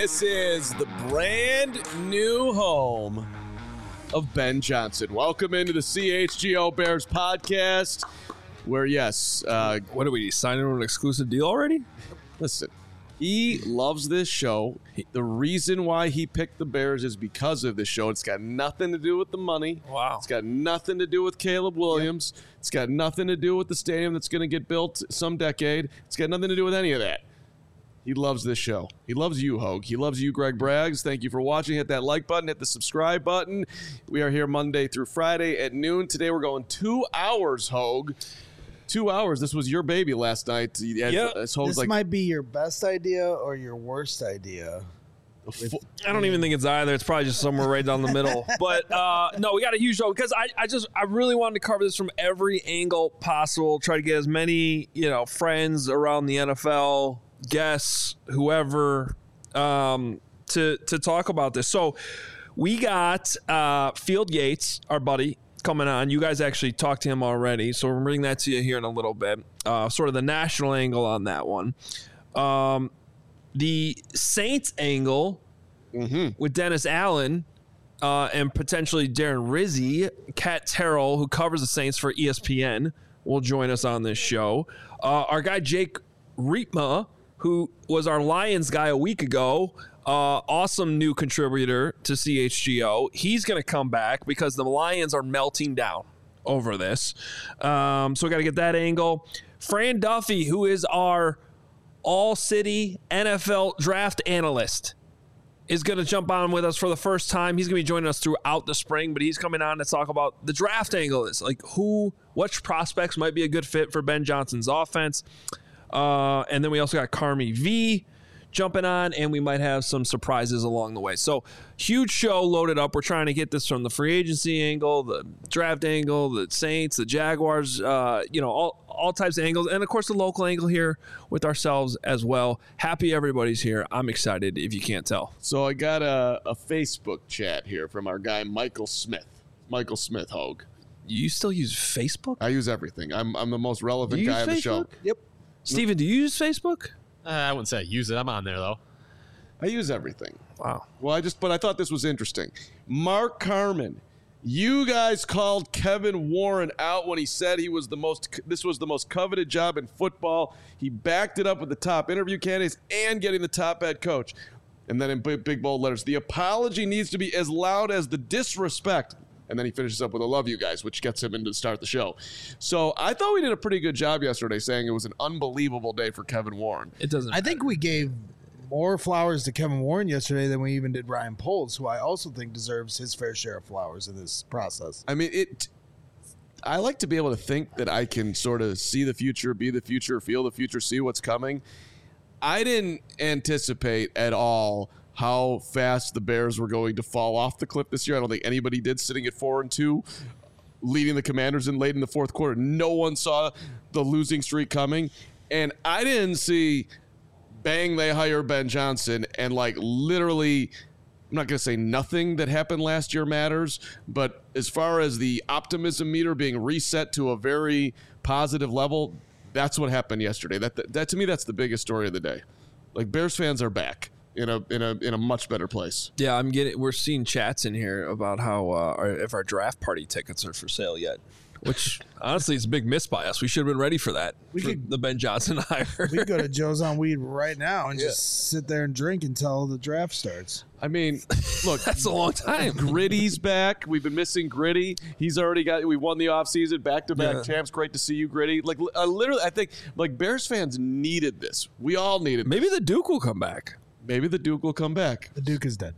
This is the brand new home of Ben Johnson. Welcome into the CHGO Bears podcast, where, yes, what are we signing an exclusive deal already? Listen, he loves this show. The reason why he picked the Bears is because of this show. It's got nothing to do with the money. Wow. It's got nothing to do with Caleb Williams. Yep. It's got nothing to do with the stadium that's going to get built some decade. It's got nothing to do with any of that. He loves this show. He loves you, Hogue. He loves you, Greg Braggs. Thank you for watching. Hit that like button. Hit the subscribe button. We are here Monday through Friday at noon. Today we're going 2 hours, Hogue. 2 hours. This was your baby last night. Yeah. This might be your best idea or your worst idea. I don't even think it's either. It's probably just somewhere right down the middle. But no, we got a huge show because I really wanted to cover this from every angle possible. Try to get as many friends around the NFL, guests, whoever, to talk about this. So we got Field Yates, our buddy, coming on. You guys actually talked to him already, so we'll bring that to you here in a little bit. Sort of the national angle on that one. The Saints angle with Dennis Allen and potentially Darren Rizzi. Kat Terrell, who covers the Saints for ESPN, will join us on this show. Our guy Jake Riepma, who was our Lions guy a week ago, awesome new contributor to CHGO. He's going to come back because the Lions are melting down over this. So we got to get that angle. Fran Duffy, who is our all-city NFL draft analyst, is going to jump on with us for the first time. He's going to be joining us throughout the spring, but he's coming on to talk about the draft angle. Is like which prospects might be a good fit for Ben Johnson's offense. And then we also got Carmi V jumping on, and we might have some surprises along the way. So huge show loaded up. We're trying to get this from the free agency angle, the draft angle, the Saints, the Jaguars, all types of angles, and of course the local angle here with ourselves as well. Happy everybody's here. I'm excited if you can't tell. So I got a Facebook chat here from our guy Michael Smith. Michael Smith, Hogue. You still use Facebook? I use everything. I'm the most relevant guy on the show. Yep. Steven, do you use Facebook? I wouldn't say I use it. I'm on there, though. I use everything. Wow. Well, but I thought this was interesting. Mark Carman, you guys called Kevin Warren out when he said this was the most coveted job in football. He backed it up with the top interview candidates and getting the top head coach. And then in big bold letters, the apology needs to be as loud as the disrespect. And then he finishes up with, I love you guys, which gets him into the start of the show. So I thought we did a pretty good job yesterday saying it was an unbelievable day for Kevin Warren. It doesn't matter. I think we gave more flowers to Kevin Warren yesterday than we even did Ryan Poles, who I also think deserves his fair share of flowers in this process. I mean, I like to be able to think that I can sort of see the future, be the future, feel the future, see what's coming. I didn't anticipate at all how fast the Bears were going to fall off the cliff this year. I don't think anybody did, sitting at 4-2, leading the Commanders in late in the fourth quarter. No one saw the losing streak coming. And I didn't see bang, they hire Ben Johnson, and literally, I'm not going to say nothing that happened last year matters, but as far as the optimism meter being reset to a very positive level, that's what happened yesterday. That to me, that's the biggest story of the day. Bears fans are back in a much better place. Yeah, we're seeing chats in here about how if our draft party tickets are for sale yet, which honestly is a big miss by us. We should have been ready for that. The Ben Johnson hire. We could go to Joe's on Weed right now and just sit there and drink until the draft starts. I mean, look, that's a long time. Gritty's back. We've been missing Gritty. He's already we won the offseason, back-to-back champs. Great to see you, Gritty. Literally, I think Bears fans needed this. We all needed this. Maybe the Duke will come back. Maybe the Duke will come back. The Duke is dead.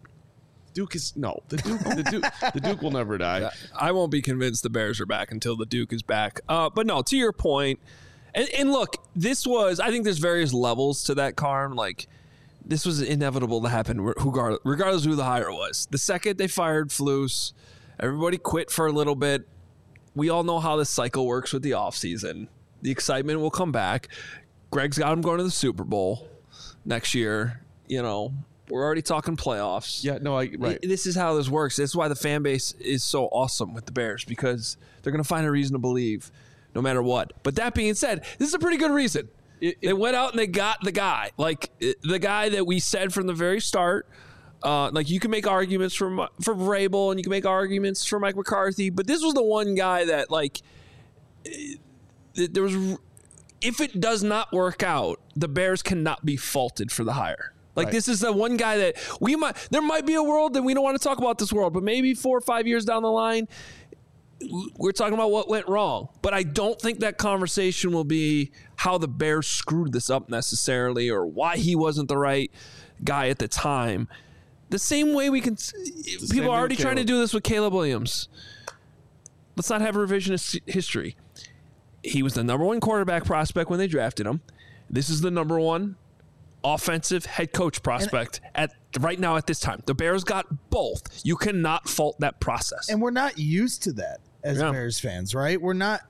The Duke will never die. I won't be convinced the Bears are back until the Duke is back. But no, to your point, and look, I think there's various levels to that, Carm. This was inevitable to happen regardless of who the hire was. The second they fired Flus, everybody quit for a little bit. We all know how this cycle works with the offseason. The excitement will come back. Greg's got him going to the Super Bowl next year. We're already talking playoffs. Yeah, no, right. This is how this works. This is why the fan base is so awesome with the Bears, because they're going to find a reason to believe no matter what. But that being said, this is a pretty good reason. They went out and they got the guy, like the guy that we said from the very start. Like you can make arguments for Vrabel and you can make arguments for Mike McCarthy, but this was the one guy that like there was. If it does not work out, the Bears cannot be faulted for the hire. Like This is the one guy that there might be a world that we don't want to talk about this world, but maybe 4 or 5 years down the line, we're talking about what went wrong. But I don't think that conversation will be how the Bears screwed this up necessarily or why he wasn't the right guy at the time. The same way people are already trying to do this with Caleb Williams. Let's not have revisionist history. He was the number 1 quarterback prospect when they drafted him. This is the number 1 offensive head coach prospect right now at this time. The Bears got both. You cannot fault that process. And we're not used to that as Bears fans, right? We're not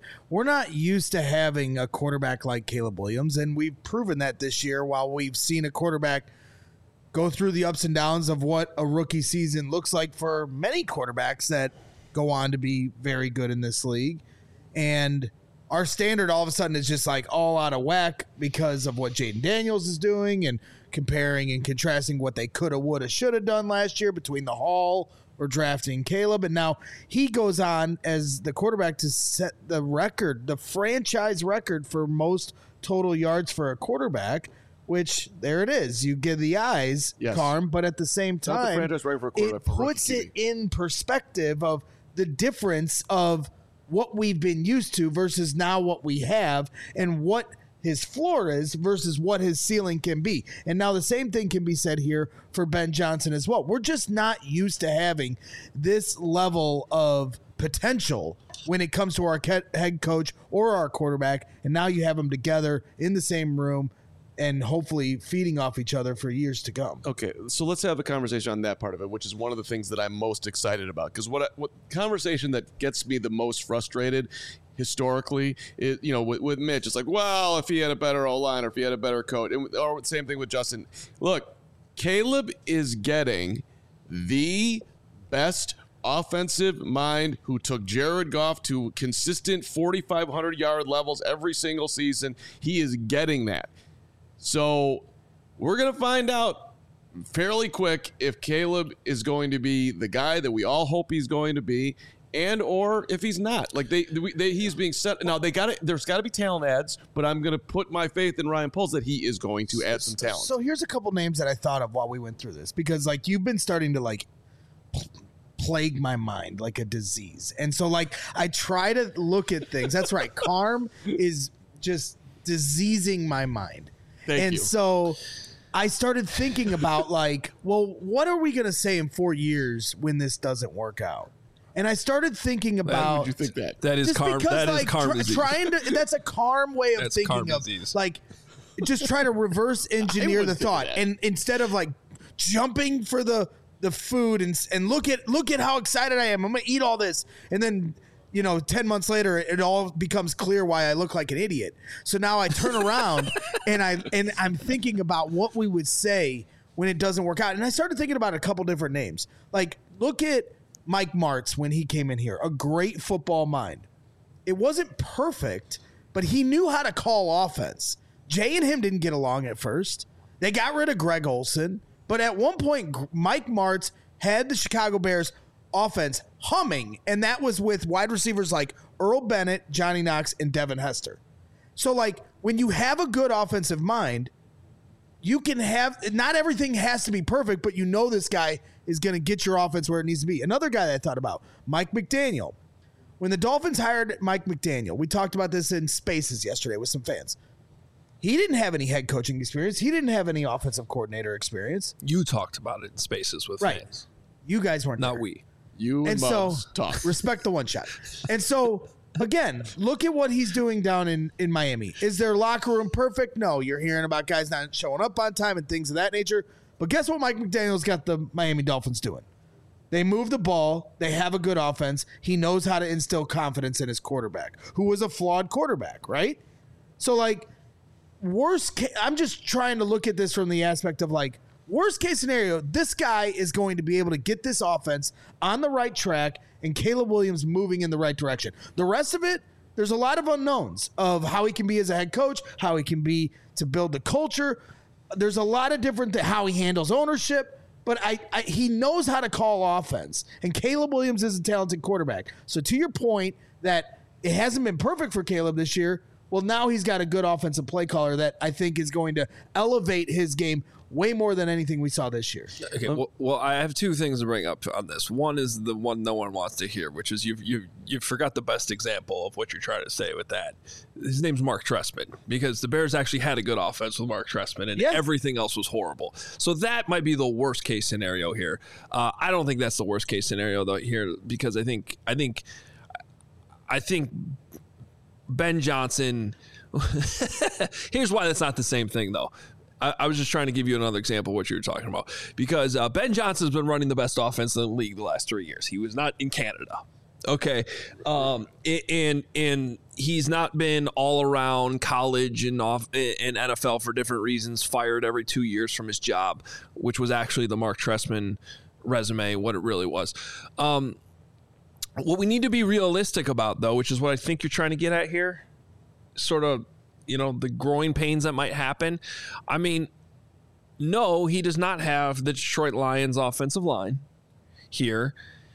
used to having a quarterback like Caleb Williams, and we've proven that this year while we've seen a quarterback go through the ups and downs of what a rookie season looks like for many quarterbacks that go on to be very good in this league. And our standard all of a sudden is just like all out of whack because of what Jaden Daniels is doing and comparing and contrasting what they coulda, woulda, shoulda done last year between the Hall or drafting Caleb. And now he goes on as the quarterback to set the record, the franchise record for most total yards for a quarterback, which there it is. You give the eyes, Carm, but at the same time, it puts it in perspective of the difference of what we've been used to versus now what we have and what his floor is versus what his ceiling can be. And now the same thing can be said here for Ben Johnson as well. We're just not used to having this level of potential when it comes to our head coach or our quarterback. And now you have them together in the same room and hopefully feeding off each other for years to come. Okay, so let's have a conversation on that part of it, which is one of the things that I'm most excited about. Because what conversation that gets me the most frustrated historically is, with Mitch, it's like, well, if he had a better O-line or if he had a better coach, or same thing with Justin. Look, Caleb is getting the best offensive mind who took Jared Goff to consistent 4,500-yard levels every single season. He is getting that. So we're going to find out fairly quick if Caleb is going to be the guy that we all hope he's going to be and or if he's not. Like he's being set. Now there's got to be talent adds, but I'm going to put my faith in Ryan Poles that he is going to add some talent. So here's a couple names that I thought of while we went through this because like you've been starting to plague my mind like a disease. And so I try to look at things. That's right. Carm is just diseasing my mind. Thank you. So I started thinking about what are we going to say in 4 years when this doesn't work out? And I started thinking about. Why would you think that? That is Carm. That is Carm disease. That's a Carm way of thinking of disease. Just try to reverse engineer the thought, and instead of jumping for the food and look at how excited I am. I'm gonna eat all this, and then 10 months later, it all becomes clear why I look like an idiot. So now I turn around and I'm thinking about what we would say when it doesn't work out. And I started thinking about a couple different names. Look at Mike Martz when he came in here, a great football mind. It wasn't perfect, but he knew how to call offense. Jay and him didn't get along at first. They got rid of Greg Olsen, but at one point, Mike Martz had the Chicago Bears offense humming, and that was with wide receivers like Earl Bennett, Johnny Knox, and Devin Hester. So when you have a good offensive mind, you can have, not everything has to be perfect, but this guy is going to get your offense where it needs to be. Another guy that I thought about, Mike McDaniel. When the Dolphins hired Mike McDaniel, we talked about this in Spaces yesterday with some fans. He didn't have any head coaching experience. He didn't have any offensive coordinator experience. You talked about it in Spaces with fans. You guys weren't Not there. we. You and Mubs talk. Respect the one shot. And so, again, look at what he's doing down in Miami. Is their locker room perfect? No. You're hearing about guys not showing up on time and things of that nature. But guess what Mike McDaniel's got the Miami Dolphins doing? They move the ball. They have a good offense. He knows how to instill confidence in his quarterback, who was a flawed quarterback, right? So, worst case, I'm just trying to look at this from the aspect of, worst case scenario, this guy is going to be able to get this offense on the right track and Caleb Williams moving in the right direction. The rest of it, There's a lot of unknowns of how he can be as a head coach, how he can be to build the culture. There's a lot of different how he handles ownership, but he knows how to call offense. And Caleb Williams is a talented quarterback. So to your point that it hasn't been perfect for Caleb this year, well, now he's got a good offensive play caller that I think is going to elevate his game way more than anything we saw this year. Okay, well, I have two things to bring up on this. One is the one no one wants to hear, which is you forgot the best example of what you're trying to say with that. His name's Mark Trestman, because the Bears actually had a good offense with Mark Trestman, and everything else was horrible. So that might be the worst case scenario here. I don't think that's the worst case scenario though here, because I think Ben Johnson. Here's why that's not the same thing though. I was just trying to give you another example of what you were talking about, because Ben Johnson's been running the best offense in the league the last 3 years. He was not in Canada. Okay. And he's not been all around college and NFL for different reasons, fired every 2 years from his job, which was actually the Mark Trestman resume, what it really was. What we need to be realistic about, though, which is what I think you're trying to get at here, sort of, the growing pains that might happen. I mean, no, he does not have the Detroit Lions offensive line here.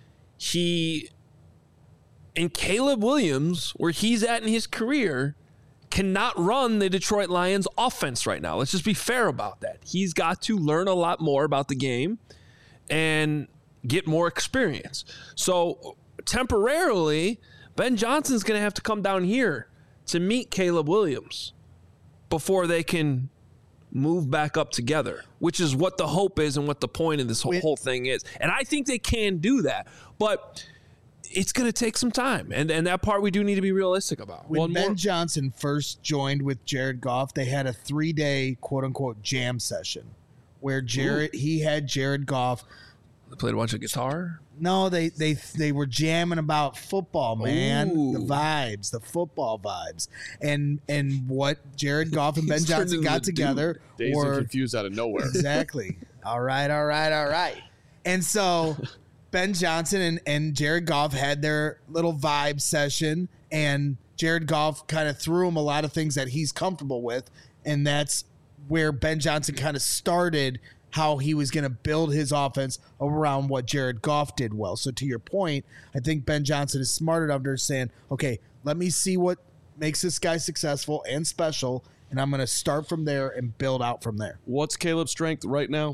And Caleb Williams, where he's at in his career, cannot run the Detroit Lions offense right now. Let's just be fair about that. He's got to learn a lot more about the game and get more experience. So temporarily, Ben Johnson's going to have to come down here to meet Caleb Williams before they can move back up together, which is what the hope is and what the point of this whole thing is. And I think they can do that, but it's going to take some time. And that part we do need to be realistic about. When Ben Johnson first joined with Jared Goff, they had a 3-day quote unquote jam session where he had Jared Goff. They played a bunch of guitar? No, they were jamming about football, man. Ooh. The vibes, the football vibes. And what Jared Goff and Ben Johnson got together Dazed and confused out of nowhere. Exactly. All right. And so Ben Johnson and Jared Goff had their little vibe session, and Jared Goff kind of threw him a lot of things that he's comfortable with, and that's where Ben Johnson kind of started how he was going to build his offense around what Jared Goff did well. So to your point, I think Ben Johnson is smart enough to saying, okay, let me see what makes this guy successful and special, and I'm going to start from there and build out from there. What's Caleb's strength right now?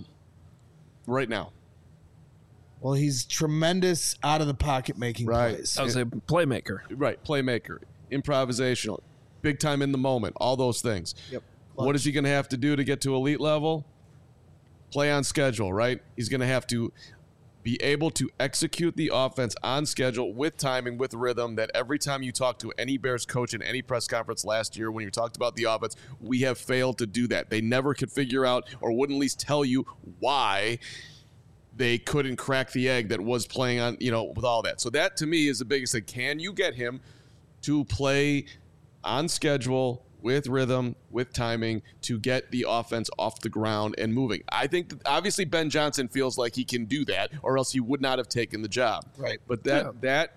Well, he's tremendous out of the pocket making plays. I would say playmaker. Right, playmaker, improvisational, big time in the moment, all those things. Yep. What is he going to have to do to get to elite level? Play on schedule, right? He's going to have to be able to execute the offense on schedule with timing, with rhythm, that every time you talk to any Bears coach in any press conference last year when you talked about the offense, we have failed to do that. They never could figure out or wouldn't at least tell you why they couldn't crack the egg that was playing on, with all that. So that to me is the biggest thing. Can you get him to play on schedule with rhythm, with timing, to get the offense off the ground and moving? I think that obviously Ben Johnson feels like he can do that, or else he would not have taken the job. Right. But that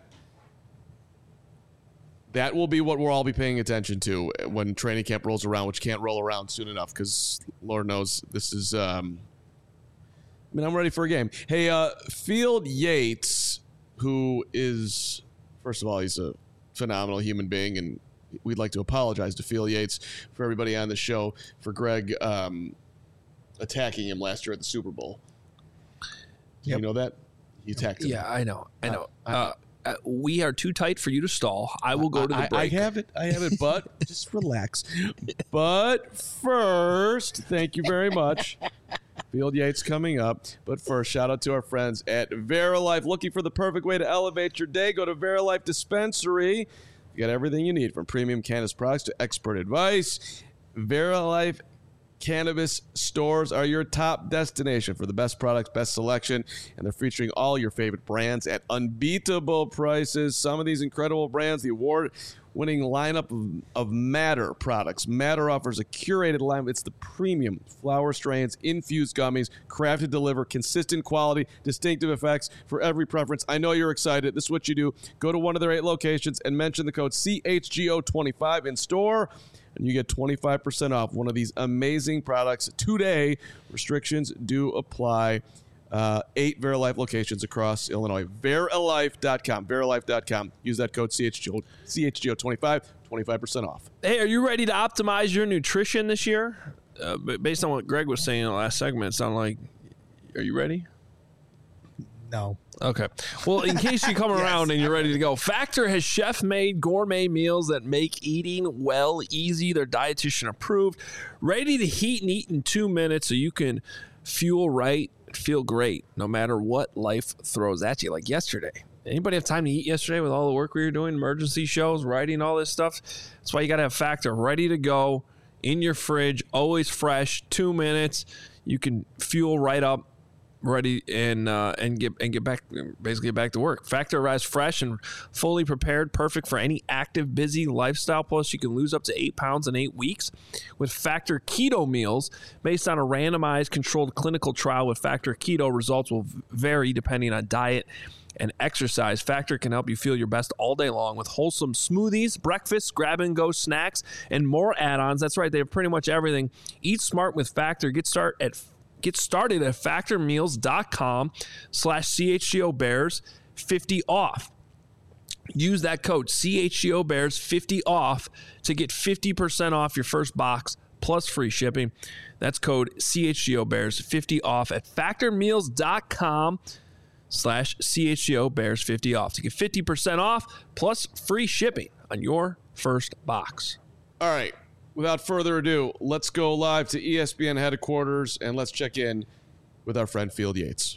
will be what we'll all be paying attention to when training camp rolls around, which can't roll around soon enough because Lord knows this is I'm ready for a game. Hey, Field Yates, who is, first of all, he's a phenomenal human being, and we'd like to apologize to Field Yates for everybody on the show for Greg attacking him last year at the Super Bowl. Yep. You know that? He attacked him. Yeah, I know. We are too tight for you to stall. I will go to the break. I have it, but just relax. But first, thank you very much. Field Yates coming up. But first, shout out to our friends at Verilife. Looking for the perfect way to elevate your day? Go to Verilife Dispensary. You got everything you need, from premium cannabis products to expert advice. Verilife cannabis stores are your top destination for the best products, best selection, and they're featuring all your favorite brands at unbeatable prices. Some of these incredible brands, the award-winning lineup of Matter products. Matter offers a curated lineup. It's the premium flower strains, infused gummies, crafted to deliver consistent quality, distinctive effects for every preference. I know you're excited. This is what you do. Go to one of their 8 locations and mention the code CHGO25 in store, and you get 25% off one of these amazing products today. Restrictions do apply. 8 Verilife locations across Illinois. Verilife.com. Verilife.com. Use that code CHGO25, 25% off. Hey, are you ready to optimize your nutrition this year? Based on what Greg was saying in the last segment, it sounded like, are you ready? No. Okay. Well, in case you come around and you're ready to go, Factor has chef-made gourmet meals that make eating well easy. They're dietitian approved, ready to heat and eat in 2 minutes so you can fuel right, feel great, no matter what life throws at you. Like yesterday. Anybody have time to eat yesterday with all the work we were doing, emergency shows, writing, all this stuff? That's why you got to have Factor ready to go in your fridge, always fresh, 2 minutes. You can fuel right up, ready and get back, basically back to work. Factor arrives fresh and fully prepared, perfect for any active, busy lifestyle. Plus, you can lose up to 8 pounds in 8 weeks with Factor Keto meals. Based on a randomized, controlled clinical trial with Factor Keto, results will vary depending on diet and exercise. Factor can help you feel your best all day long with wholesome smoothies, breakfasts, grab-and-go snacks, and more add-ons. That's right, they have pretty much everything. Eat smart with Factor. Get started at factormeals.com/CHGO Bears 50 off. Use that code CHGO Bears 50 off to get 50% off your first box plus free shipping. That's code CHGO Bears 50 off at factormeals.com/CHGO Bears 50 off to get 50% off plus free shipping on your first box. All right. Without further ado, let's go live to ESPN headquarters and let's check in with our friend Field Yates.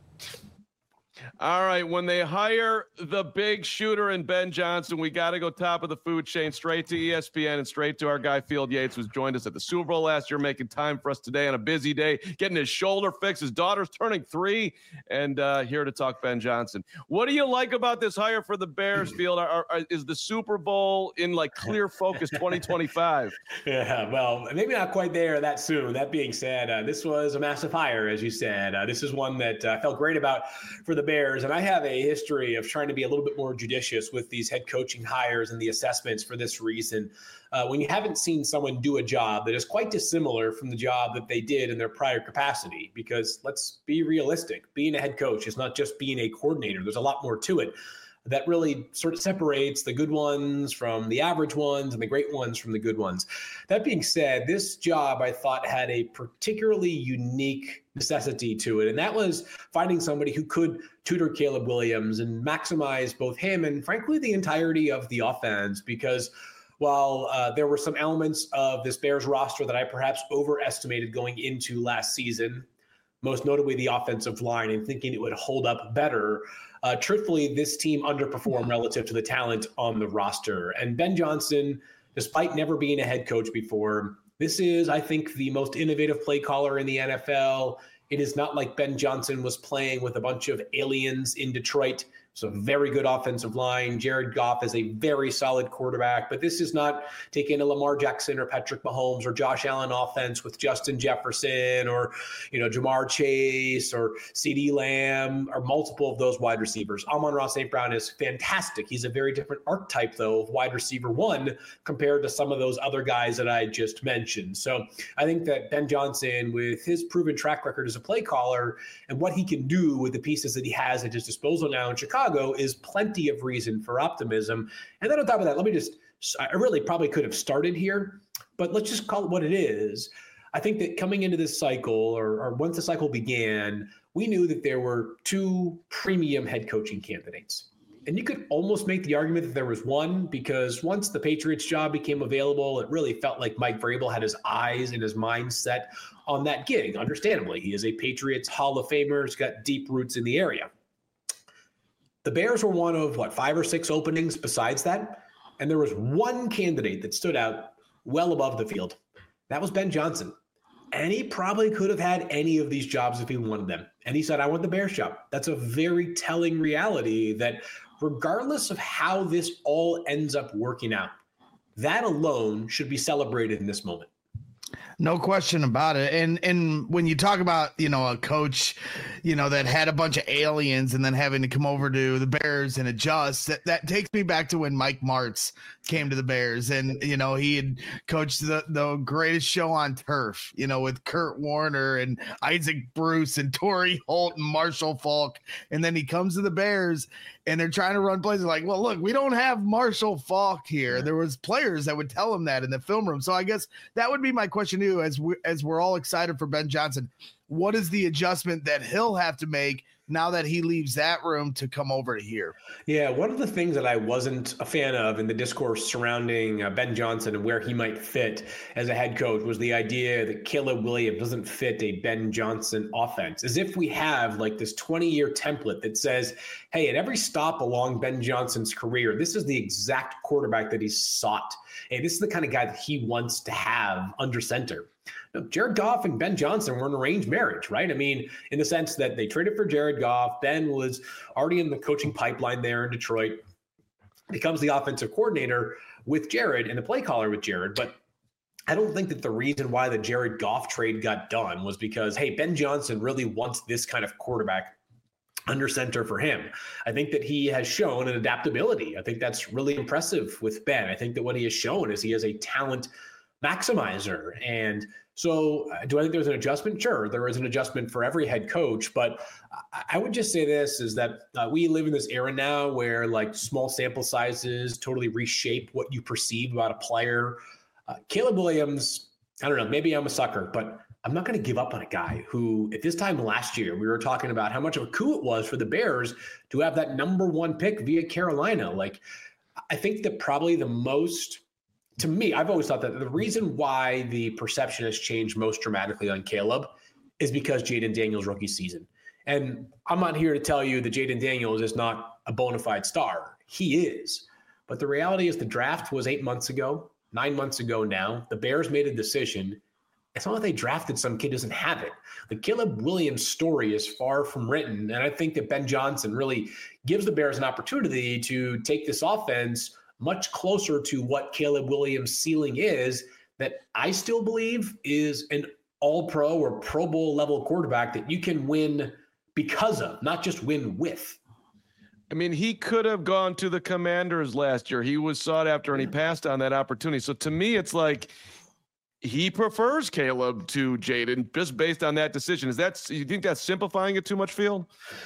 All right, when they hire the big shooter in Ben Johnson, we got to go top of the food chain, straight to ESPN and straight to our guy Field Yates, who's joined us at the Super Bowl last year, making time for us today on a busy day, getting his shoulder fixed. His daughter's turning 3, and here to talk Ben Johnson. What do you like about this hire for the Bears, Field? Is the Super Bowl in like clear focus 2025? Yeah, well, maybe not quite there that soon. That being said, this was a massive hire, as you said. This is one that I felt great about for the Bears. And I have a history of trying to be a little bit more judicious with these head coaching hires and the assessments for this reason. When you haven't seen someone do a job that is quite dissimilar from the job that they did in their prior capacity, because let's be realistic, being a head coach is not just being a coordinator. There's a lot more to it that really sort of separates the good ones from the average ones and the great ones from the good ones. That being said, this job I thought had a particularly unique necessity to it, and that was finding somebody who could tutor Caleb Williams and maximize both him and, frankly, the entirety of the offense, because while there were some elements of this Bears roster that I perhaps overestimated going into last season, most notably the offensive line, and thinking it would hold up better, truthfully, this team underperformed relative to the talent on the roster. And Ben Johnson, despite never being a head coach before, this is, I think, the most innovative play caller in the NFL. It is not like Ben Johnson was playing with a bunch of aliens in Detroit. It's a very good offensive line. Jared Goff is a very solid quarterback, but this is not taking a Lamar Jackson or Patrick Mahomes or Josh Allen offense with Justin Jefferson or, Jamar Chase or CeeDee Lamb or multiple of those wide receivers. Amon-Ra St. Brown is fantastic. He's a very different archetype, though, of wide receiver one compared to some of those other guys that I just mentioned. So I think that Ben Johnson, with his proven track record as a play caller and what he can do with the pieces that he has at his disposal now in Chicago, is plenty of reason for optimism. And then on top of that, I really probably could have started here, but let's just call it what it is. I think that coming into this cycle, or once the cycle began, we knew that there were 2 premium head coaching candidates. And you could almost make the argument that there was one, because once the Patriots job became available, it really felt like Mike Vrabel had his eyes and his mind set on that gig. Understandably, he is a Patriots Hall of Famer. He's got deep roots in the area. The Bears were one of, 5 or 6 openings besides that? And there was one candidate that stood out well above the field. That was Ben Johnson. And he probably could have had any of these jobs if he wanted them. And he said, I want the Bears job. That's a very telling reality that regardless of how this all ends up working out, that alone should be celebrated in this moment. No question about it. And when you talk about, a coach, that had a bunch of aliens and then having to come over to the Bears and adjust, that takes me back to when Mike Martz came to the Bears and, he had coached the greatest show on turf, with Kurt Warner and Isaac Bruce and Torrey Holt and Marshall Faulk. And then he comes to the Bears and they're trying to run plays. They're like, well, look, we don't have Marshall Faulk here. There was players that would tell him that in the film room. So I guess that would be my question to you as we're all excited for Ben Johnson. What is the adjustment that he'll have to make now that he leaves that room to come over to here? Yeah, one of the things that I wasn't a fan of in the discourse surrounding Ben Johnson and where he might fit as a head coach was the idea that Caleb Williams doesn't fit a Ben Johnson offense. As if we have like this 20-year template that says, hey, at every stop along Ben Johnson's career, this is the exact quarterback that he's sought. Hey, this is the kind of guy that he wants to have under center. Jared Goff and Ben Johnson were an arranged marriage, right? I mean, in the sense that they traded for Jared Goff. Ben was already in the coaching pipeline there in Detroit, becomes the offensive coordinator with Jared and the play caller with Jared. But I don't think that the reason why the Jared Goff trade got done was because, hey, Ben Johnson really wants this kind of quarterback under center for him. I think that he has shown an adaptability. I think that's really impressive with Ben. I think that what he has shown is he is a talent maximizer. And so do I think there's an adjustment? Sure, there is an adjustment for every head coach, but I would just say this is that we live in this era now where like small sample sizes totally reshape what you perceive about a player. Caleb Williams, I don't know, maybe I'm a sucker, but I'm not going to give up on a guy who at this time last year, we were talking about how much of a coup it was for the Bears to have that number 1 pick via Carolina. Like, I think that probably the most, to me, I've always thought that the reason why the perception has changed most dramatically on Caleb is because Jayden Daniels' rookie season. And I'm not here to tell you that Jayden Daniels is not a bona fide star. He is. But the reality is the draft was 8 months ago, 9 months ago now. The Bears made a decision. It's not like they drafted some kid who doesn't have it. The Caleb Williams story is far from written. And I think that Ben Johnson really gives the Bears an opportunity to take this offense much closer to what Caleb Williams' ceiling is, that I still believe is an all-pro or Pro Bowl level quarterback that you can win because of, not just win with. I mean, he could have gone to the Commanders last year. He was sought after and he passed on that opportunity. So to me, it's like he prefers Caleb to Jayden just based on that decision. You think that's simplifying it too much, Field?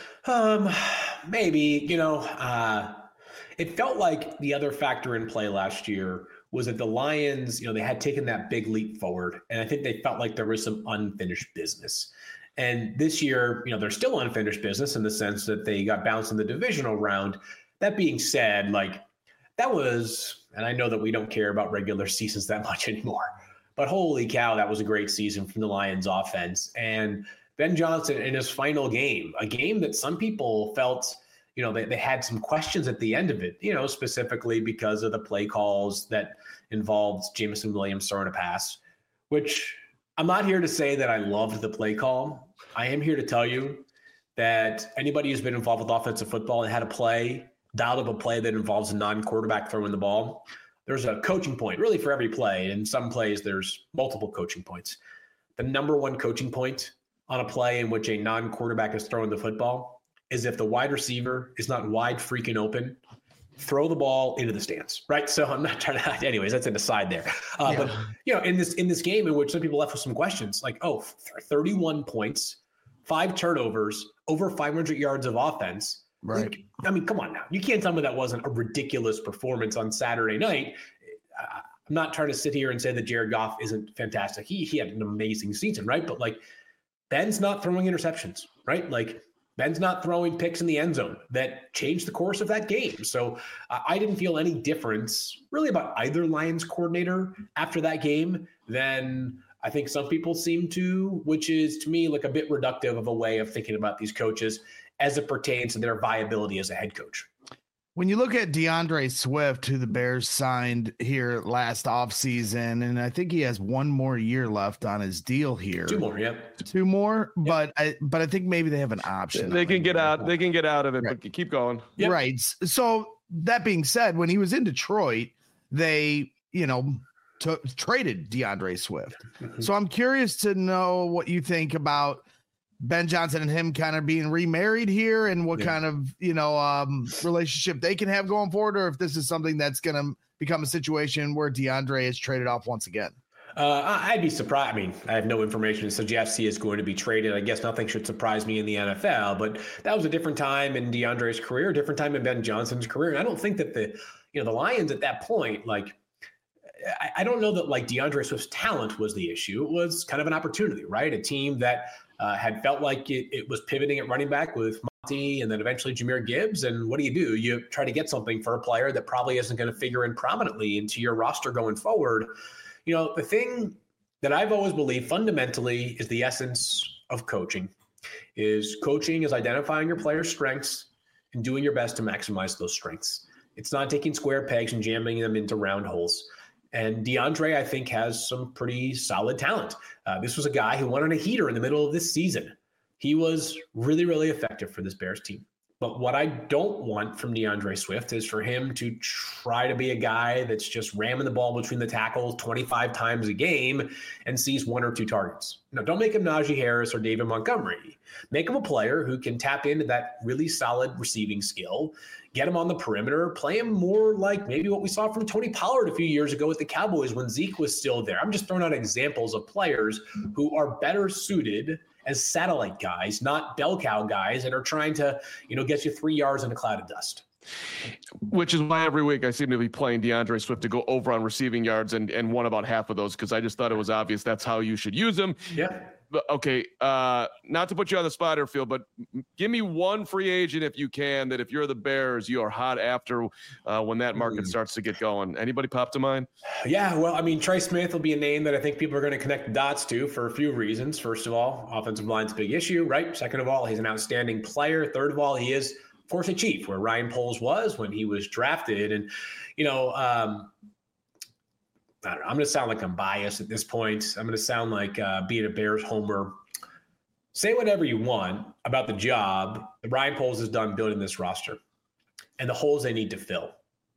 Maybe, it felt like the other factor in play last year was that the Lions, they had taken that big leap forward. And I think they felt like there was some unfinished business. And this year, they're still unfinished business in the sense that they got bounced in the divisional round. That being said, that was, and I know that we don't care about regular seasons that much anymore, but holy cow, that was a great season from the Lions offense. And Ben Johnson in his final game, a game that some people felt, they had some questions at the end of it, specifically because of the play calls that involved Jameson Williams throwing a pass, which I'm not here to say that I loved the play call. I am here to tell you that anybody who's been involved with offensive football and had dialed up a play that involves a non-quarterback throwing the ball, there's a coaching point really for every play. In some plays, there's multiple coaching points. The number 1 coaching point on a play in which a non-quarterback is throwing the football is if the wide receiver is not wide freaking open, throw the ball into the stands, right? So I'm not trying to, anyways, that's an aside there. But, in this game in which some people left with some questions, 31 points, 5 turnovers, over 500 yards of offense. Right. Come on now. You can't tell me that wasn't a ridiculous performance on Saturday night. I'm not trying to sit here and say that Jared Goff isn't fantastic. He had an amazing season, right? But Ben's not throwing interceptions, right? Ben's not throwing picks in the end zone that changed the course of that game. So I didn't feel any difference really about either Lions coordinator after that game than I think some people seem to, which is to me a bit reductive of a way of thinking about these coaches as it pertains to their viability as a head coach. When you look at DeAndre Swift, who the Bears signed here last offseason, and I think he has one more year left on his deal here. Two more, yep. Two more, yep. But I think maybe they have an option. They can get out. They can get out of it, right. But keep going. Yep. Right. So that being said, when he was in Detroit, they, traded DeAndre Swift. Mm-hmm. So I'm curious to know what you think about Ben Johnson and him kind of being remarried here and what kind of, relationship they can have going forward, or if this is something that's going to become a situation where DeAndre is traded off once again. I'd be surprised. I mean, I have no information to suggest he is going to be traded. I guess nothing should surprise me in the NFL, but that was a different time in DeAndre's career, a different time in Ben Johnson's career. And I don't think that the Lions at that point, I don't know that DeAndre Swift's talent was the issue. It was kind of an opportunity, right? A team that had felt like it was pivoting at running back with Monty and then eventually Jahmyr Gibbs. And what do? You try to get something for a player that probably isn't going to figure in prominently into your roster going forward. The thing that I've always believed fundamentally is the essence of coaching is identifying your players' strengths and doing your best to maximize those strengths. It's not taking square pegs and jamming them into round holes. And DeAndre, I think, has some pretty solid talent. This was a guy who went on a heater in the middle of this season. He was really, really effective for this Bears team. But what I don't want from DeAndre Swift is for him to try to be a guy that's just ramming the ball between the tackles 25 times a game and sees one or two targets. Don't make him Najee Harris or David Montgomery. Make him a player who can tap into that really solid receiving skill, get him on the perimeter, play him more like maybe what we saw from Tony Pollard a few years ago with the Cowboys when Zeke was still there. I'm just throwing out examples of players who are better suited as satellite guys, not bell cow guys that are trying to, get you 3 yards in a cloud of dust. Which is why every week I seem to be playing DeAndre Swift to go over on receiving yards and won about half of those because I just thought it was obvious that's how you should use him. Yeah. Okay, not to put you on the spot here, Phil, but give me one free agent if you can that if you're the Bears, you are hot after when that market starts to get going. Anybody pop to mind? Yeah, well, I mean, Trey Smith will be a name that I think people are going to connect the dots to for a few reasons. First of all, offensive line's a big issue, right? Second of all, he's an outstanding player. Third of all, he is, of course, a Chief, where Ryan Poles was when he was drafted. And, I don't know. I'm going to sound like I'm biased at this point. I'm going to sound like being a Bears homer. Say whatever you want about the job that Ryan Poles has done building this roster and the holes they need to fill.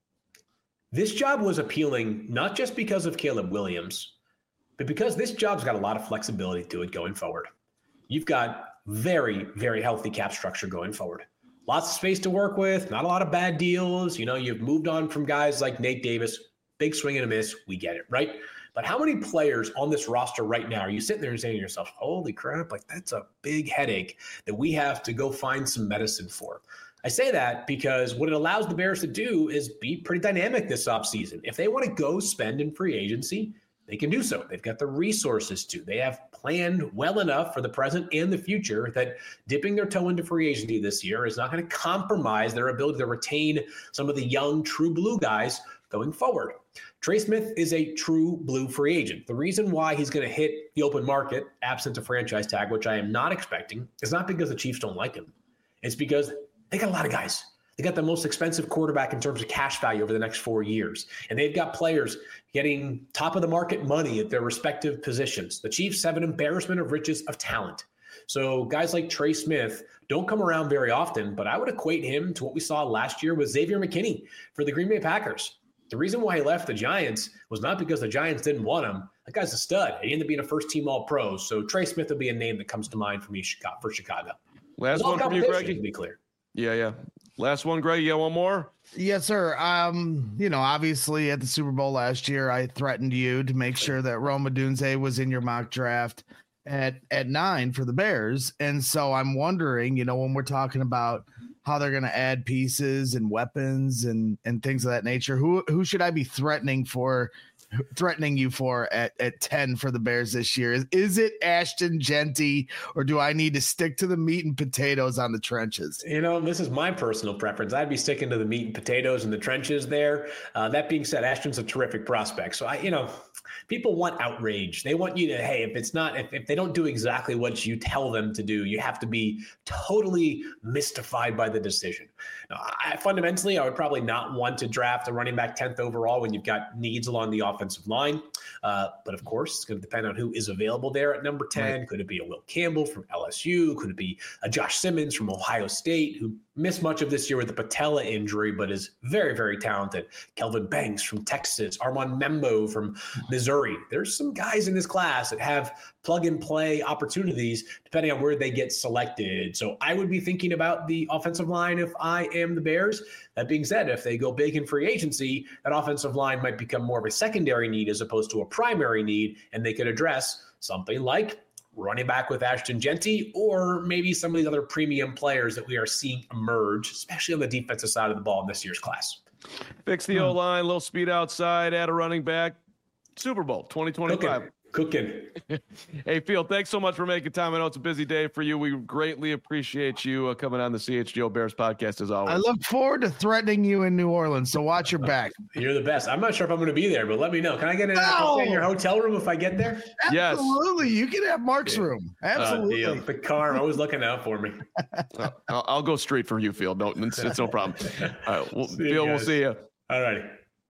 This job was appealing not just because of Caleb Williams, but because this job's got a lot of flexibility to it going forward. You've got very, very healthy cap structure going forward. Lots of space to work with, not a lot of bad deals. You've moved on from guys like Nate Davis. Big swing and a miss, we get it, right? But how many players on this roster right now are you sitting there and saying to yourself, holy crap, that's a big headache that we have to go find some medicine for? I say that because what it allows the Bears to do is be pretty dynamic this offseason. If they want to go spend in free agency, they can do so. They've got the resources to. They have planned well enough for the present and the future that dipping their toe into free agency this year is not going to compromise their ability to retain some of the young, true blue guys going forward. Trey Smith is a true blue free agent. The reason why he's going to hit the open market, absent a franchise tag, which I am not expecting, is not because the Chiefs don't like him. It's because they got a lot of guys. They got the most expensive quarterback in terms of cash value over the next 4 years. And they've got players getting top of the market money at their respective positions. The Chiefs have an embarrassment of riches of talent. So guys like Trey Smith don't come around very often, but I would equate him to what we saw last year with Xavier McKinney for the Green Bay Packers. The reason why he left the Giants was not because the Giants didn't want him. That guy's a stud. He ended up being a first-team All-Pro. So Trey Smith would be a name that comes to mind for me for Chicago. Last one from you, Greggy. To be clear. Yeah. Last one, Greg. You got one more? Yes, sir. Obviously at the Super Bowl last year, I threatened you to make sure that Rome Odunze was in your mock draft at 9 for the Bears. And so I'm wondering, when we're talking about how they're going to add pieces and weapons and things of that nature, who should I be threatening for threatening you for at 10 for the Bears this year? Is it Ashton Jeanty, or do I need to stick to the meat and potatoes on the trenches? This is my personal preference. I'd be sticking to the meat and potatoes in the trenches there. That being said, Ashton's a terrific prospect. So people want outrage. They want you to, hey, if they don't do exactly what you tell them to do, you have to be totally mystified by the decision. Now, fundamentally, I would probably not want to draft a running back 10th overall when you've got needs along the offensive line. But of course, it's going to depend on who is available there at number 10. Right. Could it be a Will Campbell from LSU? Could it be a Josh Simmons from Ohio State, who missed much of this year with the patella injury, but is very, very talented? Kelvin Banks from Texas, Armand Membo from Missouri. There's some guys in this class that have plug-and-play opportunities depending on where they get selected. So I would be thinking about the offensive line if I am the Bears. That being said, if they go big in free agency, that offensive line might become more of a secondary need as opposed to a primary need, and they could address something like running back with Ashton Jeanty, or maybe some of these other premium players that we are seeing emerge, especially on the defensive side of the ball in this year's class. Fix the O-line, little speed outside, add a running back. Super Bowl 2025. Cooking. Hey, Field, thanks so much for making time. I know it's a busy day for you. We greatly appreciate you coming on the CHGO Bears podcast as always. I look forward to threatening you in New Orleans, so watch your back. You're the best. I'm not sure if I'm going to be there, but let me know. Can I get in your hotel room if I get there? Yes. Absolutely. You can have Mark's room. Absolutely. The car, always looking out for me. I'll go straight for you, Field. No, it's no problem. All right, Field, we'll see you. All righty.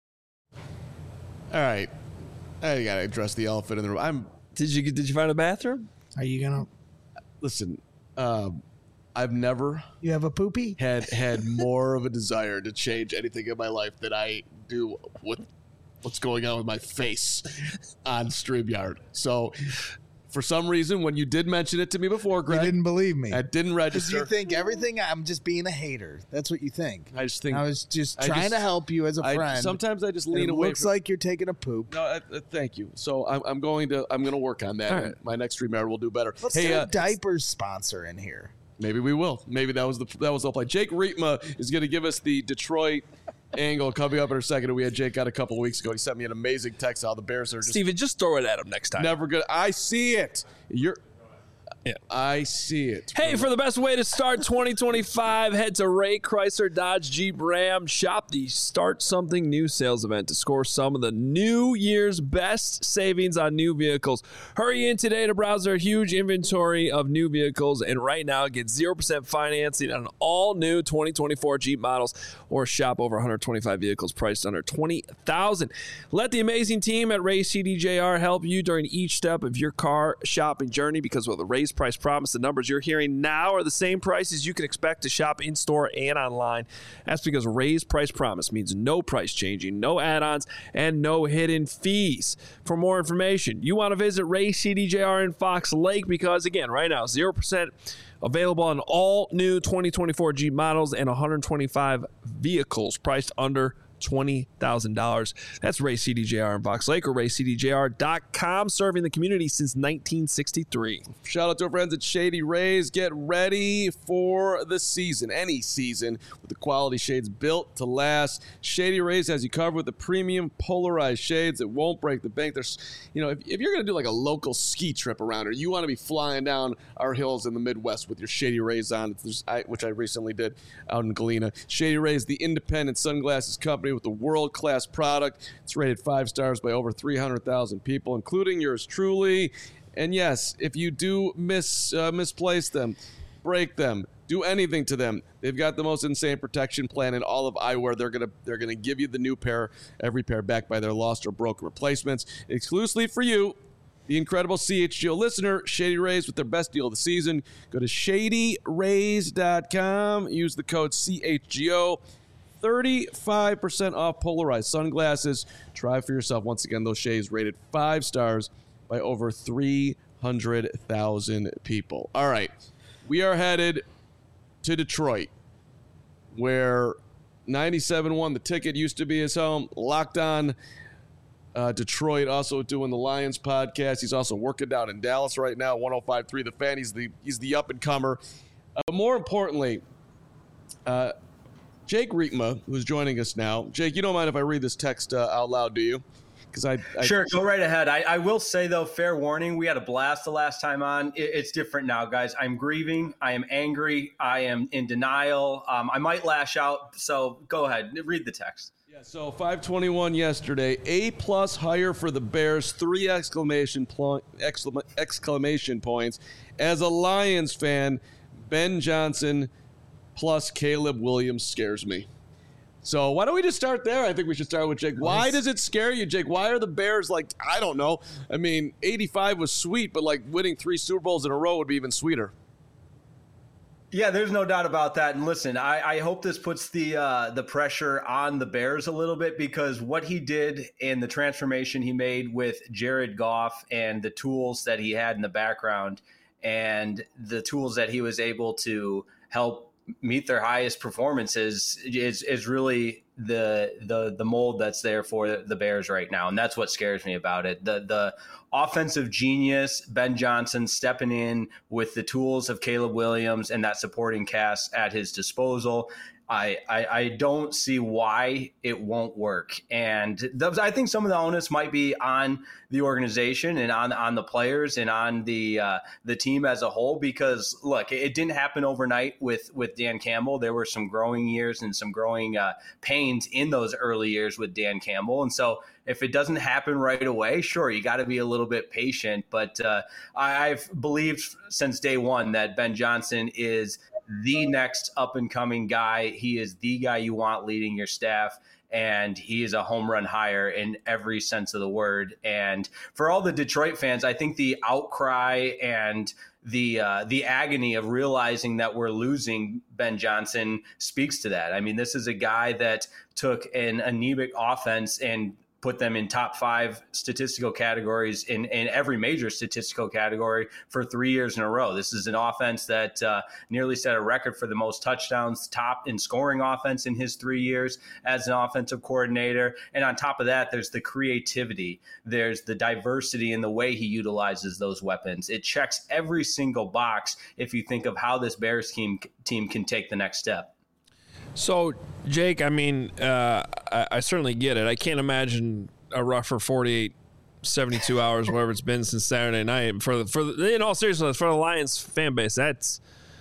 All right. I gotta address the elephant in the room. Did you find a bathroom? Are you gonna listen? I've never. You have a poopy? Had more of a desire to change anything in my life than I do with what's going on with my face on StreamYard. So, for some reason, when you did mention it to me before, Greg, you didn't believe me. I didn't register. You think everything, I'm just being a hater. That's what you think. I just think I was just trying to help you as a friend. Sometimes I just lean away. Looks like you're taking a poop. No, thank you. So I'm going to work on that. Right. My next StreamYard will do better. Let's get a diapers sponsor in here. Maybe we will. Maybe that was the play. Jake Rietma is going to give us the Detroit angle coming up in a second. We had Jake out a couple of weeks ago. He sent me an amazing text how the Bears are Steven, just throw it at him next time. Never good. I see it. I see it. Hey, for the best way to start 2025, head to Ray Chrysler Dodge Jeep Ram. Shop the Start Something New sales event to score some of the new year's best savings on new vehicles. Hurry in today to browse their huge inventory of new vehicles, and right now get 0% financing on all new 2024 Jeep models, or shop over 125 vehicles priced under $20,000. Let the amazing team at Ray CDJR help you during each step of your car shopping journey, because with a Ray's Price Promise, the numbers you're hearing now are the same prices you can expect to shop in-store and online. That's because Ray's Price Promise means no price changing, no add-ons, and no hidden fees. For more information, you want to visit Ray CDJR in Fox Lake, because, again, right now, 0% available on all new 2024 Jeep models and 125 vehicles priced under $20,000. That's Ray CDJR in Fox Lake, or raycdjr.com, serving the community since 1963. Shout out to our friends at Shady Rays. Get ready for the season, any season, with the quality shades built to last. Shady Rays has you covered with the premium polarized shades that won't break the bank. There's, if you're going to do like a local ski trip around, or you want to be flying down our hills in the Midwest with your Shady Rays on, which I recently did out in Galena. Shady Rays, the independent sunglasses company with a world-class product. It's rated 5 stars by over 300,000 people, including yours truly. And yes, if you do misplace them, break them, do anything to them, they've got the most insane protection plan in all of eyewear. They're gonna give you the new pair, every pair backed by their lost or broken replacements, exclusively for you, the incredible CHGO listener. Shady Rays with their best deal of the season. Go to shadyrays.com. Use the code CHGO. 35% off polarized sunglasses. Try for yourself. Once again, those shades rated 5 stars by over 300,000 people. All right. We are headed to Detroit, where 97.1, the ticket, used to be his home. Locked On Detroit, also doing the Lions podcast. He's also working down in Dallas right now, 105.3 The Fan. He's the up-and-comer. More importantly, Jake Rietma, who's joining us now. Jake, you don't mind if I read this text out loud, do you? Because I Sure, go right ahead. I will say, though, fair warning, we had a blast the last time on. It's different now, guys. I'm grieving. I am angry. I am in denial. I might lash out. So go ahead. Read the text. Yeah, so 521 yesterday. A+ higher for the Bears. 3 exclamation points. As a Lions fan, Ben Johnson plus Caleb Williams scares me. So why don't we just start there? I think we should start with Jake. Why does it scare you, Jake? Why are the Bears like, I don't know. I mean, 85 was sweet, but like winning 3 Super Bowls in a row would be even sweeter. Yeah, there's no doubt about that. And listen, I hope this puts the pressure on the Bears a little bit, because what he did and the transformation he made with Jared Goff and the tools that he had in the background and the tools that he was able to help meet their highest performances is really the mold that's there for the Bears right now. And that's what scares me about it. The offensive genius, Ben Johnson, stepping in with the tools of Caleb Williams and that supporting cast at his disposal. I don't see why it won't work. And I think some of the onus might be on the organization and on the players and on the team as a whole, because look, it didn't happen overnight with Dan Campbell. There were some growing years and some growing pains in those early years with Dan Campbell. And so if it doesn't happen right away, sure, you got to be a little bit patient. But I've believed since day one that Ben Johnson is the next up-and-coming guy. He is the guy you want leading your staff, and he is a home run hire in every sense of the word. And for all the Detroit fans, I think the outcry and the agony of realizing that we're losing Ben Johnson speaks to that. I mean, this is a guy that took an anemic offense and put them in top 5 statistical categories in every major statistical category for 3 years in a row. This is an offense that nearly set a record for the most touchdowns, top in scoring offense in his 3 years as an offensive coordinator. And on top of that, there's the creativity. There's the diversity in the way he utilizes those weapons. It checks every single box if you think of how this Bears team can take the next step. So, Jake, I mean, I certainly get it. I can't imagine a rougher 48, 72 hours, whatever it's been since Saturday night. In all seriousness, for the Lions fan base, that's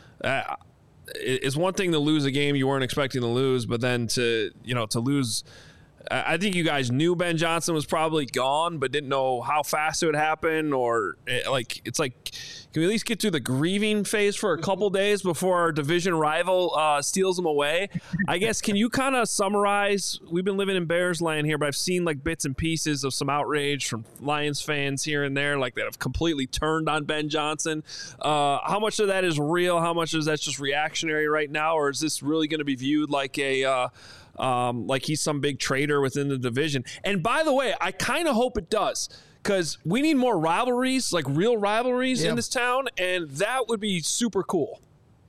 it's one thing to lose a game you weren't expecting to lose, but then to lose. I think you guys knew Ben Johnson was probably gone, but didn't know how fast it would happen, or it's like, can we at least get through the grieving phase for a couple days before our division rival steals them away? I guess, can you kind of summarize? We've been living in Bears land here, but I've seen like bits and pieces of some outrage from Lions fans here and there, like that have completely turned on Ben Johnson. How much of that is real? How much of that's just reactionary right now, or is this really going to be viewed like like he's some big traitor within the division? And by the way, I kind of hope it does, because we need more rivalries, like real rivalries in this town, and that would be super cool.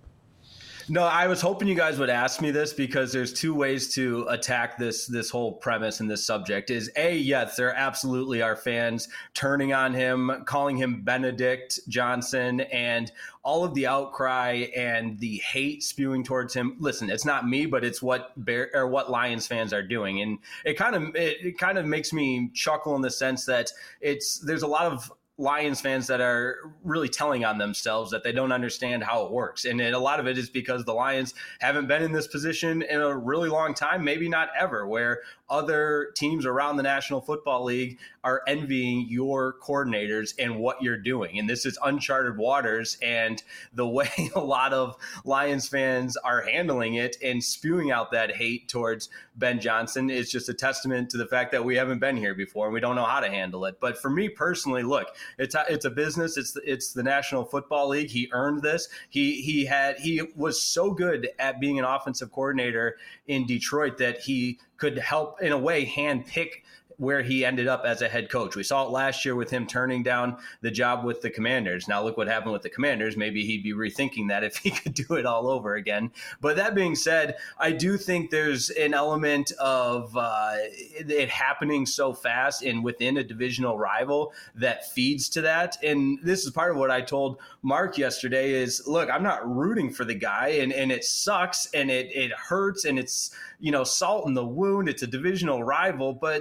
No, I was hoping you guys would ask me this, because there's 2 ways to attack this whole premise and this subject. Is A, yes, there absolutely are fans turning on him, calling him Benedict Johnson, and all of the outcry and the hate spewing towards him. Listen, it's not me, but it's what Lions fans are doing, and it kind of makes me chuckle in the sense that there's a lot of Lions fans that are really telling on themselves that they don't understand how it works. And a lot of it is because the Lions haven't been in this position in a really long time, maybe not ever, where other teams around the National Football League are envying your coordinators and what you're doing. And this is uncharted waters. And the way a lot of Lions fans are handling it and spewing out that hate towards Ben Johnson is just a testament to the fact that we haven't been here before and we don't know how to handle it. But for me personally, look, it's a business. It's the National Football League. He earned this. He was so good at being an offensive coordinator in Detroit that he could help, in a way, handpick where he ended up as a head coach. We saw it last year with him turning down the job with the Commanders. Now look what happened with the Commanders. Maybe he'd be rethinking that if he could do it all over again. But that being said, I do think there's an element of it happening so fast and within a divisional rival that feeds to that. And this is part of what I told Mark yesterday is, look, I'm not rooting for the guy, and it sucks and it hurts, and it's, salt in the wound. It's a divisional rival, but this is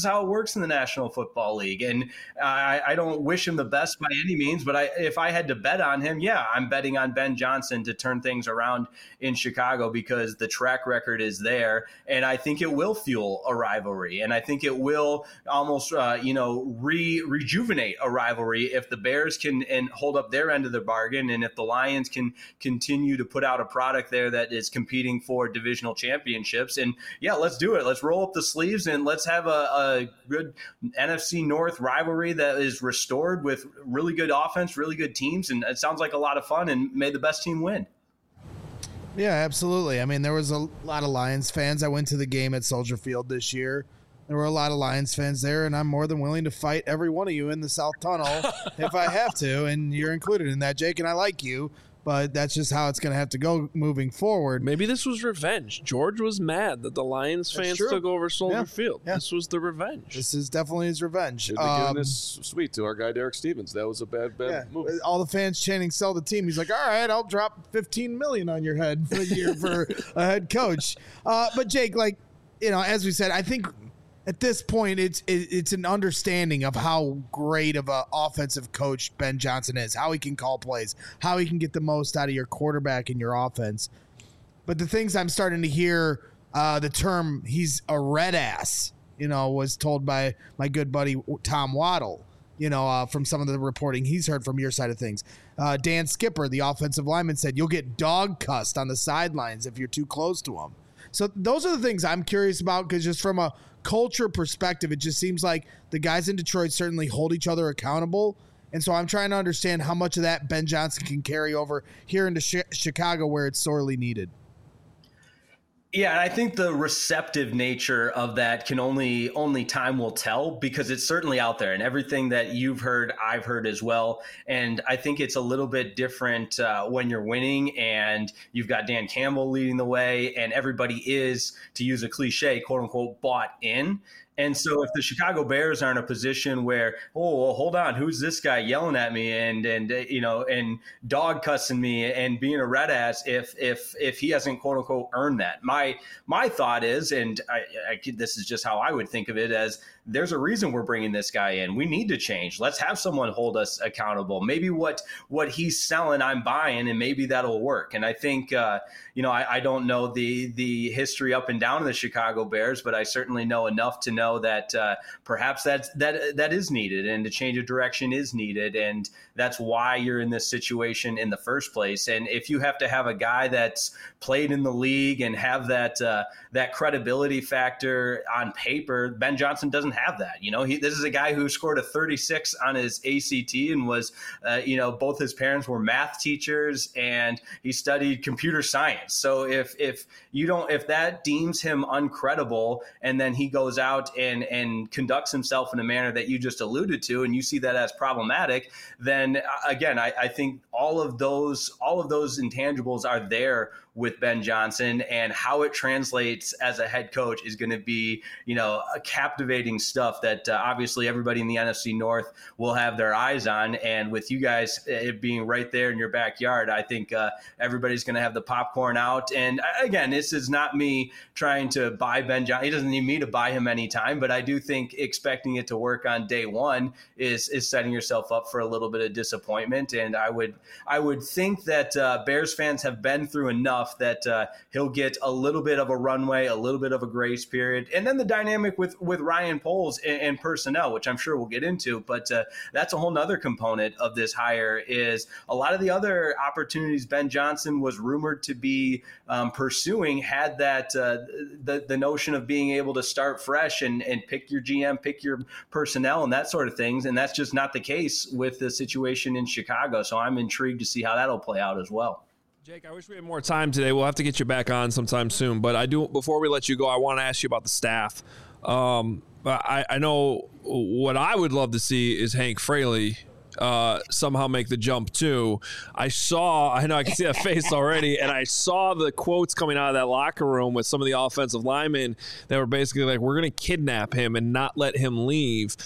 how it works in the National Football League. And I don't wish him the best by any means, but if I had to bet on him, I'm betting on Ben Johnson to turn things around in Chicago because the track record is there. And I think it will fuel a rivalry. And I think it will almost, rejuvenate a rivalry if the Bears can and hold up their end of the bargain. And if the Lions can continue to put out a product there that is competing for divisional championships. And let's do it. Let's roll up the sleeves and let's have a good NFC North rivalry that is restored with really good offense, really good teams. And it sounds like a lot of fun, and may the best team win. Yeah, absolutely. I mean, there was a lot of Lions fans. I went to the game at Soldier Field this year. There were a lot of Lions fans there, and I'm more than willing to fight every one of you in the South Tunnel if I have to, and you're included in that, Jake, and I like you, but that's just how it's going to have to go moving forward. Maybe this was revenge. George was mad that the Lions fans took over Soldier Field. Yeah. This was the revenge. This is definitely his revenge. Should be giving this sweet to our guy Derek Stevens. That was a bad move. All the fans chanting "sell the team." He's like, "All right, I'll drop $15 million on your head for a year for a head coach." But Jake, as we said, I think at this point, it's an understanding of how great of an offensive coach Ben Johnson is, how he can call plays, how he can get the most out of your quarterback and your offense. But the things I'm starting to hear, the term "he's a red ass," was told by my good buddy Tom Waddle, from some of the reporting he's heard from your side of things. Dan Skipper, the offensive lineman, said you'll get dog cussed on the sidelines if you're too close to him. So those are the things I'm curious about, because just from a culture perspective, it just seems like the guys in Detroit certainly hold each other accountable. And so I'm trying to understand how much of that Ben Johnson can carry over here into Chicago, where it's sorely needed. Yeah, and I think the receptive nature of that can only time will tell, because it's certainly out there, and everything that you've heard, I've heard as well. And I think it's a little bit different when you're winning and you've got Dan Campbell leading the way and everybody is, to use a cliche, quote unquote, bought in. And so if the Chicago Bears are in a position where, hold on, who's this guy yelling at me and dog cussing me and being a red ass if he hasn't, quote unquote, earned that. My thought is, and this is just how I would think of it, as there's a reason we're bringing this guy in. We need to change. Let's have someone hold us accountable. Maybe what he's selling, I'm buying, and maybe that'll work. And I think, I don't know the history up and down of the Chicago Bears, but I certainly know enough to know that perhaps that is needed, and a change of direction is needed. And that's why you're in this situation in the first place. And if you have to have a guy that's played in the league and have that credibility factor on paper, Ben Johnson doesn't have that. This is a guy who scored a 36 on his ACT and was, both his parents were math teachers and he studied computer science. So if that deems him uncredible, and then he goes out and conducts himself in a manner that you just alluded to, and you see that as problematic, then again, I think all of those intangibles are there with Ben Johnson, and how it translates as a head coach is going to be, a captivating stuff that obviously everybody in the NFC North will have their eyes on. And with you guys it being right there in your backyard, I think everybody's going to have the popcorn out. And again, this is not me trying to buy Ben Johnson. He doesn't need me to buy him anytime, but I do think expecting it to work on day one is setting yourself up for a little bit of disappointment. And I would think that Bears fans have been through enough that he'll get a little bit of a runway, a little bit of a grace period. And then the dynamic with Ryan Poles and personnel, which I'm sure we'll get into, but that's a whole nother component of this hire. Is a lot of the other opportunities Ben Johnson was rumored to be pursuing had that the notion of being able to start fresh and pick your GM, pick your personnel and that sort of things. And that's just not the case with the situation in Chicago. So I'm intrigued to see how that'll play out as well. Jake, I wish we had more time today. We'll have to get you back on sometime soon. But before we let you go, I want to ask you about the staff. I know what I would love to see is Hank Fraley somehow make the jump too. I know I can see that face already, and I saw the quotes coming out of that locker room with some of the offensive linemen that were basically like, we're going to kidnap him and not let him leave.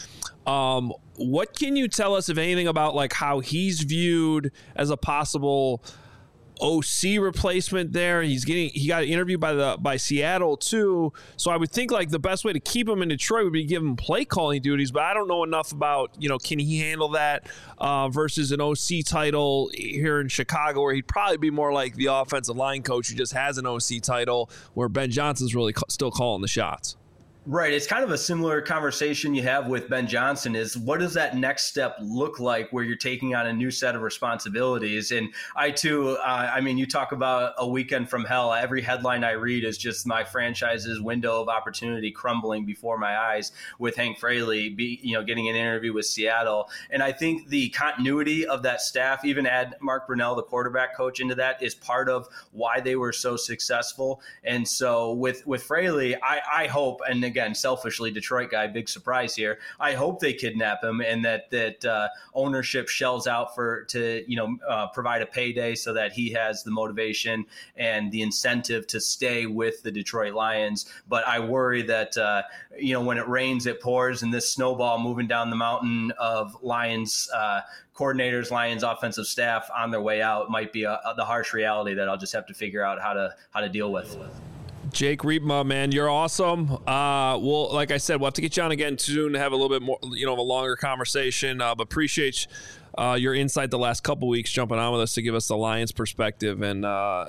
What can you tell us, if anything, about like how he's viewed as a possible OC replacement there. He got interviewed by Seattle too. So I would think like the best way to keep him in Detroit would be give him play calling duties, but I don't know enough about, can he handle that versus an OC title here in Chicago, where he'd probably be more like the offensive line coach who just has an OC title, where Ben Johnson's really still calling the shots. Right. It's kind of a similar conversation you have with Ben Johnson is what does that next step look like where you're taking on a new set of responsibilities? And I, too, you talk about a weekend from hell. Every headline I read is just my franchise's window of opportunity crumbling before my eyes with Hank Fraley, getting an interview with Seattle. And I think the continuity of that staff, even add Mark Brunell, the quarterback coach, into that is part of why they were so successful. And so with Fraley, I hope, and again, selfishly, Detroit guy, big surprise here. I hope they kidnap him and that ownership shells out to provide a payday so that he has the motivation and the incentive to stay with the Detroit Lions. But I worry that when it rains, it pours, and this snowball moving down the mountain of Lions coordinators, Lions offensive staff on their way out might be the harsh reality that I'll just have to figure out how to deal with. Jake Riepma, man, you're awesome. Well, like I said, we'll have to get you on again soon to have a little bit more, of a longer conversation. But appreciate your insight the last couple weeks, jumping on with us to give us the Lions perspective and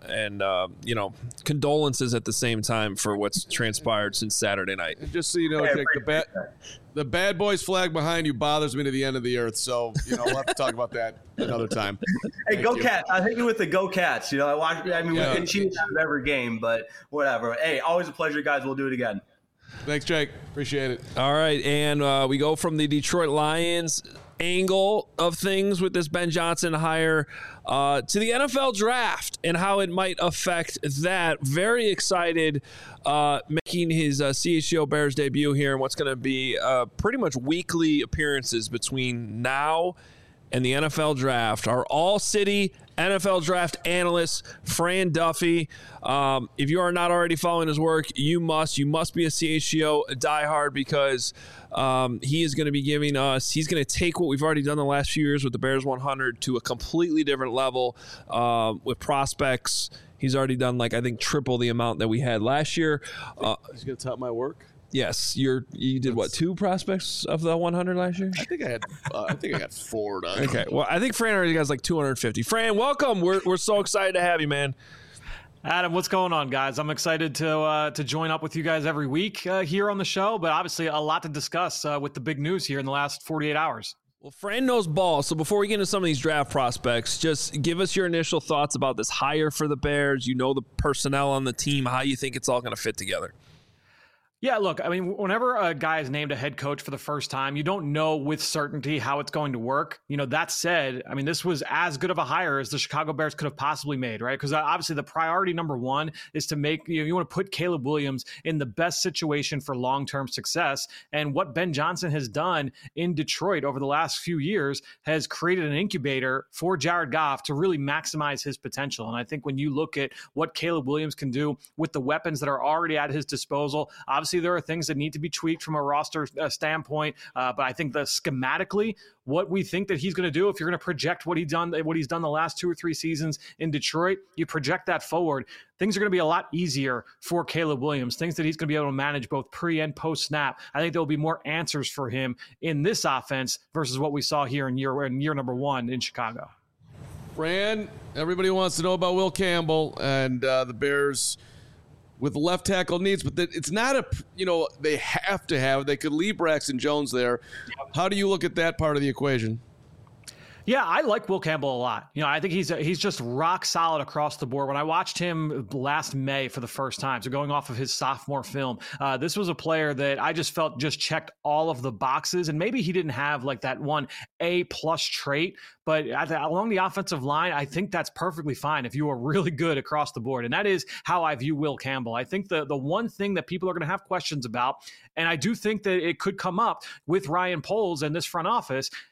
condolences at the same time for what's transpired since Saturday night. And just so you know, Jake, the bad boys flag behind you bothers me to the end of the earth. So, we'll have to talk about that another time. Hey, Thank you. Cats. I hit you with the Go Cats. We can cheat out of every game, but whatever. Hey, always a pleasure, guys. We'll do it again. Thanks, Jake. Appreciate it. All right. And we go from the Detroit Lions angle of things with this Ben Johnson hire to the NFL draft and how it might affect that. Very excited making his CHGO Bears debut here and what's going to be pretty much weekly appearances between now and the NFL draft. Our all-city NFL draft analyst, Fran Duffy. If you are not already following his work, you must be a CHGO diehard because he is going to be giving us, he's going to take what we've already done the last few years with the Bears 100 to a completely different level with prospects. He's already done I think triple the amount that we had last year. He's going to top my work. Yes, you did what, 2 prospects of the 100 last year? I think I got 4 done. Okay, well, I think Fran already has 250. Fran, welcome. We're so excited to have you, man. Adam, what's going on, guys? I'm excited to join up with you guys every week here on the show, but obviously a lot to discuss with the big news here in the last 48 hours. Well, Fran knows ball, so before we get into some of these draft prospects, just give us your initial thoughts about this hire for the Bears. You know the personnel on the team, how you think it's all going to fit together. Yeah, look, whenever a guy is named a head coach for the first time, you don't know with certainty how it's going to work. That said, this was as good of a hire as the Chicago Bears could have possibly made, right? Because obviously the priority number one is to make, you want to put Caleb Williams in the best situation for long-term success. And what Ben Johnson has done in Detroit over the last few years has created an incubator for Jared Goff to really maximize his potential. And I think when you look at what Caleb Williams can do with the weapons that are already at his disposal, obviously there are things that need to be tweaked from a roster standpoint, but I think that schematically, what we think that he's going to do, if you're going to project what he's done the last 2 or 3 seasons in Detroit, you project that forward. Things are going to be a lot easier for Caleb Williams. Things that he's going to be able to manage both pre and post snap. I think there will be more answers for him in this offense versus what we saw here in year number 1 in Chicago. Fran, everybody wants to know about Will Campbell and the Bears with left tackle needs, but it's not they have to have. They could leave Braxton Jones there. How do you look at that part of the equation? Yeah, I like Will Campbell a lot. I think he's just rock solid across the board. When I watched him last May for the first time, so going off of his sophomore film, this was a player that I just felt just checked all of the boxes. And maybe he didn't have that one A+ trait, but along the offensive line, I think that's perfectly fine if you are really good across the board. And that is how I view Will Campbell. I think the one thing that people are going to have questions about, and I do think that it could come up with Ryan Poles and this front office,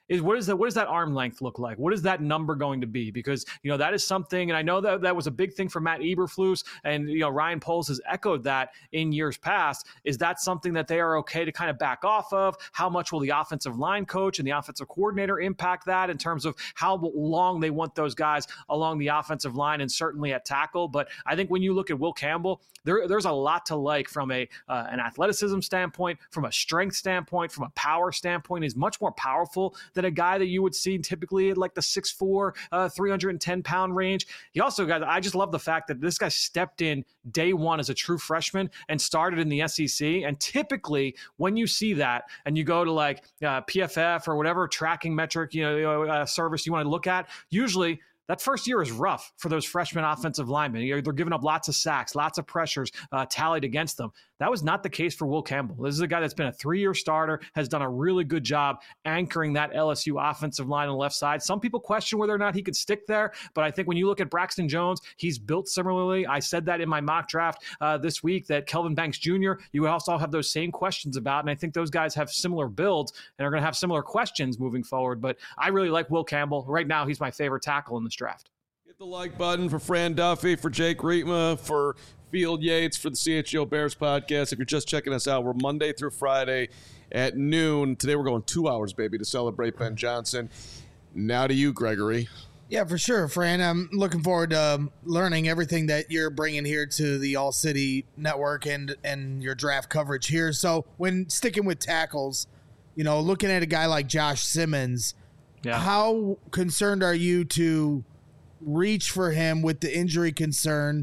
is what does that arm length look like? What is that number going to be? Because, that is something, and I know that was a big thing for Matt Eberflus, and, Ryan Poles has echoed that in years past. Is that something that they are okay to kind of back off of? How much will the offensive line coach and the offensive coordinator impact that in terms of how long they want those guys along the offensive line and certainly at tackle? But I think when you look at Will Campbell, there's a lot to like from an athleticism standpoint, from a strength standpoint, from a power standpoint. He's much more powerful than a guy that you would see typically at like the 6'4", 310-pound range. He also got, I just love the fact that this guy stepped in day one as a true freshman and started in the SEC. And typically when you see that and you go to like PFF or whatever tracking metric, service you want to look at, usually that first year is rough for those freshman offensive linemen. They're giving up lots of sacks, lots of pressures tallied against them. That was not the case for Will Campbell. This is a guy that's been a 3-year starter, has done a really good job anchoring that LSU offensive line on the left side. Some people question whether or not he could stick there, but I think when you look at Braxton Jones, he's built similarly. I said that in my mock draft this week, that Kelvin Banks Jr., you also have those same questions about, and I think those guys have similar builds and are going to have similar questions moving forward. But I really like Will Campbell. Right now, he's my favorite tackle in this draft. Hit the like button for Fran Duffy, for Jake Rietma, for Field Yates, for the CHGO Bears podcast. If you're just checking us out, we're Monday through Friday at noon. Today we're going 2 hours, baby, to celebrate Ben Johnson. Now to you, Gregory. Yeah, for sure, Fran. I'm looking forward to learning everything that you're bringing here to the All City Network and your draft coverage here. So when sticking with tackles, looking at a guy like Josh Simmons, how concerned are you to reach for him with the injury concern?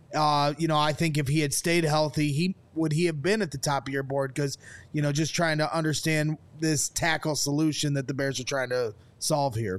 I think if he had stayed healthy, would he have been at the top of your board? Because, just trying to understand this tackle solution that the Bears are trying to solve here.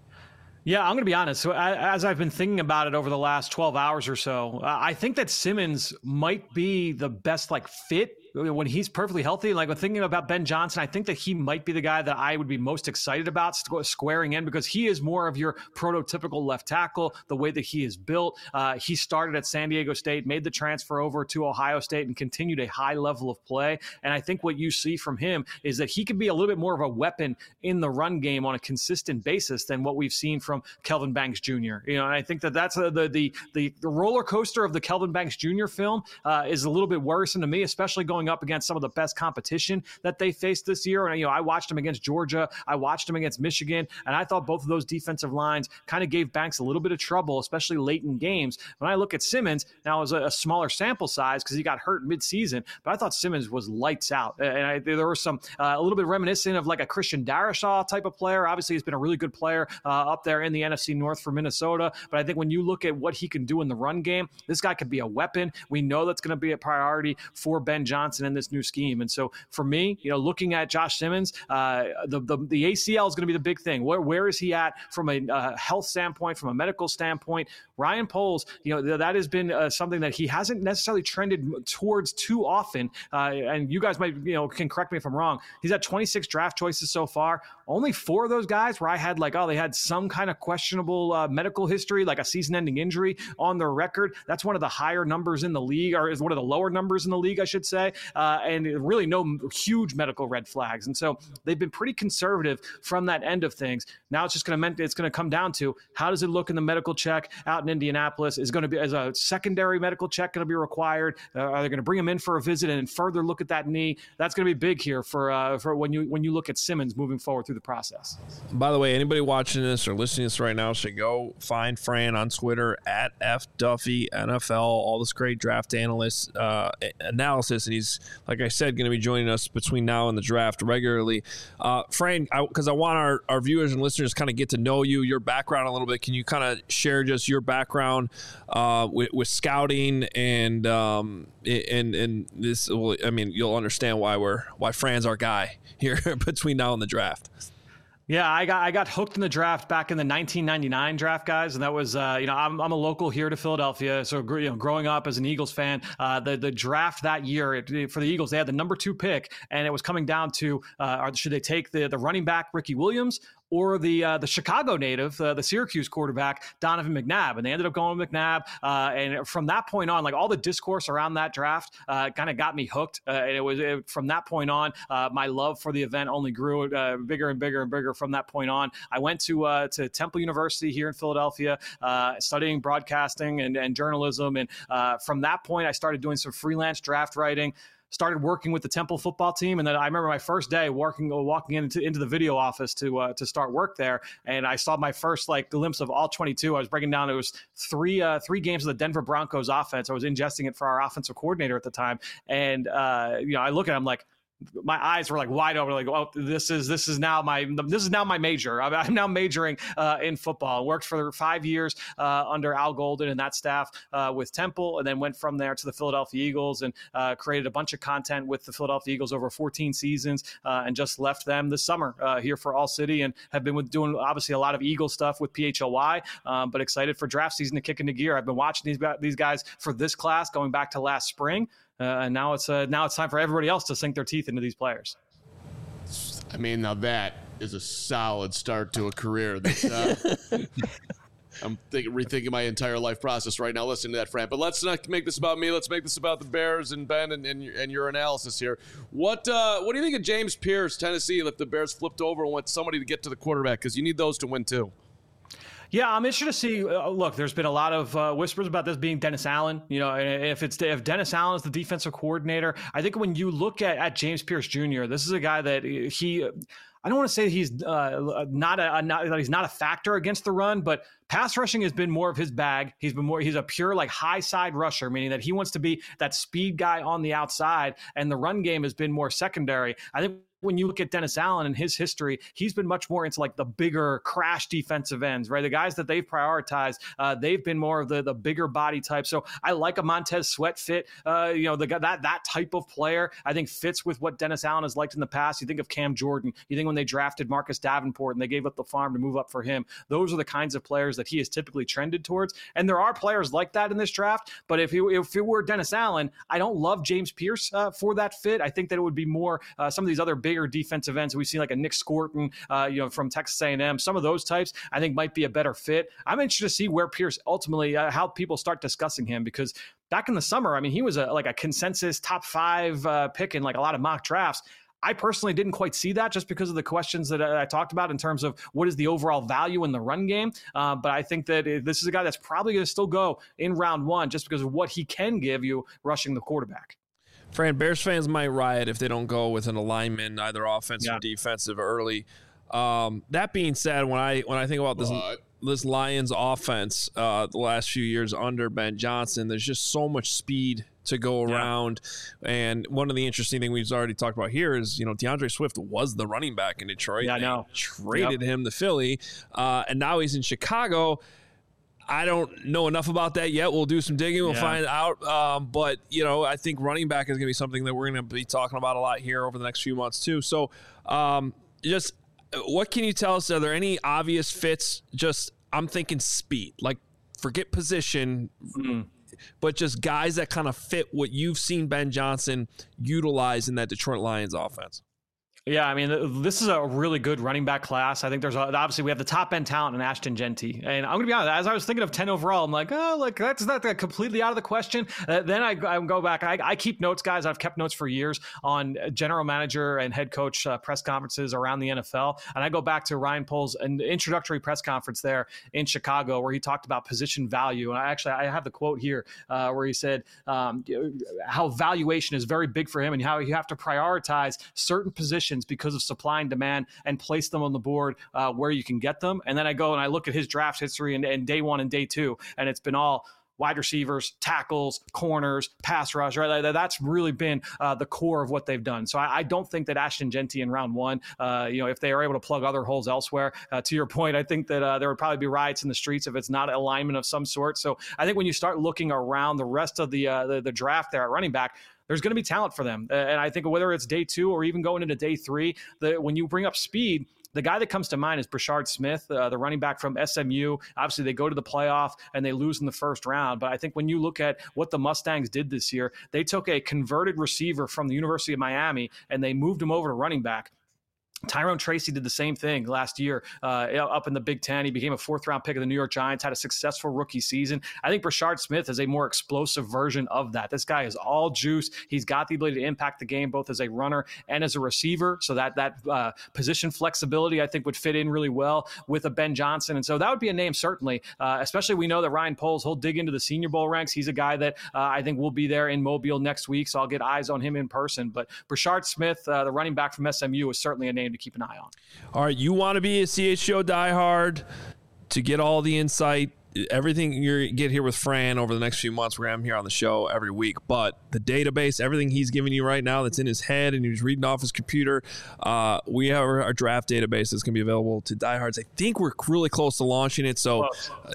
Yeah, I'm going to be honest. So as I've been thinking about it over the last 12 hours or so, I think that Simmons might be the best fit when he's perfectly healthy. Like when thinking about Ben Johnson, I think that he might be the guy that I would be most excited about squaring in, because he is more of your prototypical left tackle, the way that he is built. He started at San Diego State, made the transfer over to Ohio State, and continued a high level of play. And I think what you see from him is that he can be a little bit more of a weapon in the run game on a consistent basis than what we've seen from Kelvin Banks Jr. And I think that that's the roller coaster of the Kelvin Banks Jr. film is a little bit worrisome to me, especially going up against some of the best competition that they faced this year. And, I watched him against Georgia. I watched him against Michigan. And I thought both of those defensive lines kind of gave Banks a little bit of trouble, especially late in games. When I look at Simmons, now it was a smaller sample size because he got hurt midseason, but I thought Simmons was lights out. And there was some, a little bit reminiscent of like a Christian Darrisaw type of player. Obviously, he's been a really good player up there in the NFC North for Minnesota. But I think when you look at what he can do in the run game, this guy could be a weapon. We know that's going to be a priority for Ben Johnson in this new scheme. And so for me, looking at Josh Simmons, the ACL is going to be the big thing. Where is he at from a health standpoint, from a medical standpoint? Ryan Poles, that has been something that he hasn't necessarily trended towards too often. And you guys might, can correct me if I'm wrong. He's had 26 draft choices so far. Only 4 of those guys where I had they had some kind of questionable medical history, like a season-ending injury on their record. That's one of the higher numbers in the league, or is one of the lower numbers in the league, I should say. And really no huge medical red flags. And so they've been pretty conservative from that end of things. Now it's just going to come down to how does it look in the medical check out in Indianapolis? Is going to be as a secondary medical check going to be required? Are they going to bring him in for a visit and further look at that knee? That's going to be big here for when you look at Simmons moving forward through the process. By the way, anybody watching this or listening to this right now should go find Fran on Twitter at FDuffyNFL. All this great draft analyst analysis, and he's, like I said, going to be joining us between now and the draft regularly. Fran, because I want our viewers and listeners to kind of get to know you, your background a little bit. Can you kind of share just your background with scouting and this? Well, I mean, you'll understand why Fran's our guy here between now and the draft. Yeah, I got hooked in the draft back in the 1999 draft, guys, and that was I'm a local here to Philadelphia, so growing up as an Eagles fan, the draft that year for the Eagles, they had the number 2 pick, and it was coming down to should they take the running back Ricky Williams or the Chicago native, the Syracuse quarterback, Donovan McNabb. And they ended up going with McNabb. And from that point on, like all the discourse around that draft kind of got me hooked. And from that point on, my love for the event only grew bigger and bigger and bigger from that point on. I went to Temple University here in Philadelphia, studying broadcasting and journalism. And from that point, I started doing some freelance draft writing, started working with the Temple football team. And then I remember my first day walking into the video office to start work there. And I saw my first glimpse of all 22. I was breaking down, it was three games of the Denver Broncos offense. I was ingesting it for our offensive coordinator at the time. And, I look at him like, my eyes were wide open, oh, this is now my major. I'm now majoring in football. I worked for 5 years under Al Golden and that staff with Temple, and then went from there to the Philadelphia Eagles and created a bunch of content with the Philadelphia Eagles over 14 seasons, and just left them this summer here for All City, and have been doing obviously a lot of Eagle stuff with PHLY, but excited for draft season to kick into gear. I've been watching these guys for this class going back to last spring. And now it's time for everybody else to sink their teeth into these players. I mean, now that is a solid start to a career. I'm rethinking my entire life process right now listening to that, Fran. But let's not make this about me. Let's make this about the Bears and Ben and your analysis here. What do you think of James Pierce, Tennessee, if the Bears flipped over and want somebody to get to the quarterback? Because you need those to win too. Yeah, I'm interested to see. Look, there's been a lot of whispers about this being Dennis Allen. If Dennis Allen is the defensive coordinator, I think when you look at James Pierce Jr., this is a guy that I don't want to say he's not a factor against the run, but pass rushing has been more of his bag. He's a pure high side rusher, meaning that he wants to be that speed guy on the outside, and the run game has been more secondary. I think when you look at Dennis Allen and his history, he's been much more into the bigger crash defensive ends, right? The guys that they've prioritized, they've been more of the bigger body type. So I like a Montez Sweat fit, that type of player, I think fits with what Dennis Allen has liked in the past. You think of Cam Jordan, you think when they drafted Marcus Davenport and they gave up the farm to move up for him, those are the kinds of players that he has typically trended towards. And there are players like that in this draft, but if it were Dennis Allen, I don't love James Pierce for that fit. I think that it would be more some of these other bigger defensive ends. We've seen a Nick Scorton, from Texas A&M. Some of those types I think might be a better fit. I'm interested to see where Pierce ultimately, how people start discussing him, because back in the summer, I mean, he was a consensus top 5 pick in a lot of mock drafts. I personally didn't quite see that just because of the questions that I talked about in terms of what is the overall value in the run game. But I think that this is a guy that's probably going to still go in round 1 just because of what he can give you rushing the quarterback. Fran, Bears fans might riot if they don't go with an alignment, either offensive or defensive early. That being said, when I think about this Lions offense the last few years under Ben Johnson, there's just so much speed to go around. And one of the interesting things we've already talked about here is, DeAndre Swift was the running back in Detroit. Yeah, I know. Traded him to Philly, and now he's in Chicago. I don't know enough about that yet. We'll do some digging. We'll find out. But, I think running back is going to be something that we're going to be talking about a lot here over the next few months too. So just what can you tell us? Are there any obvious fits? I'm thinking speed, forget position, but just guys that kind of fit what you've seen Ben Johnson utilize in that Detroit Lions offense. Yeah, I mean, this is a really good running back class. I think obviously we have the top end talent in Ashton Genty. And I'm going to be honest, as I was thinking of 10 overall, I'm like, that's not completely out of the question. Then I go back. I keep notes, guys. I've kept notes for years on general manager and head coach press conferences around the NFL. And I go back to Ryan Poles' introductory press conference there in Chicago where he talked about position value. And I have the quote here where he said how valuation is very big for him and how you have to prioritize certain positions because of supply and demand and place them on the board where you can get them. And then I go and I look at his draft history and day 1 and day 2, and it's been all wide receivers, tackles, corners, pass rush, right? That's really been the core of what they've done. So I don't think that Ashton Genty in round 1, if they are able to plug other holes elsewhere, to your point, I think that there would probably be riots in the streets if it's not alignment of some sort. So I think when you start looking around the rest of the draft there at running back, there's going to be talent for them. And I think whether it's day 2 or even going into day 3, when you bring up speed, the guy that comes to mind is Brashard Smith, the running back from SMU. Obviously, they go to the playoff and they lose in the first round. But I think when you look at what the Mustangs did this year, they took a converted receiver from the University of Miami and they moved him over to running back. Tyrone Tracy did the same thing last year up in the Big Ten. He became a 4th-round pick of the New York Giants, had a successful rookie season. I think Brashard Smith is a more explosive version of that. This guy is all juice. He's got the ability to impact the game both as a runner and as a receiver, so that position flexibility I think would fit in really well with a Ben Johnson. And so that would be a name certainly, especially we know that Ryan Poles, he'll dig into the Senior Bowl ranks. He's a guy that I think will be there in Mobile next week, so I'll get eyes on him in person. But Brashard Smith, the running back from SMU, is certainly a name to keep an eye on. All right, you want to be a CHGO diehard to get all the insight, everything you get here with Fran over the next few months. We're going to have him here on the show every week. But the database, everything he's giving you right now that's in his head and he's reading off his computer, we have our draft database that's going to be available to diehards. I think we're really close to launching it. So,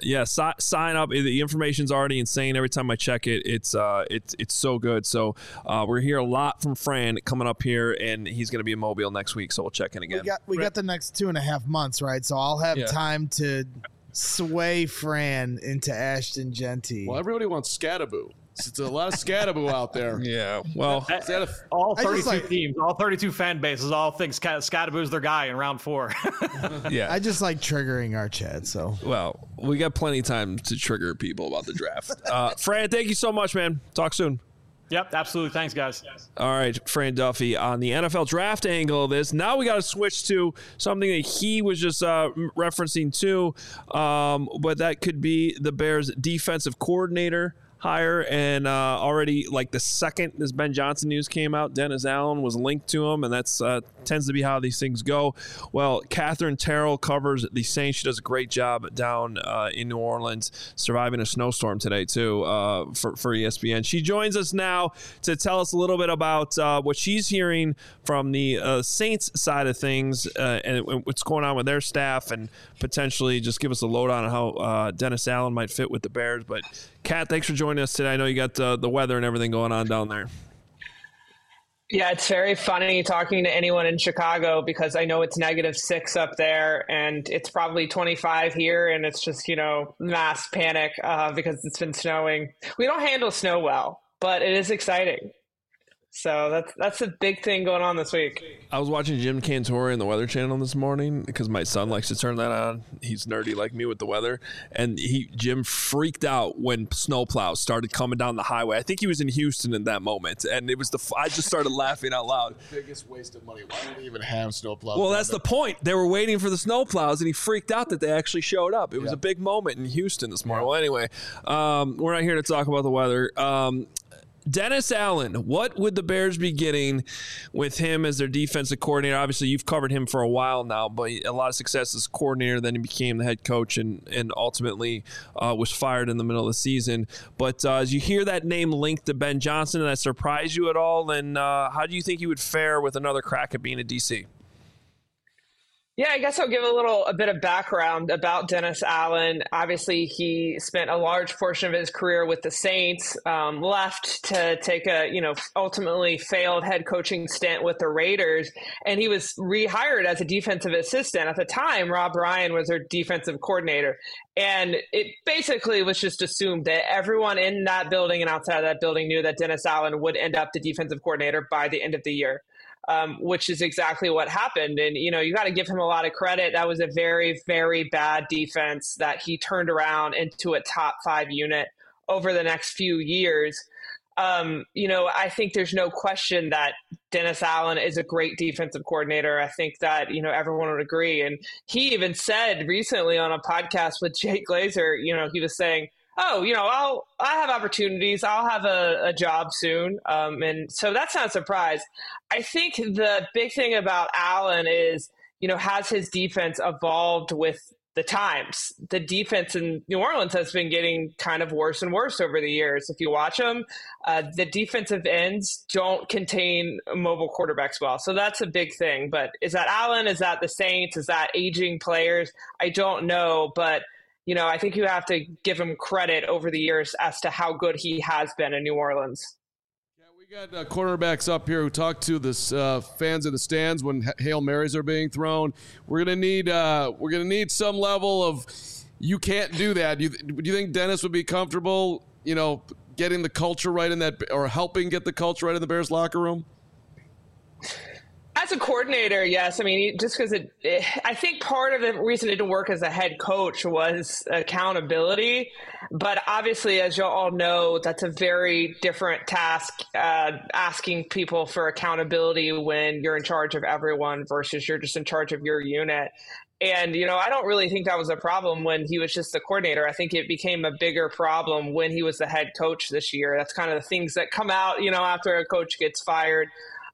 sign up. The information's already insane. Every time I check it, it's so good. So we're hear a lot from Fran coming up here, and he's going to be in Mobile next week. So we'll check in again. We got the next 2.5 months, right? So I'll have time to sway Fran into Ashton Genty. Well, everybody wants Scattaboo. It's a lot of Scattaboo out there. Yeah. Well, all 32 teams, all 32 fan bases, all think Scattaboo's their guy in round 4. Yeah. I just like triggering our chat. So, well, we got plenty of time to trigger people about the draft. Fran, thank you so much, man. Talk soon. Yep, absolutely. Thanks, guys. All right, Fran Duffy on the NFL draft angle of this. Now we got to switch to something that he was just referencing too, but that could be the Bears' defensive coordinator hire. And already, like the second this Ben Johnson news came out, Dennis Allen was linked to him, and that's tends to be how these things go. Well, Catherine Terrell covers the Saints. She does a great job down in New Orleans, surviving a snowstorm today too for ESPN. She joins us now to tell us a little bit about what she's hearing from the Saints side of things and what's going on with their staff, and potentially just give us a lowdown on how Dennis Allen might fit with the Bears. But Kat, thanks for joining us today. I know you got the weather and everything going on down there. Yeah, it's very funny talking to anyone in Chicago because I know it's -6 up there and it's probably 25 here, and it's just, mass panic because it's been snowing. We don't handle snow well, but it is exciting. So that's a big thing going on this week. I was watching Jim Cantore in the Weather Channel this morning because my son likes to turn that on. He's nerdy like me with the weather. And Jim freaked out when snowplows started coming down the highway. I think he was in Houston in that moment. And it was I just started laughing out loud. Biggest waste of money. Why do they even have snowplows? Well, that's the point. They were waiting for the snowplows, and he freaked out that they actually showed up. It was a big moment in Houston this morning. Well, anyway, we're not here to talk about the weather. Dennis Allen, what would the Bears be getting with him as their defensive coordinator? Obviously, you've covered him for a while now, but a lot of success as coordinator. Then he became the head coach and ultimately was fired in the middle of the season. But as you hear that name linked to Ben Johnson, did that surprise you at all? And how do you think he would fare with another crack at being a DC? Yeah, I guess I'll give a bit of background about Dennis Allen. Obviously, he spent a large portion of his career with the Saints, left to take a, ultimately failed head coaching stint with the Raiders, and he was rehired as a defensive assistant. At the time, Rob Ryan was their defensive coordinator, and it basically was just assumed that everyone in that building and outside of that building knew that Dennis Allen would end up the defensive coordinator by the end of the year. Which is exactly what happened. And, you got to give him a lot of credit. That was a very, very bad defense that he turned around into a top 5 unit over the next few years. I think there's no question that Dennis Allen is a great defensive coordinator. I think that, everyone would agree. And he even said recently on a podcast with Jay Glazer, he was saying, I have opportunities. I'll have a job soon. And so that's not a surprise. I think the big thing about Allen is, has his defense evolved with the times? The defense in New Orleans has been getting kind of worse and worse over the years. If you watch them, the defensive ends don't contain mobile quarterbacks well. So that's a big thing. But is that Allen? Is that the Saints? Is that aging players? I don't know. But I think you have to give him credit over the years as to how good he has been in New Orleans. Yeah, we got quarterbacks up here who talk to the fans in the stands when Hail Marys are being thrown. We're gonna need some level of you can't do that. Do you think Dennis would be comfortable, getting the culture right in that, or helping get the culture right in the Bears locker room? As a coordinator, yes. I mean, just because I think part of the reason it didn't work as a head coach was accountability. But obviously, as you all know, that's a very different task, asking people for accountability when you're in charge of everyone versus you're just in charge of your unit. And, I don't really think that was a problem when he was just the coordinator. I think it became a bigger problem when he was the head coach this year. That's kind of the things that come out, after a coach gets fired.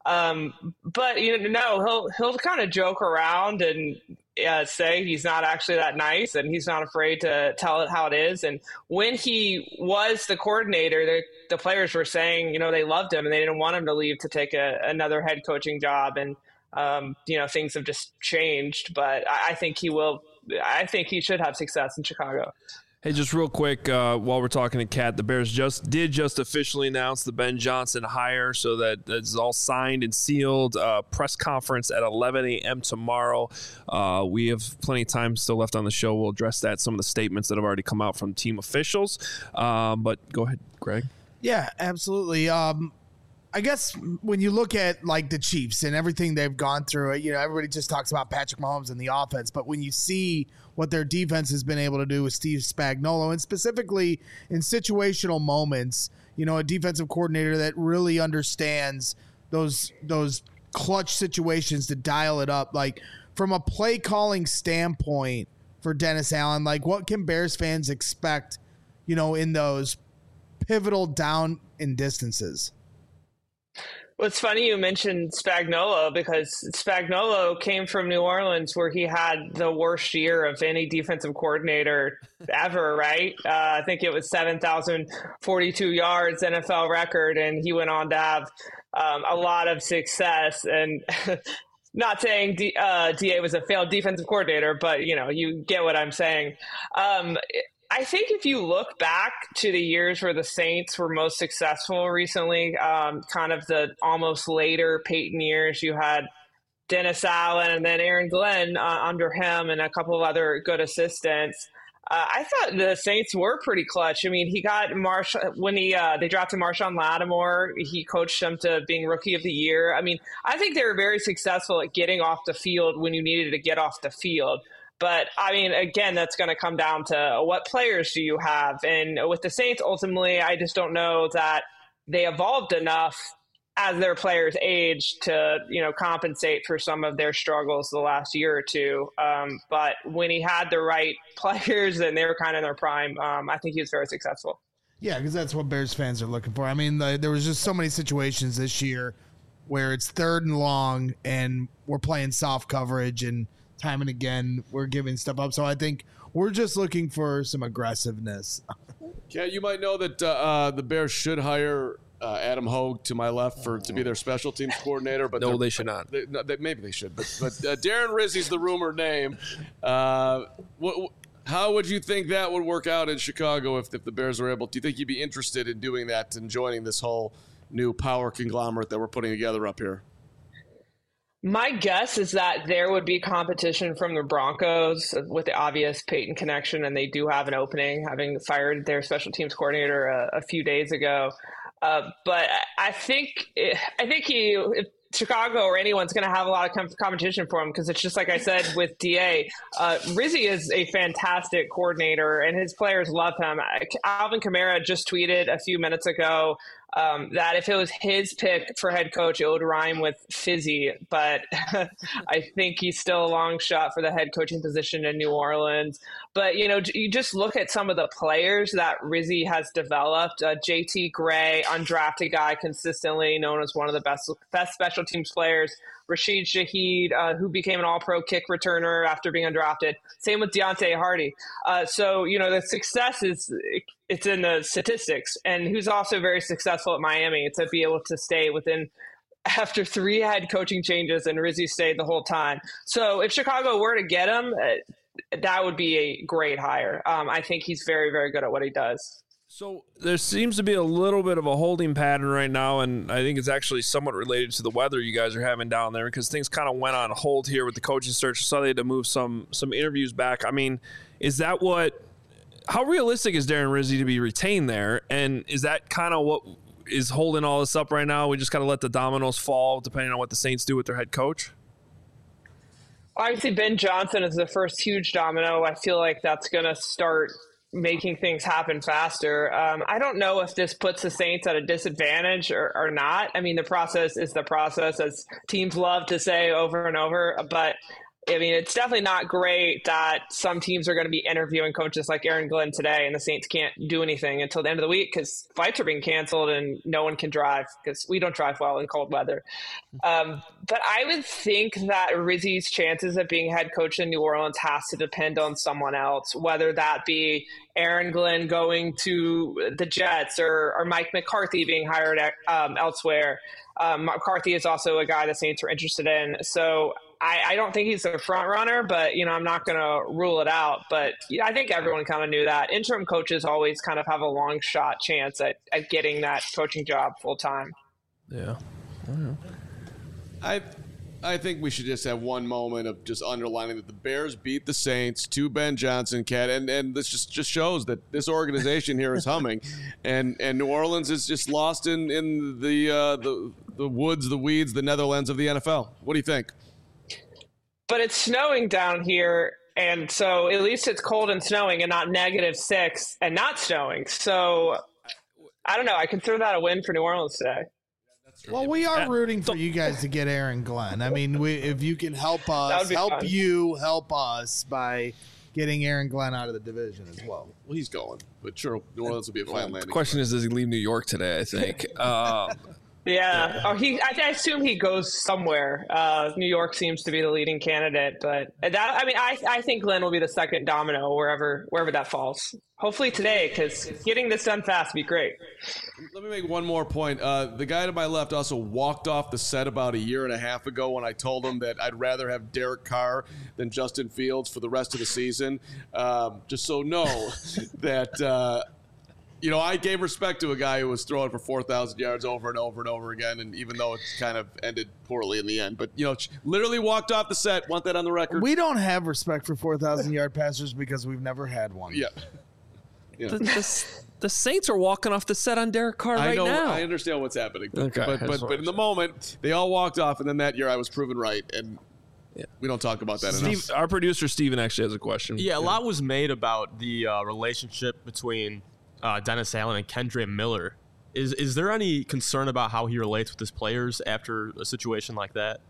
But he'll kind of joke around and say he's not actually that nice, and he's not afraid to tell it how it is. And when he was the coordinator, the players were saying, they loved him and they didn't want him to leave to take another head coaching job. And things have just changed. But I think he will. I think he should have success in Chicago. Hey, just real quick, while we're talking to Kat, the Bears did officially announce the Ben Johnson hire, so that's all signed and sealed. Press conference at 11 a.m. tomorrow. We have plenty of time still left on the show. We'll address some of the statements that have already come out from team officials. But go ahead, Greg. Yeah, absolutely. I guess when you look at like the Chiefs and everything they've gone through, everybody just talks about Patrick Mahomes and the offense, but when you see what their defense has been able to do with Steve Spagnuolo, and specifically in situational moments, a defensive coordinator that really understands those clutch situations to dial it up. Like from a play calling standpoint for Dennis Allen, like what can Bears fans expect, in those pivotal down and distances? Well, it's funny you mentioned Spagnuolo because Spagnuolo came from New Orleans where he had the worst year of any defensive coordinator ever, right? I think it was 7,042 yards, NFL record, and he went on to have a lot of success. And not saying DA was a failed defensive coordinator, but, you get what I'm saying. I think if you look back to the years where the Saints were most successful recently, kind of the almost later Peyton years, you had Dennis Allen and then Aaron Glenn under him and a couple of other good assistants. I thought the Saints were pretty clutch. I mean, he got when they drafted Marshawn Lattimore, he coached them to being Rookie of the Year. I mean, I think they were very successful at getting off the field when you needed to get off the field. But, I mean, again, that's going to come down to what players do you have. And with the Saints, ultimately, I just don't know that they evolved enough as their players aged to, compensate for some of their struggles the last year or two. But when he had the right players and they were kind of in their prime, I think he was very successful. Yeah, because that's what Bears fans are looking for. I mean, there was just so many situations this year where it's 3rd and long and we're playing soft coverage and time and again we're giving stuff up. So I think we're just looking for some aggressiveness. Yeah, you might know that the Bears should hire Adam Hogue to my left to be their special teams coordinator. But no, they should not. Maybe they should. But Darren Rizzi's the rumored name. How would you think that would work out in Chicago if the Bears were able? Do you think you'd be interested in doing that and joining this whole new power conglomerate that we're putting together up here? My guess is that there would be competition from the Broncos with the obvious Peyton connection, and they do have an opening, having fired their special teams coordinator a few days ago. But I think if Chicago or anyone's going to have a lot of competition for him, because it's just like I said with DA. Rizzi is a fantastic coordinator, and his players love him. Alvin Kamara just tweeted a few minutes ago that if it was his pick for head coach, it would rhyme with fizzy. But I think he's still a long shot for the head coaching position in New Orleans. But, you just look at some of the players that Rizzi has developed. JT Gray, undrafted guy, consistently known as one of the best special teams players. Rashid Shaheed, who became an all-pro kick returner after being undrafted. Same with Deontay Hardy. So, the success it's in the statistics. And who's also very successful at Miami to be able to stay after 3 head coaching changes, and Rizzi stayed the whole time. So if Chicago were to get him, that would be a great hire. I think he's very, very good at what he does. So there seems to be a little bit of a holding pattern right now, and I think it's actually somewhat related to the weather you guys are having down there, because things kind of went on hold here with the coaching search. So they had to move some interviews back. I mean, how realistic is Darren Rizzi to be retained there? And is that kind of what is holding all this up right now? We just got to let the dominoes fall depending on what the Saints do with their head coach? Obviously, Ben Johnson is the first huge domino. I feel like that's going to start making things happen faster. I don't know if this puts the Saints at a disadvantage or not. I mean, the process is the process, as teams love to say over and over, but I mean, it's definitely not great that some teams are going to be interviewing coaches like Aaron Glenn today, and the Saints can't do anything until the end of the week because flights are being canceled and no one can drive because we don't drive well in cold weather. But I would think that Rizzi's chances of being head coach in New Orleans has to depend on someone else, whether that be Aaron Glenn going to the Jets or Mike McCarthy being hired elsewhere. McCarthy is also a guy the Saints are interested in. So I don't think he's a front runner, but, I'm not going to rule it out. But I think everyone kind of knew that. Interim coaches always kind of have a long shot chance at getting that coaching job full time. Yeah. I think we should just have one moment of just underlining that the Bears beat the Saints to Ben Johnson, Cat, and this just shows that this organization here is humming, and New Orleans is just lost in the woods, the weeds, the Netherlands of the NFL. What do you think? But it's snowing down here, and so at least it's cold and snowing and not -6 and not snowing. So I don't know. I consider that a win for New Orleans today. Well, we are rooting for you guys to get Aaron Glenn. I mean, if you can help us, help us by getting Aaron Glenn out of the division as well. Well, he's going, but sure, New Orleans will be a fine landing. The question is, does he leave New York today? I think. Yeah. Oh, I assume he goes somewhere. New York seems to be the leading candidate, but I think Glenn will be the second domino wherever that falls. Hopefully today, because getting this done fast would be great. Let me make one more point. The guy to my left also walked off the set about a year and a half ago when I told him that I'd rather have Derek Carr than Justin Fields for the rest of the season. Just so know that. I gave respect to a guy who was throwing for 4,000 yards over and over and over again, and even though it's kind of ended poorly in the end. But, literally walked off the set. Want that on the record? We don't have respect for 4,000-yard passers because we've never had one. Yeah. The Saints are walking off the set on Derek Carr right now. I understand what's happening. Okay, but in the moment, they all walked off, and then that year I was proven right, and we don't talk about that enough. Our producer, Steven, actually has a question. Yeah, a lot was made about the relationship between Dennis Allen and Kendre Miller. Is there any concern about how he relates with his players after a situation like that?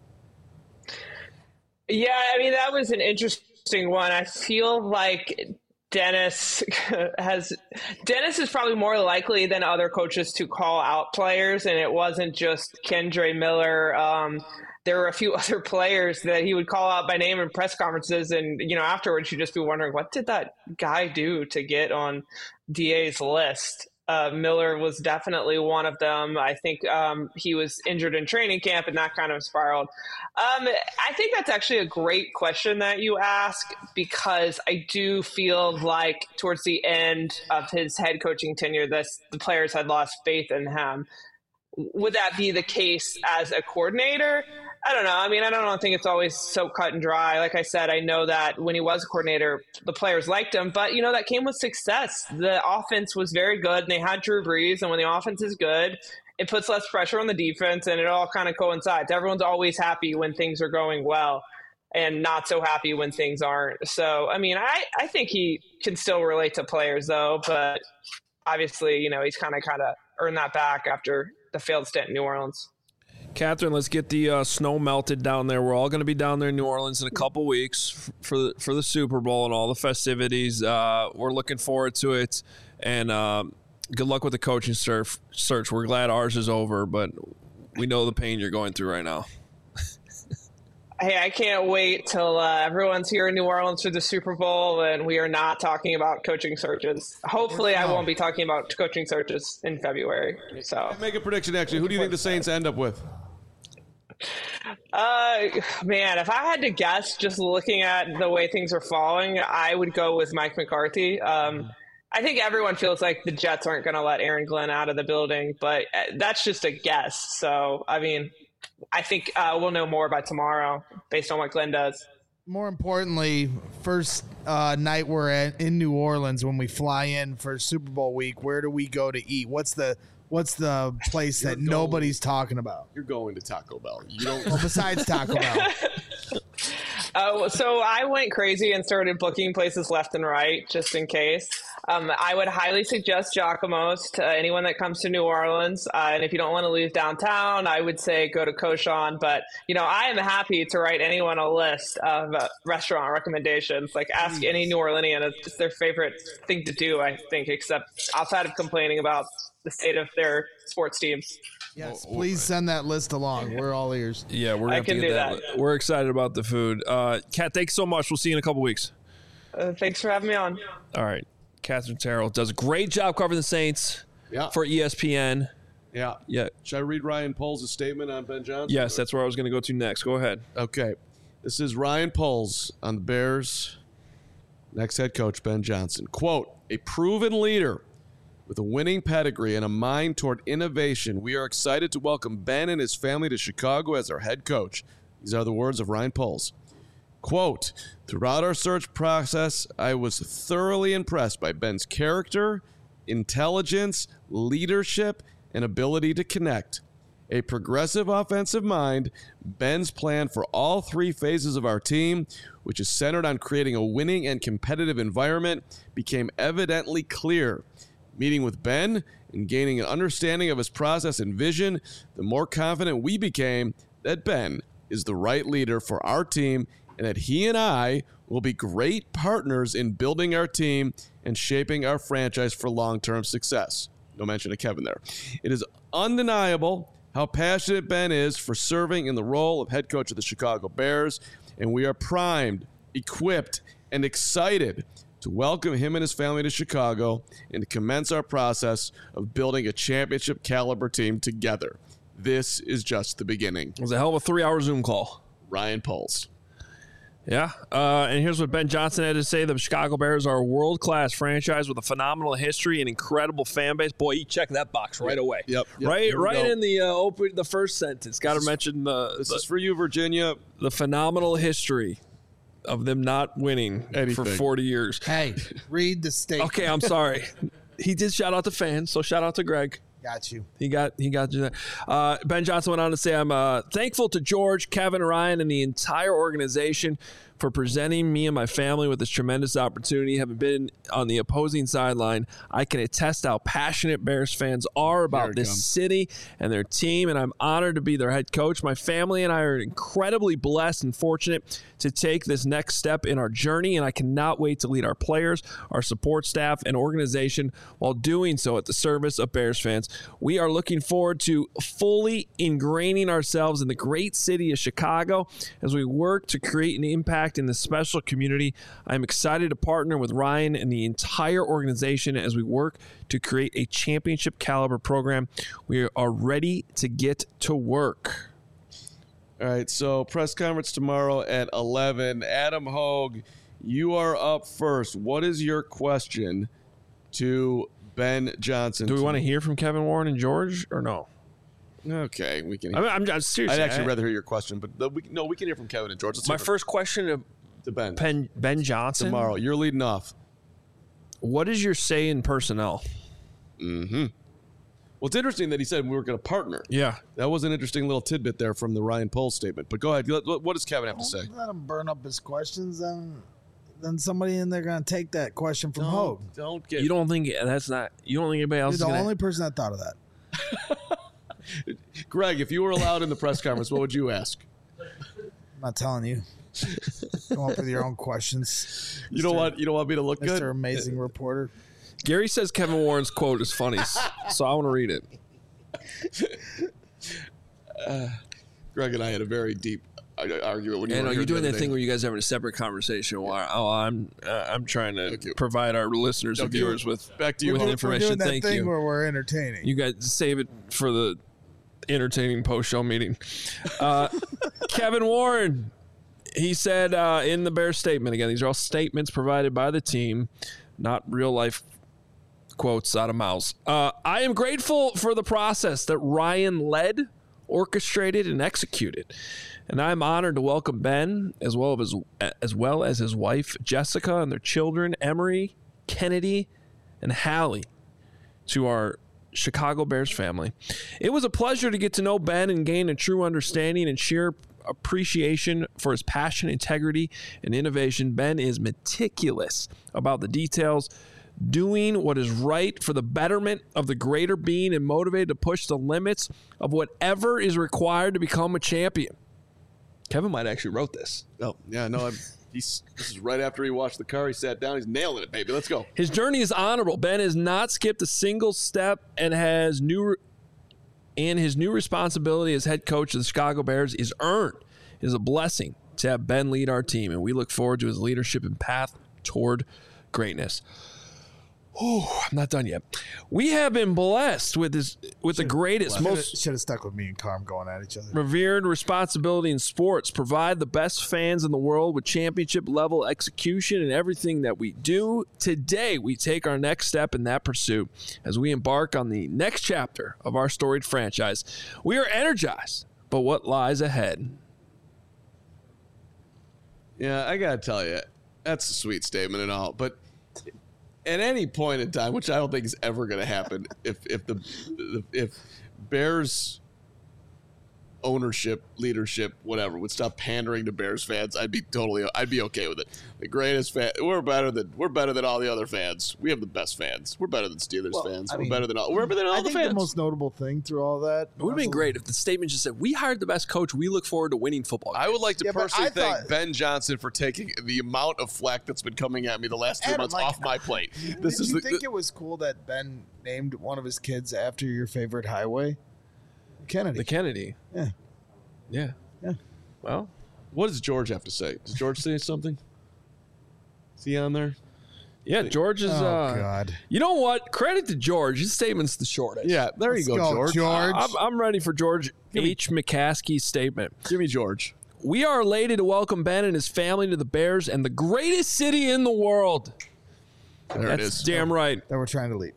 Yeah, that was an interesting one. I feel like Dennis is probably more likely than other coaches to call out players, and it wasn't just Kendre Miller. There were a few other players that he would call out by name in press conferences, and afterwards you'd just be wondering, what did that guy do to get on DA's list? Miller was definitely one of them. I think he was injured in training camp, and that kind of spiraled. I think that's actually a great question that you ask, because I do feel like towards the end of his head coaching tenure, the players had lost faith in him. Would that be the case as a coordinator? I don't know. I don't think it's always so cut and dry. Like I said, I know that when he was a coordinator, the players liked him, but that came with success. The offense was very good, and they had Drew Brees, and when the offense is good, it puts less pressure on the defense, and it all kind of coincides. Everyone's always happy when things are going well and not so happy when things aren't. So, I think he can still relate to players, though, but obviously, he's kind of earned that back after the failed stint in New Orleans. Catherine, let's get the snow melted down there. We're all going to be down there in New Orleans in a couple weeks for the Super Bowl and all the festivities. We're looking forward to it, and good luck with the coaching search. We're glad ours is over, but we know the pain you're going through right now. Hey, I can't wait till everyone's here in New Orleans for the Super Bowl and we are not talking about coaching searches. Hopefully, I won't be talking about coaching searches in February. So, make a prediction. Actually, who do you think the Saints end up with? Man, if I had to guess, just looking at the way things are falling, I would go with Mike McCarthy. I think everyone feels like the Jets aren't going to let Aaron Glenn out of the building, but that's just a guess. So, I think we'll know more by tomorrow based on what Glenn does. More importantly, first night we're in New Orleans when we fly in for Super Bowl week, where do we go to eat? What's the What's the place that nobody's talking about? You're going to Taco Bell. You don't. Well, besides Taco Bell. So I went crazy and started booking places left and right just in case. I would highly suggest Giacomo's to anyone that comes to New Orleans. And if you don't want to leave downtown, I would say go to Cochon. But, I am happy to write anyone a list of restaurant recommendations. Like ask any New Orleanian. It's their favorite thing to do, I think, except outside of complaining about the state of their sports teams. Yes, please send that list along. We're all ears. Yeah, we're going to get that. We're excited about the food. Kat, thanks so much. We'll see you in a couple weeks. Thanks for having me on. All right. Katherine Terrell does a great job covering the Saints for ESPN. Yeah. Should I read Ryan Poles' statement on Ben Johnson? Yes, that's where I was going to go to next. Go ahead. Okay. This is Ryan Poles on the Bears' next head coach, Ben Johnson. Quote, a proven leader with a winning pedigree and a mind toward innovation, we are excited to welcome Ben and his family to Chicago as our head coach. These are the words of Ryan Poles. Quote, throughout our search process, I was thoroughly impressed by Ben's character, intelligence, leadership, and ability to connect. A progressive offensive mind, Ben's plan for all three phases of our team, which is centered on creating a winning and competitive environment, became evidently clear. Meeting with Ben and gaining an understanding of his process and vision, the more confident we became that Ben is the right leader for our team and that he and I will be great partners in building our team and shaping our franchise for long-term success. No mention of Kevin there. It is undeniable how passionate Ben is for serving in the role of head coach of the Chicago Bears, and we are primed, equipped, and excited to welcome him and his family to Chicago and to commence our process of building a championship caliber team together. This is just the beginning. It was a hell of a 3-hour Zoom call. Ryan Poles. Yeah, and here's what Ben Johnson had to say. The Chicago Bears are a world-class franchise with a phenomenal history and incredible fan base. Boy, you check that box right away. Yep. Right in the first sentence. Got to mention this is for you, Virginia. The phenomenal history of them not winning for 40 years. Hey, read the statement. Okay, I'm sorry. He did shout out to fans, so shout out to Greg. Got you. He got you there. Ben Johnson went on to say, I'm thankful to George, Kevin, Ryan, and the entire organization for presenting me and my family with this tremendous opportunity. Having been on the opposing sideline, I can attest how passionate Bears fans are about this city and their team, and I'm honored to be their head coach. My family and I are incredibly blessed and fortunate to take this next step in our journey, and I cannot wait to lead our players, our support staff, and organization while doing so at the service of Bears fans. We are looking forward to fully ingraining ourselves in the great city of Chicago as we work to create an impact in this special community. I'm excited to partner with Ryan and the entire organization as we work to create a championship caliber program. We are ready to get to work. All right, so press conference tomorrow at 11. Adam Hogue, you are up first. What is your question to Ben Johnson? Do we want to hear from Kevin Warren and George or no? Okay, we can. I'm seriously. I'd actually rather hear your question, but we can hear from Kevin and George. My first question to Ben Johnson tomorrow. You're leading off. What is your say in personnel? Mm-hmm. Well, it's interesting that he said we were going to partner. Yeah, that was an interesting little tidbit there from the Ryan Poles statement. But go ahead. What does Kevin have to say? Let him burn up his questions, then somebody in there going to take that question from Hogue. You don't think anybody else? You're the only person that thought of that. Greg, if you were allowed in the press conference, what would you ask? I'm not telling you. Come up with your own questions. You don't want me to look good? Mr. Amazing Reporter. Gary says Kevin Warren's quote is funny, so I want to read it. Greg and I had a very deep argument when you're doing that thing where you guys are having a separate conversation while I'm trying to provide our listeners and viewers with information. We're doing that Thank thing you. Where we're entertaining. You guys save it for the entertaining post-show meeting. Kevin Warren, he said in the Bears statement, again, these are all statements provided by the team, not real-life quotes out of mouths. I am grateful for the process that Ryan led, orchestrated, and executed. And I'm honored to welcome Ben as well as his wife, Jessica, and their children, Emery, Kennedy, and Hallie, to our Chicago Bears family. It was a pleasure to get to know Ben and gain a true understanding and sheer appreciation for his passion, integrity, and innovation. Ben is meticulous about the details, doing what is right for the betterment of the greater being and motivated to push the limits of whatever is required to become a champion. Kevin might actually wrote this. Oh, yeah, no, this is right after he washed the car. He sat down. He's nailing it, baby. Let's go. His journey is honorable. Ben has not skipped a single step and his new responsibility as head coach of the Chicago Bears is earned. It is a blessing to have Ben lead our team, and we look forward to his leadership and path toward greatness. Oh, I'm not done yet. We have been blessed with the greatest, most should have stuck with me and Carm going at each other. revered responsibility in sports. Provide the best fans in the world with championship level execution in everything that we do. Today, we take our next step in that pursuit as we embark on the next chapter of our storied franchise. We are energized, but what lies ahead? Yeah, I got to tell you, that's a sweet statement and all, but at any point in time, which I don't think is ever going to happen, if Bears ownership, leadership, whatever, would stop pandering to Bears fans, I'd be okay with it. The greatest fan, we're better than all the other fans. We have the best fans. We're better than Steelers fans. We're better than all the fans. The most notable thing through all that, it would have been great if the statement just said, "We hired the best coach. We look forward to winning football games." I would like to personally thank Ben Johnson for taking the amount of flack that's been coming at me the last 3 months off my plate. Did you think it was cool that Ben named one of his kids after your favorite highway? The Kennedy. Yeah. Well, what does George have to say? Does George say something? Is he on there? Yeah, George is. God. You know what? Credit to George. His statement's the shortest. Yeah, there you go, George. I'm ready for George H. McCaskey's statement. Give me George. We are elated to welcome Ben and his family to the Bears and the greatest city in the world. It is. Damn right. That we're trying to leave.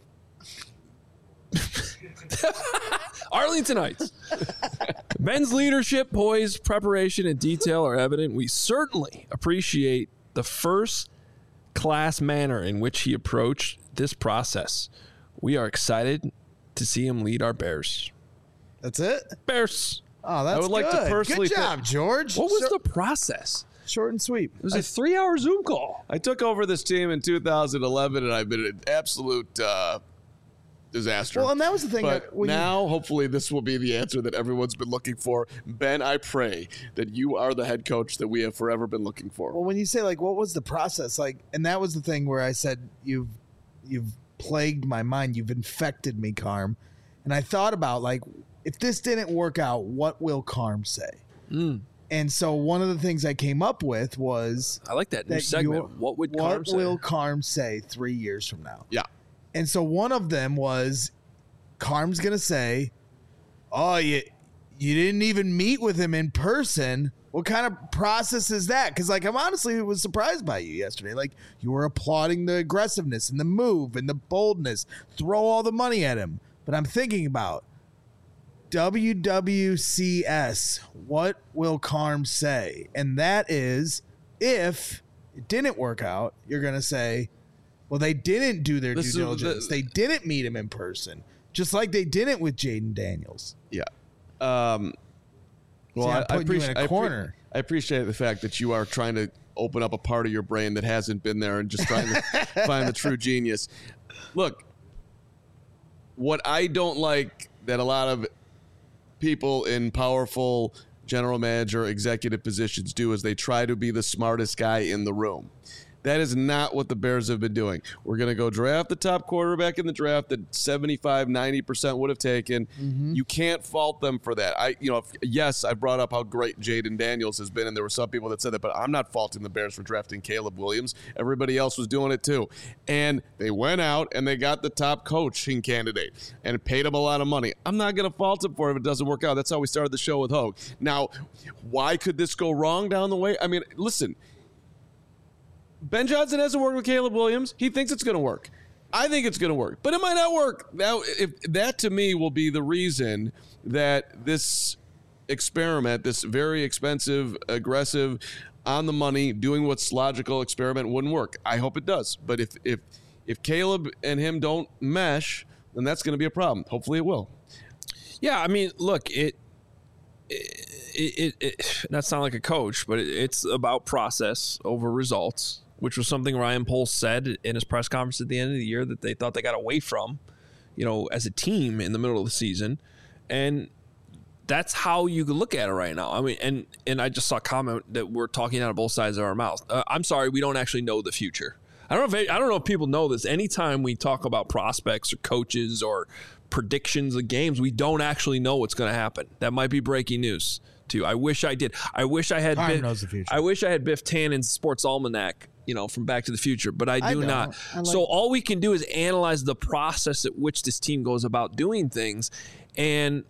Arlington Heights. Ben's leadership, poise, preparation, and detail are evident. We certainly appreciate the first-class manner in which he approached this process. We are excited to see him lead our Bears. That's it? Bears. Oh, that's I would like to personally good job, George. What was the process? Short and sweet. It was a 3-hour Zoom call. I took over this team in 2011, and I've been an absolute disaster. Well, and that was the thing. But now, hopefully, this will be the answer that everyone's been looking for. Ben, I pray that you are the head coach that we have forever been looking for. Well, when you say, like, what was the process? Like, and that was the thing where I said, you've plagued my mind. You've infected me, Carm. And I thought about, like, if this didn't work out, what will Carm say? And so one of the things I came up with was... I like that new segment. What would Carm say? What will Carm say 3 years from now? Yeah. And so one of them was, Carm's going to say, oh, you didn't even meet with him in person. What kind of process is that? Because, like, I'm honestly was surprised by you yesterday. Like, you were applauding the aggressiveness and the move and the boldness. Throw all the money at him. But I'm thinking about WWCS. What will Carm say? And that is, if it didn't work out, you're going to say, well, they didn't do their due diligence. They didn't meet him in person, just like they didn't with Jaden Daniels. Yeah. Well, I appreciate I appreciate the fact that you are trying to open up a part of your brain that hasn't been there and just trying to find the true genius. Look, what I don't like that a lot of people in powerful general manager executive positions do is they try to be the smartest guy in the room. That is not what the Bears have been doing. We're going to go draft the top quarterback in the draft that 75-90% would have taken. Mm-hmm. You can't fault them for that. I brought up how great Jaden Daniels has been, and there were some people that said that, but I'm not faulting the Bears for drafting Caleb Williams. Everybody else was doing it too. And they went out and they got the top coaching candidate and paid him a lot of money. I'm not going to fault him for it if it doesn't work out. That's how we started the show with Hogue. Now, why could this go wrong down the way? I mean, listen, Ben Johnson hasn't worked with Caleb Williams. He thinks it's going to work. I think it's going to work, but it might not work. Now, if that to me will be the reason that this experiment, this very expensive, aggressive, on the money, doing what's logical experiment wouldn't work. I hope it does. But if Caleb and him don't mesh, then that's going to be a problem. Hopefully it will. Yeah, I mean, look, it not sound like a coach, but it's about process over results, which was something Ryan Poles said in his press conference at the end of the year that they thought they got away from, as a team in the middle of the season. And that's how you could look at it right now. I mean, and I just saw a comment that we're talking out of both sides of our mouth. I'm sorry, we don't actually know the future. I don't know if people know this. Anytime we talk about prospects or coaches or predictions of games, we don't actually know what's going to happen. That might be breaking news too. I wish I did. I wish I had. Knows the future. I wish I had Biff Tannen's Sports Almanac, from Back to the Future, but I do not. So all we can do is analyze the process at which this team goes about doing things, and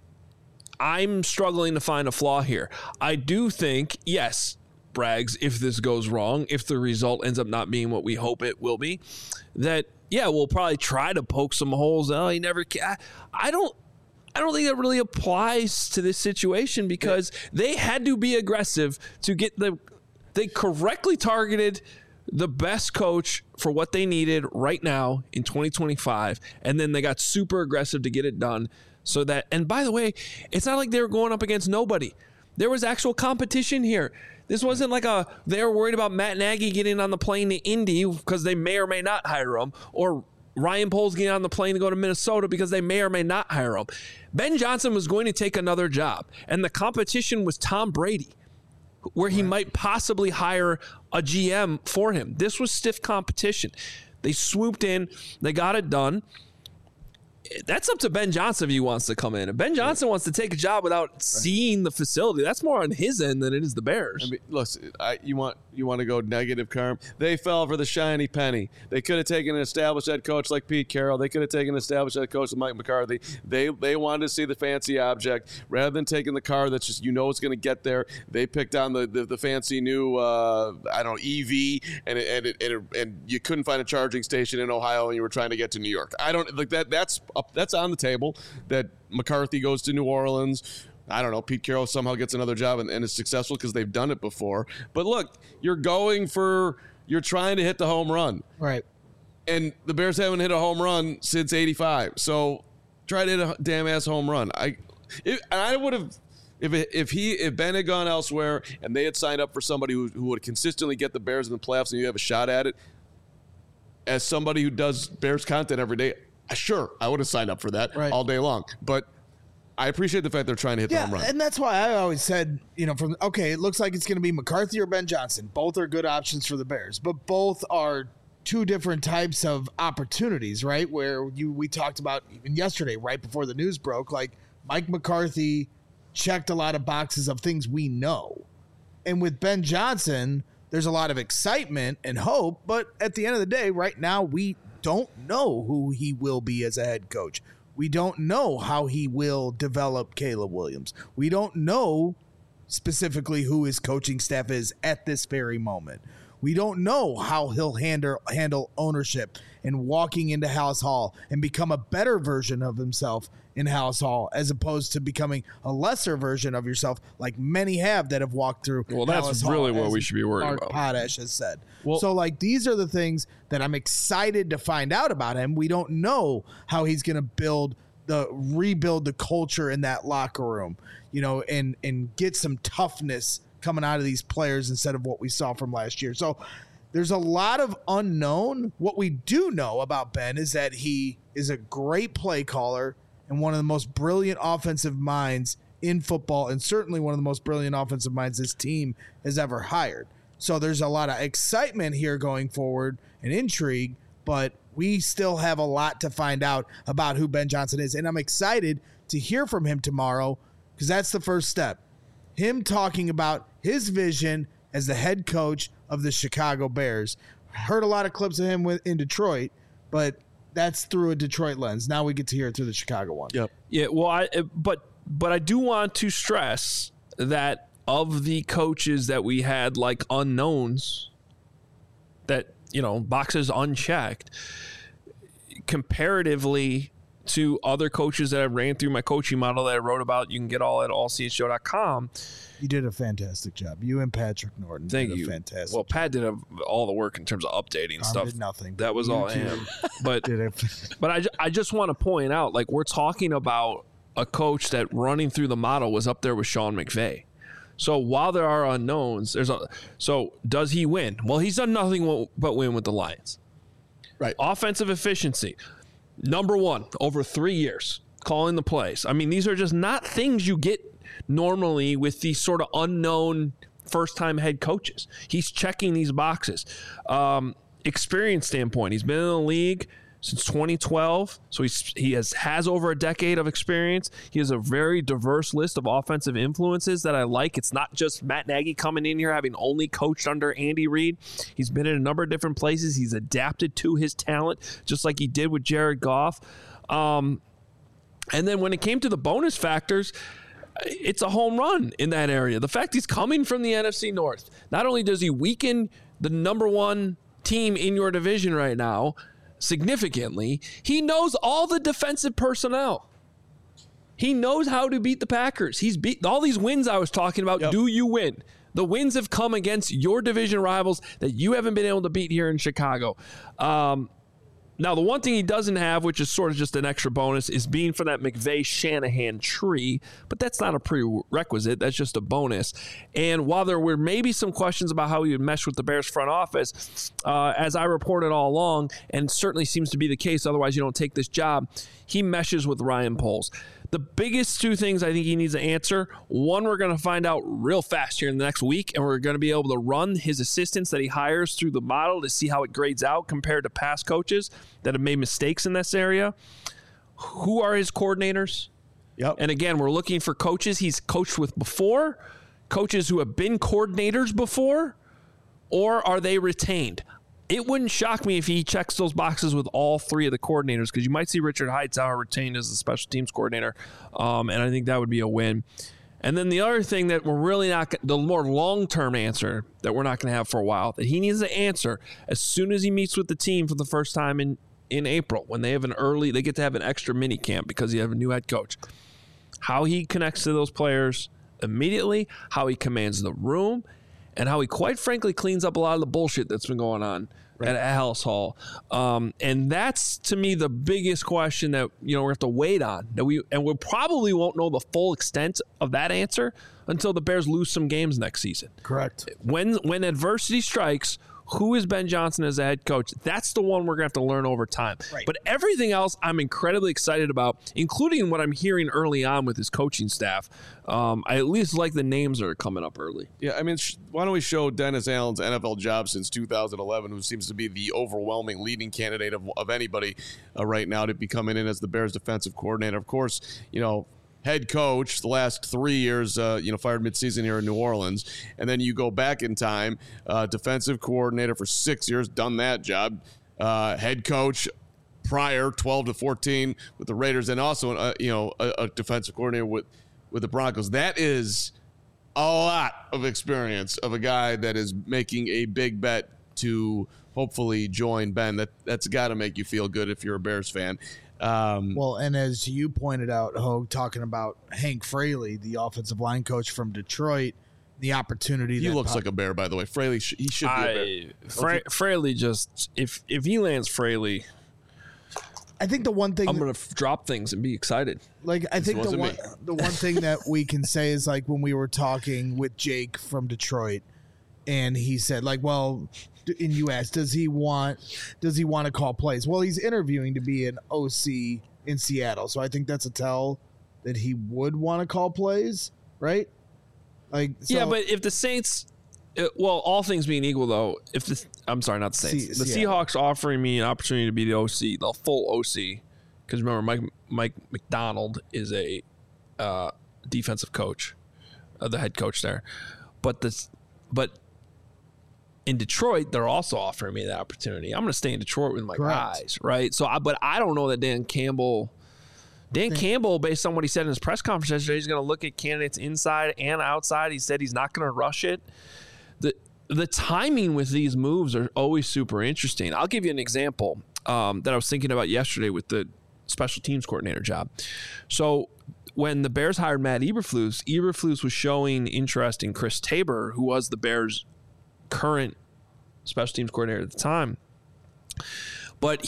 I'm struggling to find a flaw here. I do think, yes, Braggs, if this goes wrong, if the result ends up not being what we hope it will be, that, yeah, we'll probably try to poke some holes. Oh, he never can. I don't think that really applies to this situation because they had to be aggressive to get they correctly targeted the best coach for what they needed right now in 2025. And then they got super aggressive to get it done so that, and by the way, it's not like they were going up against nobody. There was actual competition here. This wasn't like they were worried about Matt Nagy getting on the plane to Indy because they may or may not hire him, or Ryan Poles getting on the plane to go to Minnesota because they may or may not hire him. Ben Johnson was going to take another job, and the competition was Tom Brady, where he might possibly hire a GM for him. This was stiff competition. They swooped in. They got it done. That's up to Ben Johnson if he wants to come in. If Ben Johnson wants to take a job without seeing the facility, that's more on his end than it is the Bears. I mean, listen, you want to go negative, Carm? They fell for the shiny penny. They could have taken an established head coach like Pete Carroll. They could have taken an established head coach like Mike McCarthy. They wanted to see the fancy object rather than taking the car that's just it's going to get there. They picked on the fancy new EV, and you couldn't find a charging station in Ohio, and you were trying to get to New York. I don't like that. That's on the table. That McCarthy goes to New Orleans. I don't know. Pete Carroll somehow gets another job and is successful because they've done it before. But look, you're trying to hit the home run. Right. And the Bears haven't hit a home run since '85. So try to hit a damn ass home run. I would have, if Ben had gone elsewhere and they had signed up for somebody who would consistently get the Bears in the playoffs and you have a shot at it, as somebody who does Bears content every day, sure, I would have signed up for that all day long. But I appreciate the fact they're trying to hit the home run. And that's why I always said, it looks like it's going to be McCarthy or Ben Johnson. Both are good options for the Bears, but both are two different types of opportunities, right? Where we talked about even yesterday, right before the news broke, like Mike McCarthy checked a lot of boxes of things we know. And with Ben Johnson, there's a lot of excitement and hope, but at the end of the day, right now, we don't know who he will be as a head coach. We don't know how he will develop Caleb Williams. We don't know specifically who his coaching staff is at this very moment. We don't know how he'll handle ownership and walking into Halas Hall and become a better version of himself in Halas Hall, as opposed to becoming a lesser version of yourself, like many have that have walked through. Well, that's really what we should be worried about. Potash has said. So, these are the things that I'm excited to find out about him. We don't know how he's going to rebuild the culture in that locker room, and get some toughness coming out of these players instead of what we saw from last year. So there's a lot of unknown. What we do know about Ben is that he is a great play caller and one of the most brilliant offensive minds in football, and certainly one of the most brilliant offensive minds this team has ever hired. So there's a lot of excitement here going forward and intrigue, but we still have a lot to find out about who Ben Johnson is. And I'm excited to hear from him tomorrow, because that's the first step. Him talking about his vision as the head coach of the Chicago Bears. Heard a lot of clips of him in Detroit, but that's through a Detroit lens. Now we get to hear it through the Chicago one. Yep. Yeah. Well, but I do want to stress that of the coaches that we had like unknowns, that boxes unchecked, comparatively to other coaches that I ran through my coaching model that I wrote about. You can get all at allchshow.com. You did a fantastic job. You and Patrick Norton Thank did you. a fantastic Well, Pat did all the work in terms of updating stuff. did nothing. That was You all two him. But did it. But I just want to point out, like, we're talking about a coach that running through the model was up there with Sean McVay. So while there are unknowns, so does he win? Well, he's done nothing but win with the Lions. Right. Offensive efficiency, number 1 over 3 years, calling the plays. I mean, these are just not things you get normally with these sort of unknown first-time head coaches. He's checking these boxes. Experience standpoint, he's been in the league since 2012, so he has over a decade of experience. He has a very diverse list of offensive influences that I like. It's not just Matt Nagy coming in here having only coached under Andy Reid. He's been in a number of different places. He's adapted to his talent, just like he did with Jared Goff. And then when it came to the bonus factors, it's a home run in that area. The fact he's coming from the NFC North, not only does he weaken the number 1 team in your division right now significantly, he knows all the defensive personnel. He knows how to beat the Packers. He's beat all these wins I was talking about. Yep. Do you win? The wins have come against your division rivals that you haven't been able to beat here in Chicago. Now, the one thing he doesn't have, which is sort of just an extra bonus, is being for that McVay-Shanahan tree, but that's not a prerequisite. That's just a bonus. And while there were maybe some questions about how he would mesh with the Bears front office, as I reported all along, and certainly seems to be the case, otherwise you don't take this job, he meshes with Ryan Poles. The biggest 2 things I think he needs to answer, one, we're going to find out real fast here in the next week, and we're going to be able to run his assistants that he hires through the model to see how it grades out compared to past coaches that have made mistakes in this area. Who are his coordinators? Yep. And again, we're looking for coaches he's coached with before, coaches who have been coordinators before, or are they retained? It wouldn't shock me if he checks those boxes with all 3 of the coordinators, because you might see Richard Hightower retained as the special teams coordinator, and I think that would be a win. And then the other thing that we're really not – the more long-term answer that we're not going to have for a while, that he needs to answer as soon as he meets with the team for the first time in April, when they have they get to have an extra mini camp because you have a new head coach. How he connects to those players immediately, how he commands the room, and how he, quite frankly, cleans up a lot of the bullshit that's been going on at Halas Hall. And that's, to me, the biggest question that we have to wait on. We probably won't know the full extent of that answer until the Bears lose some games next season. Correct. When adversity strikes, who is Ben Johnson as a head coach? That's the one we're going to have to learn over time. Right. But everything else I'm incredibly excited about, including what I'm hearing early on with his coaching staff. I at least like the names that are coming up early. Yeah, I mean, why don't we show Dennis Allen's NFL job since 2011, who seems to be the overwhelming leading candidate of anybody right now to be coming in as the Bears defensive coordinator. Of course, head coach the last 3 years, fired midseason here in New Orleans. And then you go back in time, defensive coordinator for 6 years, done that job. Head coach prior 12 to 14 with the Raiders, and also, a defensive coordinator with the Broncos. That is a lot of experience of a guy that is making a big bet to hopefully join Ben. That's got to make you feel good if you're a Bears fan. Well, and as you pointed out, Hogue, talking about Hank Fraley, the offensive line coach from Detroit, the opportunity. He looks like a Bear, by the way. Fraley, he should be a Bear. Fraley just, if he lands Fraley, I think the one thing I'm going to drop things and be excited. Like, I think the one thing that we can say is, like, when we were talking with Jake from Detroit, and he said, like, well, and you asked, does he want to call plays? Well, he's interviewing to be an OC in Seattle, so I think that's a tell that he would want to call plays, right? Like, so, yeah, but if the Saints, all things being equal, though, I'm sorry, not the Saints, the Seahawks offering me an opportunity to be the OC, the full OC, because remember, Mike McDonald is a defensive coach, the head coach there, but in Detroit, they're also offering me that opportunity. I'm going to stay in Detroit with my guys, right? So, but I don't know that Dan Campbell, based on what he said in his press conference yesterday, he's going to look at candidates inside and outside. He said he's not going to rush it. The timing with these moves are always super interesting. I'll give you an example that I was thinking about yesterday with the special teams coordinator job. So when the Bears hired Matt Eberflus was showing interest in Chris Tabor, who was the Bears' current special teams coordinator at the time. But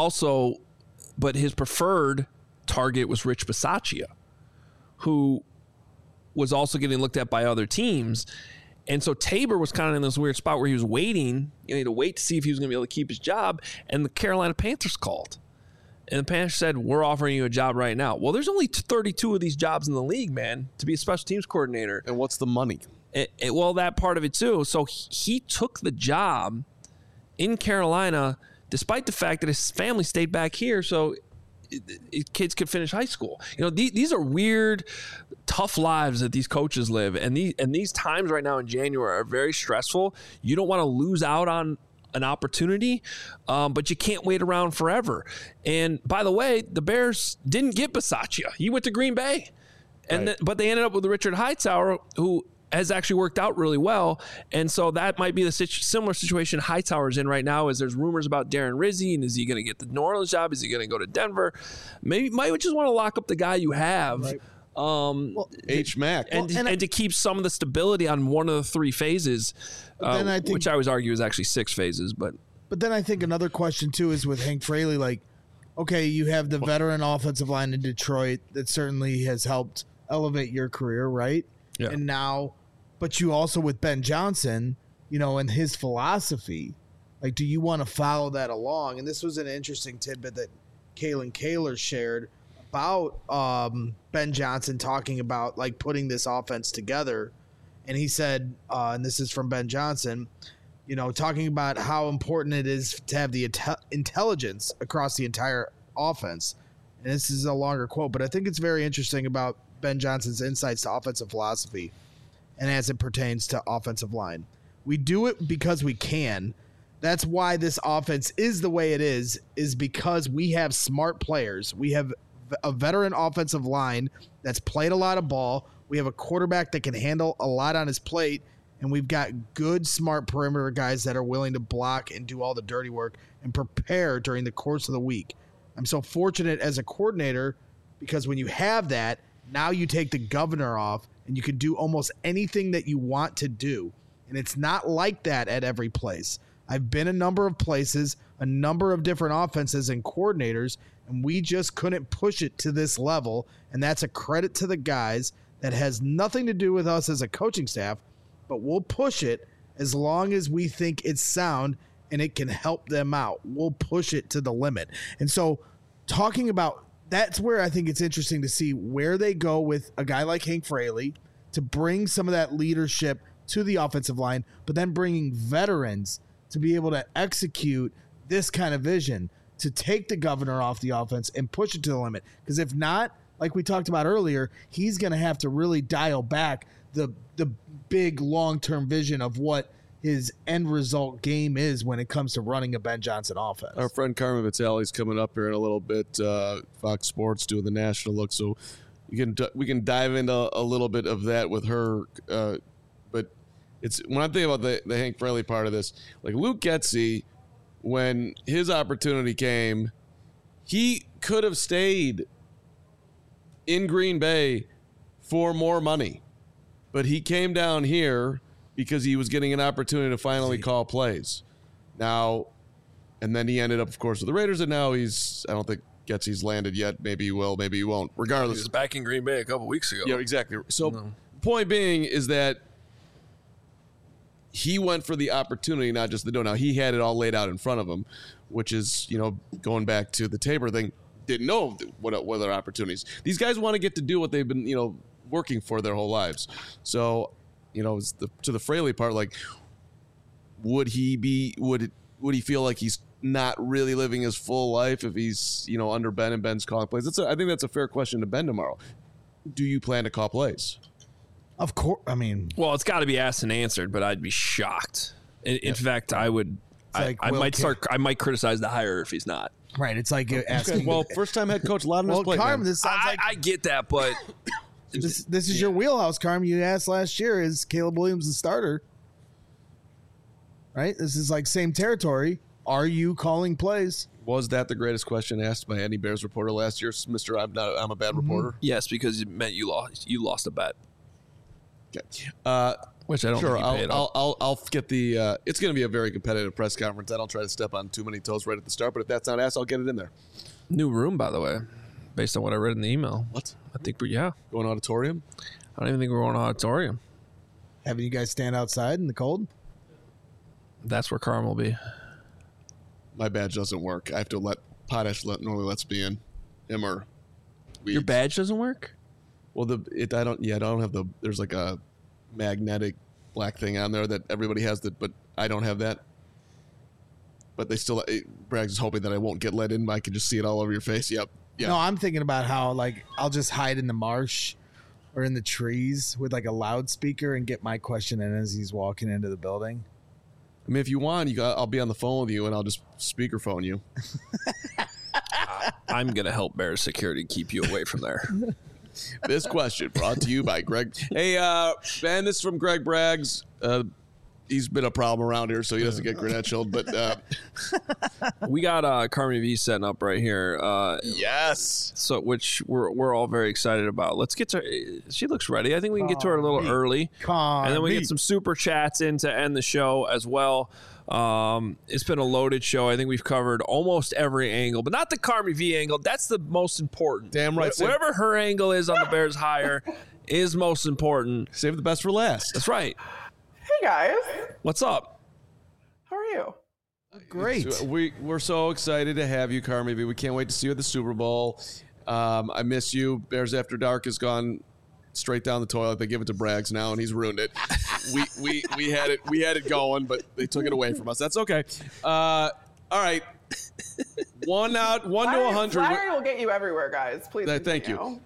his preferred target was Rich Bisaccia, who was also getting looked at by other teams. And so Tabor was kind of in this weird spot where he was waiting. He had to wait to see if he was going to be able to keep his job. And the Carolina Panthers called. And the Panthers said, we're offering you a job right now. Well, there's only 32 of these jobs in the league, man, to be a special teams coordinator. And what's the money? Well, that part of it too. So he took the job in Carolina, despite the fact that his family stayed back here so kids could finish high school. These are weird, tough lives that these coaches live. And these times right now in January are very stressful. You don't want to lose out on an opportunity, but you can't wait around forever. And by the way, the Bears didn't get Bisaccia. He went to Green Bay, but they ended up with Richard Hightower, who has actually worked out really well. And so that might be the similar situation Hightower's in right now, as there's rumors about Darren Rizzi, and is he going to get the New Orleans job? Is he going to go to Denver? Maybe might just want to lock up the guy you have. Right. H-Mac. And to keep some of the stability on one of the three phases, which I always argue is actually 6 phases. But then I think another question, too, is with Hank Fraley, like, okay, you have the veteran offensive line in Detroit that certainly has helped elevate your career, right? Yeah. And now, but you also with Ben Johnson, and his philosophy, like, do you want to follow that along? And this was an interesting tidbit that Kalen Kaler shared about Ben Johnson talking about like putting this offense together. And he said, and this is from Ben Johnson, talking about how important it is to have the intelligence across the entire offense. And this is a longer quote, but I think it's very interesting about Ben Johnson's insights to offensive philosophy and as it pertains to offensive line. We do it because we can. That's why this offense is the way it is because we have smart players. We have a veteran offensive line that's played a lot of ball. We have a quarterback that can handle a lot on his plate, and we've got good, smart perimeter guys that are willing to block and do all the dirty work and prepare during the course of the week. I'm so fortunate as a coordinator because when you have that, now you take the governor off and you can do almost anything that you want to do. And it's not like that at every place. I've been a number of places, a number of different offenses and coordinators, and we just couldn't push it to this level. And that's a credit to the guys. That has nothing to do with us as a coaching staff, but we'll push it as long as we think it's sound and it can help them out. We'll push it to the limit. And so talking about that's where I think it's interesting to see where they go with a guy like Hank Fraley to bring some of that leadership to the offensive line, but then bringing veterans to be able to execute this kind of vision, to take the governor off the offense and push it to the limit. Because if not, like we talked about earlier, he's going to have to really dial back the big long-term vision of what his end result game is when it comes to running a Ben Johnson offense. Our friend Carmen Vitale's coming up here in a little bit. Fox Sports doing the national look, so we can dive into a little bit of that with her. But it's when I think about the Hank Fraley part of this, like Luke Getsy, when his opportunity came, he could have stayed in Green Bay for more money, but he came down here because he was getting an opportunity to finally call plays. Now, and then he ended up, of course, with the Raiders, and now I don't think Getsy's landed yet. Maybe he will, maybe he won't. Regardless. He was back in Green Bay a couple weeks ago. Yeah, exactly. So point being is that he went for the opportunity, not just the dough. Now, he had it all laid out in front of him, which is, going back to the Tabor thing, didn't know what other opportunities. These guys want to get to do what they've been, working for their whole lives. So, to the Fraley part, like, would he feel like he's not really living his full life if he's, under Ben and Ben's calling plays? I think that's a fair question to Ben tomorrow. Do you plan to call plays? Of course. I mean, well, it's got to be asked and answered, but I'd be shocked. In fact, I would. I might criticize the hire if he's not. Right. It's like asking. Well, first-time head coach, a lot on his plate. Carm, this sounds like I get that, but this is your wheelhouse, Carm. You asked last year, is Caleb Williams the starter? Right. This is like same territory. Are you calling plays? Was that the greatest question asked by any Bears reporter last year, Mr. I'm a bad reporter? Yes, because it meant you lost a bet. Okay. Which I don't sure, think you paid on. I'll get the it's going to be a very competitive press conference. I don't try to step on too many toes right at the start, but if that's not asked, I'll get it in there. New room, by the way, based on what I read in the email. What? I think going auditorium? I don't even think we're going auditorium. Having you guys stand outside in the cold? That's where Carm will be. My badge doesn't work. I have to let Potash normally lets me in. Him or Your badge doesn't work? Well, I don't have the. There's like a magnetic black thing on there that everybody has, but I don't have that. But they still. Braggs is hoping that I won't get let in. But I can just see it all over your face. Yep. Yeah. No, I'm thinking about how like I'll just hide in the marsh or in the trees with like a loudspeaker and get my question in as he's walking into the building. I mean, if you want, I'll be on the phone with you and I'll just speakerphone you. I'm going to help Bears security keep you away from there. This question brought to you by Greg. Hey, Ben, this is from Greg Braggs. He's been a problem around here, so he doesn't get credentialed. But we got Carmi V setting up right here. Yes. So, which we're all very excited about. Let's get to her. She looks ready. I think we can get to her a little early. And then we get some super chats in to end the show as well. It's been a loaded show. I think we've covered almost every angle, but not the Carmi V angle. That's the most important. Damn right. Whatever her angle is on the Bears hire is most important. Save the best for last. That's right. Hey guys, what's up? How are you? Great. We're so excited to have you, Carmi V. We can't wait to see you at the Super Bowl. I miss you. Bears After Dark has gone straight down the toilet. They give it to Braggs now, and he's ruined it. we had it going, but they took it away from us. That's okay. All right. One to 100. Flattery will get you everywhere, guys. Please. Thank you.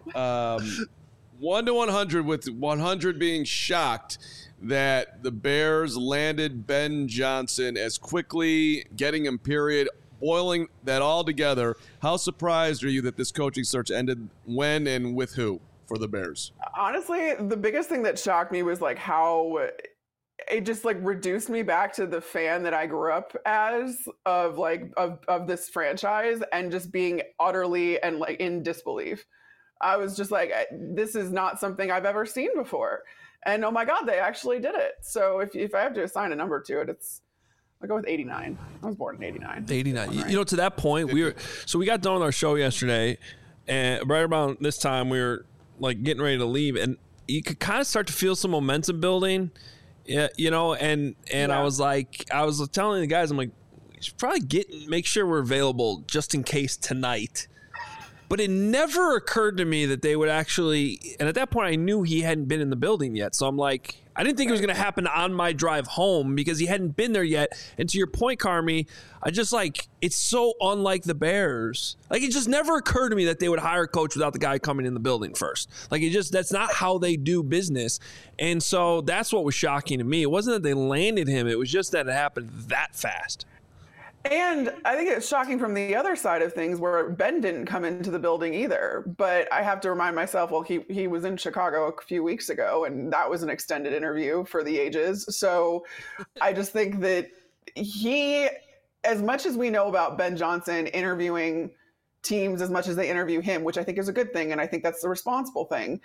1 to 100, with 100 being shocked that the Bears landed Ben Johnson as quickly, getting him period, boiling that all together. How surprised are you that this coaching search ended when and with who for the Bears? Honestly, the biggest thing that shocked me was like how it just like reduced me back to the fan that I grew up as of this franchise and just being utterly and like in disbelief. I was just like, this is not something I've ever seen before. And oh my God, they actually did it. So if I have to assign a number to it, I'll go with 89. I was born in 89. 89. Right. You know, to that point, we got done with our show yesterday, and right around this time, we were like getting ready to leave, and you could kind of start to feel some momentum building. Yeah, you know, and I was telling the guys, I'm like, we should probably make sure we're available just in case tonight. But it never occurred to me that they would actually, and at that point I knew he hadn't been in the building yet. So I'm like, I didn't think it was going to happen on my drive home because he hadn't been there yet. And to your point, Carmi, I just like, it's so unlike the Bears. Like, it just never occurred to me that they would hire a coach without the guy coming in the building first. Like, that's not how they do business. And so that's what was shocking to me. It wasn't that they landed him. It was just that it happened that fast. And I think it's shocking from the other side of things where Ben didn't come into the building either. But I have to remind myself, well, he was in Chicago a few weeks ago, and that was an extended interview for the ages. So I just think that as much as we know about Ben Johnson interviewing teams as much as they interview him, which I think is a good thing, and I think that's the responsible thing,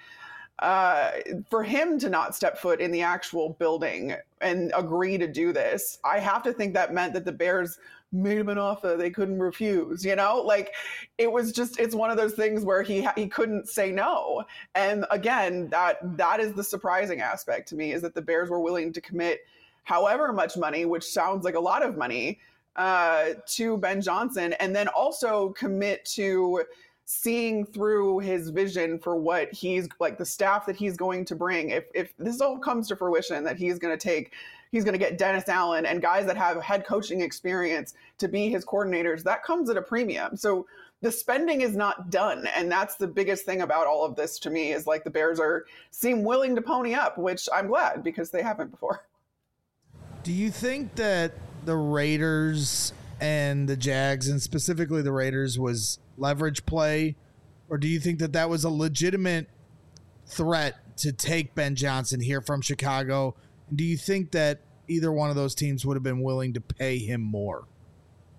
for him to not step foot in the actual building and agree to do this, I have to think that meant that the Bears made him an offer they couldn't refuse, you know? Like, it's one of those things where he couldn't say no. And again, that is the surprising aspect to me, is that the Bears were willing to commit however much money, which sounds like a lot of money, to Ben Johnson, and then also commit to seeing through his vision for what he's like, the staff that he's going to bring. If this all comes to fruition, that he's going to get Dennis Allen and guys that have head coaching experience to be his coordinators, that comes at a premium. So the spending is not done. And that's the biggest thing about all of this to me, is like the Bears seem willing to pony up, which I'm glad, because they haven't before. Do you think that the Raiders and the Jags, and specifically the Raiders, was leverage play, or do you think that was a legitimate threat to take Ben Johnson here from Chicago? And do you think that either one of those teams would have been willing to pay him more?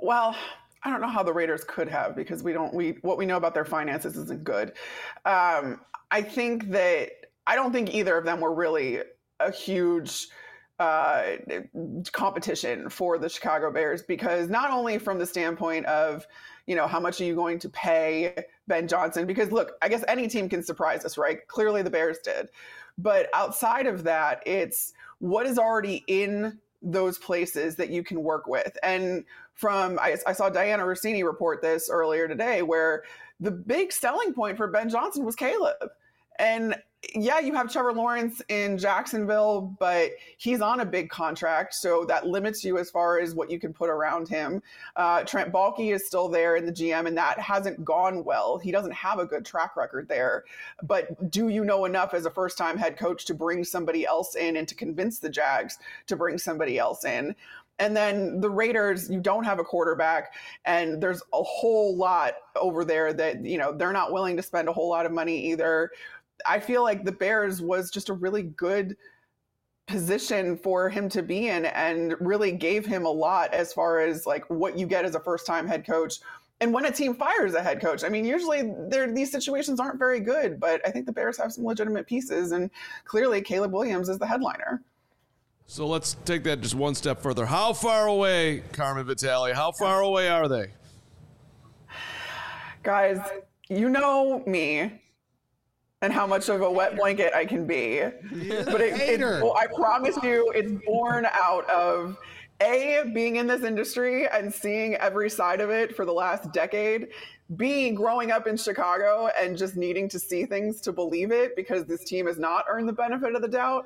Well, I don't know how the Raiders could have, because what we know about their finances isn't good. I don't think either of them were really a huge competition for the Chicago Bears, because not only from the standpoint of, how much are you going to pay Ben Johnson? Because look, I guess any team can surprise us, right? Clearly the Bears did. But outside of that, it's what is already in those places that you can work with. And I saw Diana Rossini report this earlier today, where the big selling point for Ben Johnson was Caleb. And yeah, you have Trevor Lawrence in Jacksonville, but he's on a big contract, so that limits you as far as what you can put around him. Trent Baalke is still there in the GM, and that hasn't gone well. He doesn't have a good track record there. But do you know enough as a first-time head coach to bring somebody else in and to convince the Jags to bring somebody else in? And then the Raiders, you don't have a quarterback, and there's a whole lot over there that, they're not willing to spend a whole lot of money either. I feel like the Bears was just a really good position for him to be in, and really gave him a lot as far as like what you get as a first-time head coach. And when a team fires a head coach, I mean, usually these situations aren't very good, but I think the Bears have some legitimate pieces, and clearly Caleb Williams is the headliner. So let's take that just one step further. How far away, Carmen Vitale, how far away are they? Guys, you know me and how much of a wet blanket I can be. But I promise you, it's born out of being in this industry and seeing every side of it for the last decade, B, growing up in Chicago and just needing to see things to believe it, because this team has not earned the benefit of the doubt.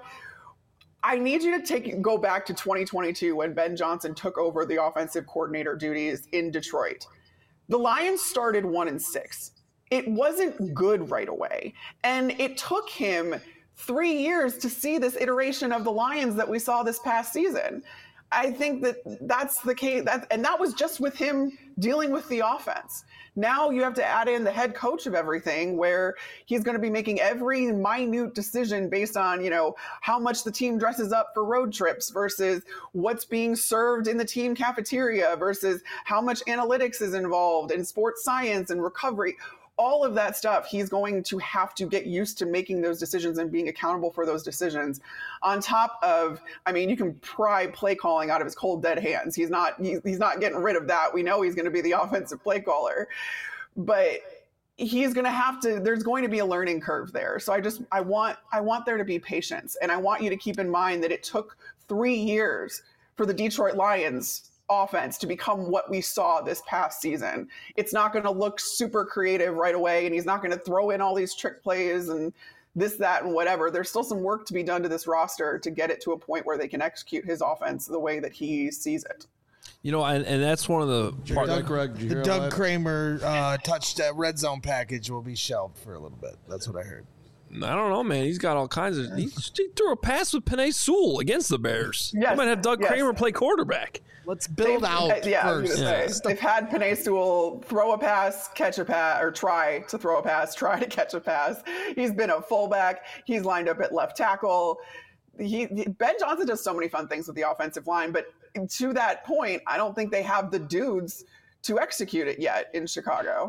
I need you to go back to 2022 when Ben Johnson took over the offensive coordinator duties in Detroit. The Lions started 1-6. It wasn't good right away. And it took him 3 years to see this iteration of the Lions that we saw this past season. I think that's the case. And that was just with him dealing with the offense. Now you have to add in the head coach of everything, where he's going to be making every minute decision based on, how much the team dresses up for road trips versus what's being served in the team cafeteria versus how much analytics is involved in sports science and recovery. All of that stuff, he's going to have to get used to making those decisions and being accountable for those decisions. On top of, you can pry play calling out of his cold, dead hands. He's not getting rid of that. We know he's going to be the offensive play caller, but he's going to have to, there's going to be a learning curve there. So I want there to be patience. And I want you to keep in mind that it took 3 years for the Detroit Lions offense to become what we saw this past season. It's not going to look super creative right away, and he's not going to throw in all these trick plays and this, that, and whatever. There's still some work to be done to this roster to get it to a point where they can execute his offense the way that he sees it. And that's one of the Doug Kramer touched red zone package will be shelved for a little bit. That's what I heard. I don't know, man. He's got all kinds of. He threw a pass with Penei Sewell against the Bears. Yes. I might have Doug Kramer play quarterback. Let's build out first. They've had Penei Sewell throw a pass, catch a pass, or try to throw a pass, try to catch a pass. He's been a fullback. He's lined up at left tackle. Ben Johnson does so many fun things with the offensive line, but to that point, I don't think they have the dudes to execute it yet in Chicago.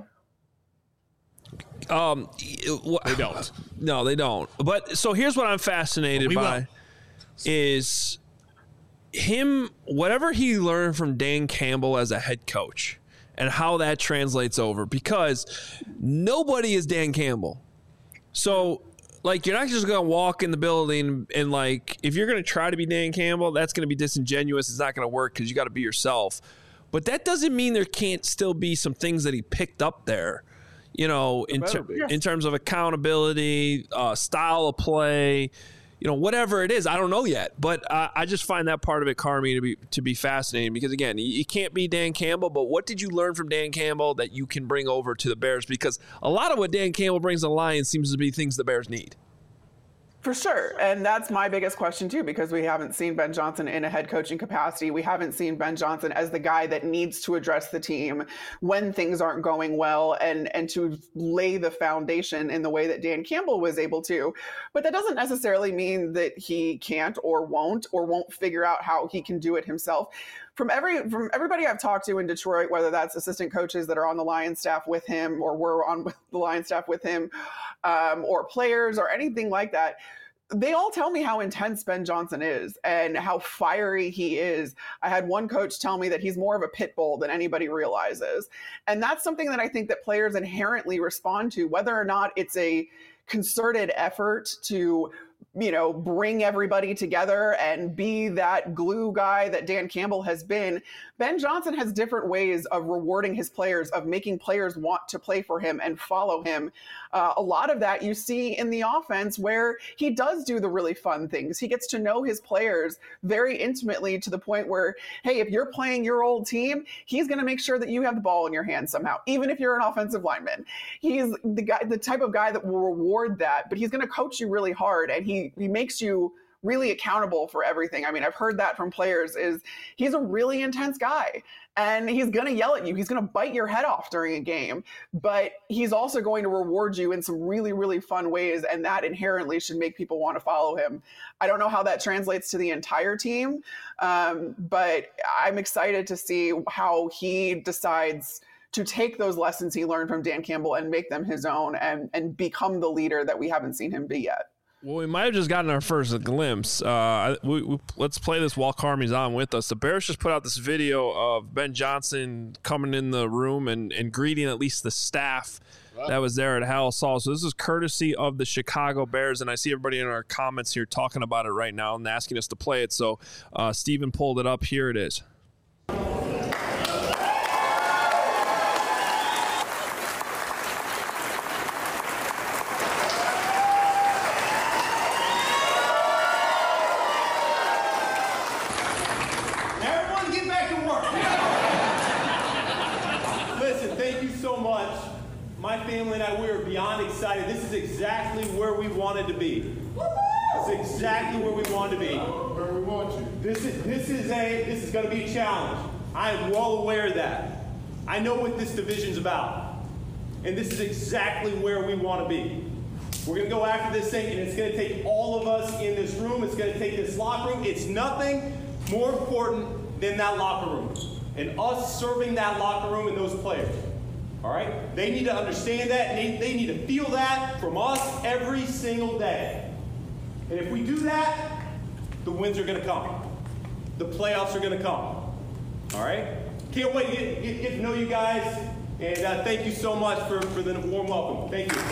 They don't. No, they don't. But so here's what I'm fascinated by is him, whatever he learned from Dan Campbell as a head coach and how that translates over, because nobody is Dan Campbell. So you're not just going to walk in the building and if you're going to try to be Dan Campbell, that's going to be disingenuous. It's not going to work because you got to be yourself. But that doesn't mean there can't still be some things that he picked up there. In terms of accountability, style of play, whatever it is, I don't know yet. But I just find that part of it, Carmi, to be fascinating, because again, you can't be Dan Campbell. But what did you learn from Dan Campbell that you can bring over to the Bears? Because a lot of what Dan Campbell brings to the Lions seems to be things the Bears need. For sure. And that's my biggest question too, because we haven't seen Ben Johnson in a head coaching capacity. We haven't seen Ben Johnson as the guy that needs to address the team when things aren't going well and to lay the foundation in the way that Dan Campbell was able to. But that doesn't necessarily mean that he can't or won't figure out how he can do it himself. from everybody I've talked to in Detroit, whether that's assistant coaches that are on the Lions staff with him or were on the Lions staff with him, or players or anything like that, they all tell me how intense Ben Johnson is and how fiery he is. I had one coach tell me that he's more of a pit bull than anybody realizes. And that's something that I think that players inherently respond to, whether or not it's a concerted effort to, bring everybody together and be that glue guy that Dan Campbell has been. Ben Johnson has different ways of rewarding his players, of making players want to play for him and follow him. A lot of that you see in the offense where he does do the really fun things. He gets to know his players very intimately to the point where, hey, if you're playing your old team, he's going to make sure that you have the ball in your hand somehow, even if you're an offensive lineman. He's the type of guy that will reward that, but he's going to coach you really hard, and he makes you really accountable for everything. I mean, I've heard that from players, is he's a really intense guy and he's going to yell at you. He's going to bite your head off during a game, but he's also going to reward you in some really, really fun ways. And that inherently should make people want to follow him. I don't know how that translates to the entire team, but I'm excited to see how he decides to take those lessons he learned from Dan Campbell and make them his own and become the leader that we haven't seen him be yet. Well, we might have just gotten our first glimpse. Let's play this while Carmi's on with us. The Bears just put out this video of Ben Johnson coming in the room and greeting at least the staff that was there at Halas-Hall. So this is courtesy of the Chicago Bears, and I see everybody in our comments here talking about it right now and asking us to play it. So Steven pulled it up. Here it is. Excited. This is exactly where we wanted to be. This is exactly where we wanted to be. Where we want you. This is going to be a challenge. I am well aware of that. I know what this division's about, and this is exactly where we want to be. We're going to go after this thing, and it's going to take all of us in this room. It's going to take this locker room. It's nothing more important than that locker room and us serving that locker room and those players. All right? They need to understand that, and they need to feel that from us every single day. And if we do that, the wins are going to come. The playoffs are going to come. All right? Can't wait to get to know you guys, and thank you so much for the warm welcome. Thank you.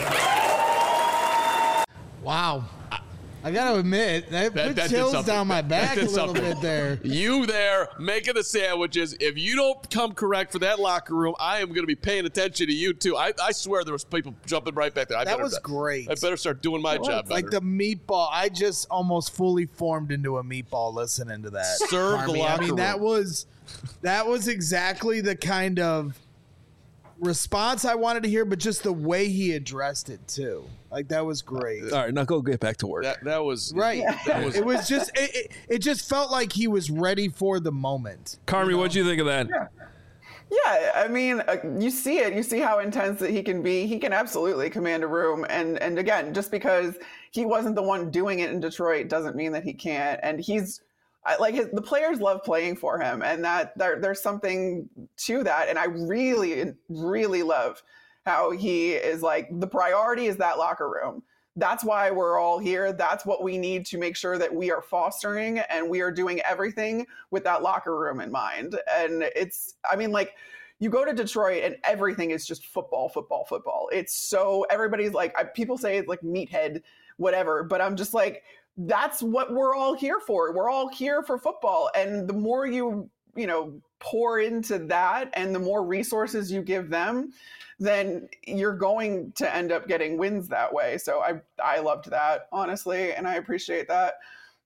Wow. I got to admit, that put chills down my back a little bit there. You there making the sandwiches. If you don't come correct for that locker room, I am going to be paying attention to you, too. I swear there was people jumping right back there. That was great. I better start doing my job better. Like the meatball. I just almost fully formed into a meatball listening to that. Serve the locker room. That was exactly the kind of response I wanted to hear, but just the way he addressed it, too. Like, that was great. All right, now go get back to work. That was right. It was just it just felt like he was ready for the moment. Carmi, what'd you think of that? Yeah, I mean, you see it. You see how intense that he can be. He can absolutely command a room. And again, just because he wasn't the one doing it in Detroit doesn't mean that he can't. And the players love playing for him, and that there's something to that. And I really, really love how he is like, the priority is that locker room. That's why we're all here. That's what we need to make sure that we are fostering, and we are doing everything with that locker room in mind. And you go to Detroit and everything is just football, football, football. It's so, everybody's like, people say it's like meathead, whatever, but I'm just like, that's what we're all here for. We're all here for football. And the more you pour into that and the more resources you give them, then you're going to end up getting wins that way. So I loved that, honestly, and I appreciate that.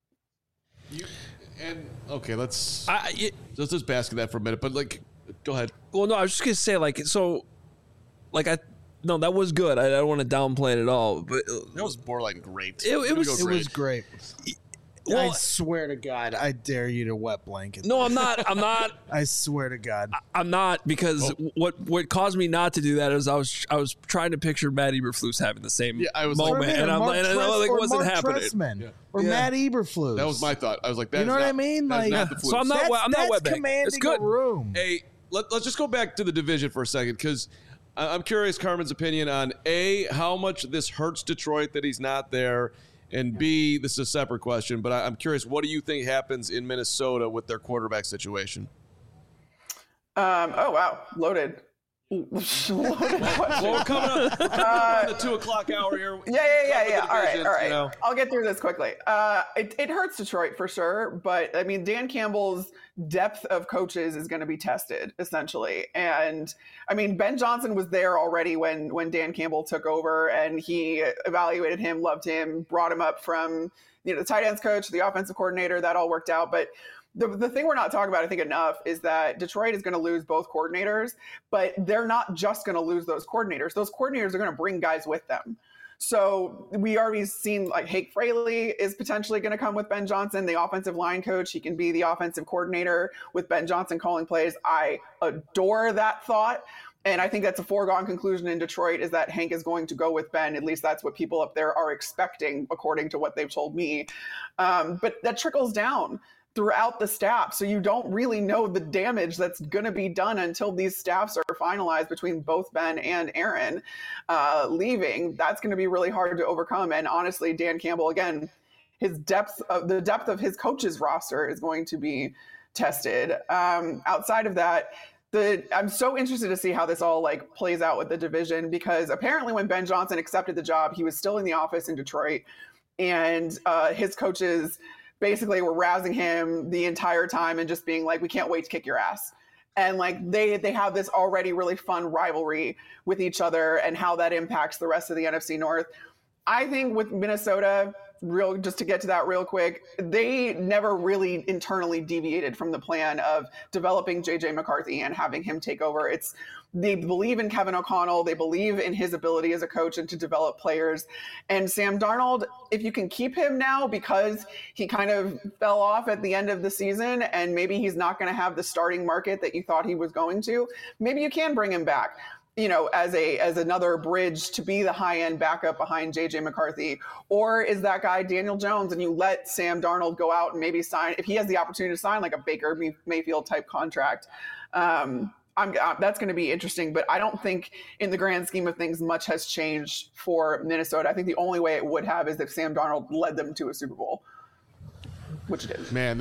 Let's just bask in that for a minute. But go ahead. Well, no, I was just gonna say that was good. I don't want to downplay it at all, but that was borderline great. It was great. I swear to God, I dare you to wet blanket. No, I'm not. I swear to God, I'm not, because what caused me not to do that is I was trying to picture Matt Eberflus having the same moment, and I'm like, it wasn't happening. Or Matt Eberflus. That was my thought. I was like, that you know what I mean? Like, so I'm not wet blanket. It's good. Room. Hey, let's just go back to the division for a second, because I'm curious Carmen's opinion on A, how much this hurts Detroit that he's not there, and B, this is a separate question, but I'm curious, what do you think happens in Minnesota with their quarterback situation? Oh, wow. Loaded. Well, we're coming up on the 2 o'clock hour here. Yeah. All right. You know. I'll get through this quickly. It hurts Detroit for sure, but I mean, Dan Campbell's depth of coaches is going to be tested essentially. And I mean, Ben Johnson was there already when Dan Campbell took over, and he evaluated him, loved him, brought him up from, the tight ends coach, the offensive coordinator. That all worked out. But the thing we're not talking about, I think, enough is that Detroit is going to lose both coordinators, but they're not just going to lose those coordinators. Those coordinators are going to bring guys with them. So we already seen like Hake Fraley is potentially going to come with Ben Johnson, the offensive line coach. He can be the offensive coordinator with Ben Johnson calling plays. I adore that thought. And I think that's a foregone conclusion in Detroit, is that Hank is going to go with Ben. At least that's what people up there are expecting, according to what they've told me. But that trickles down throughout the staff. So you don't really know the damage that's going to be done until these staffs are finalized between both Ben and Aaron leaving. That's going to be really hard to overcome. And honestly, Dan Campbell, again, the depth of his coaches roster is going to be tested. Outside of that, I'm so interested to see how this all plays out with the division, because apparently when Ben Johnson accepted the job, he was still in the office in Detroit, and his coaches basically were rousing him the entire time and just being like, we can't wait to kick your ass. And they have this already really fun rivalry with each other, and how that impacts the rest of the NFC North. I think with Minnesota, just to get to that real quick, they never really internally deviated from the plan of developing JJ McCarthy and having him take over. They believe in Kevin O'Connell. They believe in his ability as a coach and to develop players. And Sam Darnold, if you can keep him now, because he kind of fell off at the end of the season and maybe he's not going to have the starting market that you thought he was going to, maybe you can bring him back, as another bridge to be the high-end backup behind JJ McCarthy. Or is that guy Daniel Jones, and you let Sam Darnold go out and maybe sign, if he has the opportunity to sign like a Baker Mayfield type contract. That's going to be interesting, but I don't think in the grand scheme of things much has changed for Minnesota. I think the only way it would have is if Sam Darnold led them to a Super Bowl, which it is. Man,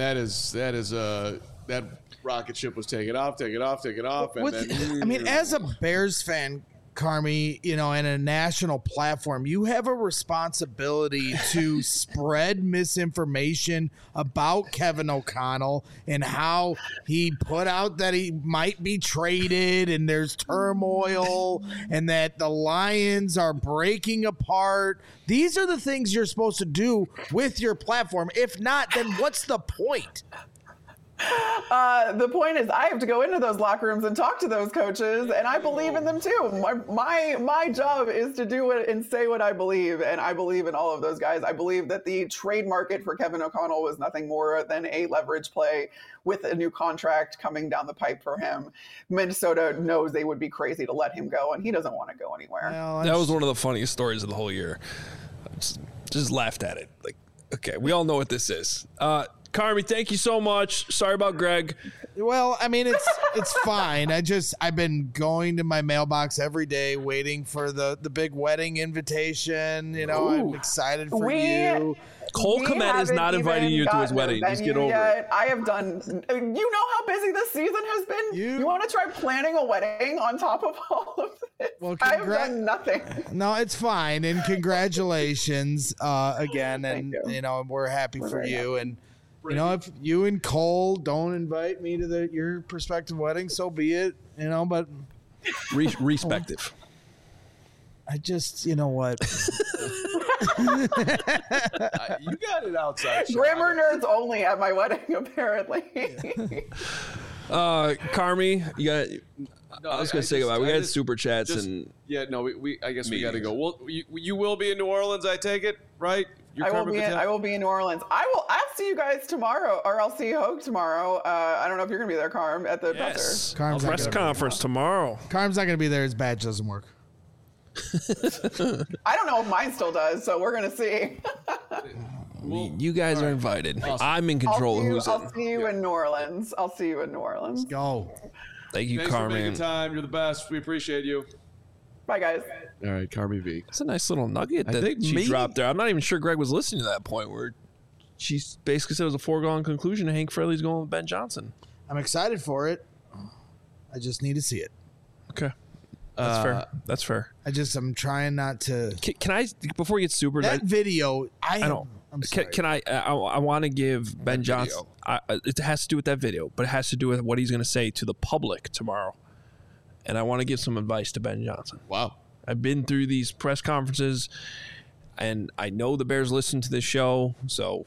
that rocket ship was taking off. And then, as a Bears fan, Carmi, and a national platform, you have a responsibility to spread misinformation about Kevin O'Connell and how he put out that he might be traded and there's turmoil and that the Lions are breaking apart. These are the things you're supposed to do with your platform. If not, then what's the point? The point is, I have to go into those locker rooms and talk to those coaches, and I believe in them too. My job is to do it and say what I believe, and I believe in all of those guys. I believe that the trade market for Kevin O'Connell was nothing more than a leverage play with a new contract coming down the pipe for him. Minnesota knows they would be crazy to let him go, and he doesn't want to go anywhere. That was one of the funniest stories of the whole year. Just laughed at it. Okay, we all know what this is. Carmi, thank you so much. Sorry about Greg. Well, it's fine. I've been going to my mailbox every day waiting for the big wedding invitation. I'm excited for you. Cole Kmet is not inviting you to his wedding. Just get over it. I have done. You know how busy this season has been? You want to try planning a wedding on top of all of this? Well, I have done nothing. No, it's fine. And congratulations again. And, we're happy for you. And, if you and Cole don't invite me to your prospective wedding, so be it, but respective. I just, you know what? You got it outside. Grammar nerds only at my wedding, apparently. Carmi, you got. No, I was going to say about we got super chats and I guess we got to go. Well, you will be in New Orleans, I take it, right? I will be in New Orleans. I'll see you guys tomorrow, or I'll see Hogue tomorrow. I don't know if you're gonna be there, Carm, at the presser. Carm's not press gonna be conference tomorrow. Carm's not going to be there. His badge doesn't work. I don't know if mine still does, so we're gonna see. You guys are invited. I'm in control of who's I'll see you in New Orleans. I'll see you in New Orleans. Go. Thank you, Thanks for Carmen. making time. You're the best. We appreciate you. Bye, guys. All right, Carmi V. That's a nice little nugget that think she maybe- dropped there. I'm not even sure Greg was listening to that point where she basically said it was a foregone conclusion. Hank Fraley's going with Ben Johnson. I'm excited for it. I just need to see it. Okay. That's fair. That's fair. I'm trying not to. Can I, before we get super, That video, I don't. I'm sorry. Can I want to give Ben Johnson. It has to do with that video, but it has to do with what he's going to say to the public tomorrow. And I want to give some advice to Ben Johnson. Wow. I've been through these press conferences, and I know the Bears listen to this show, so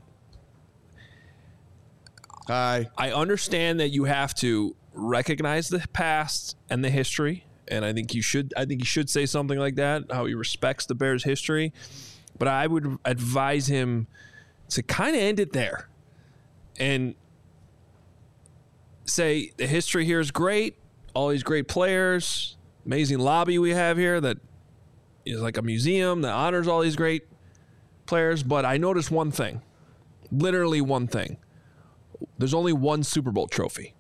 Hi. I understand that you have to recognize the past and the history, and I think you should say something like that, how he respects the Bears' history. But I would advise him to kind of end it there and say the history here is great, all these great players, amazing lobby we have here that is like a museum that honors all these great players. But I noticed one thing, literally one thing. There's only one Super Bowl trophy.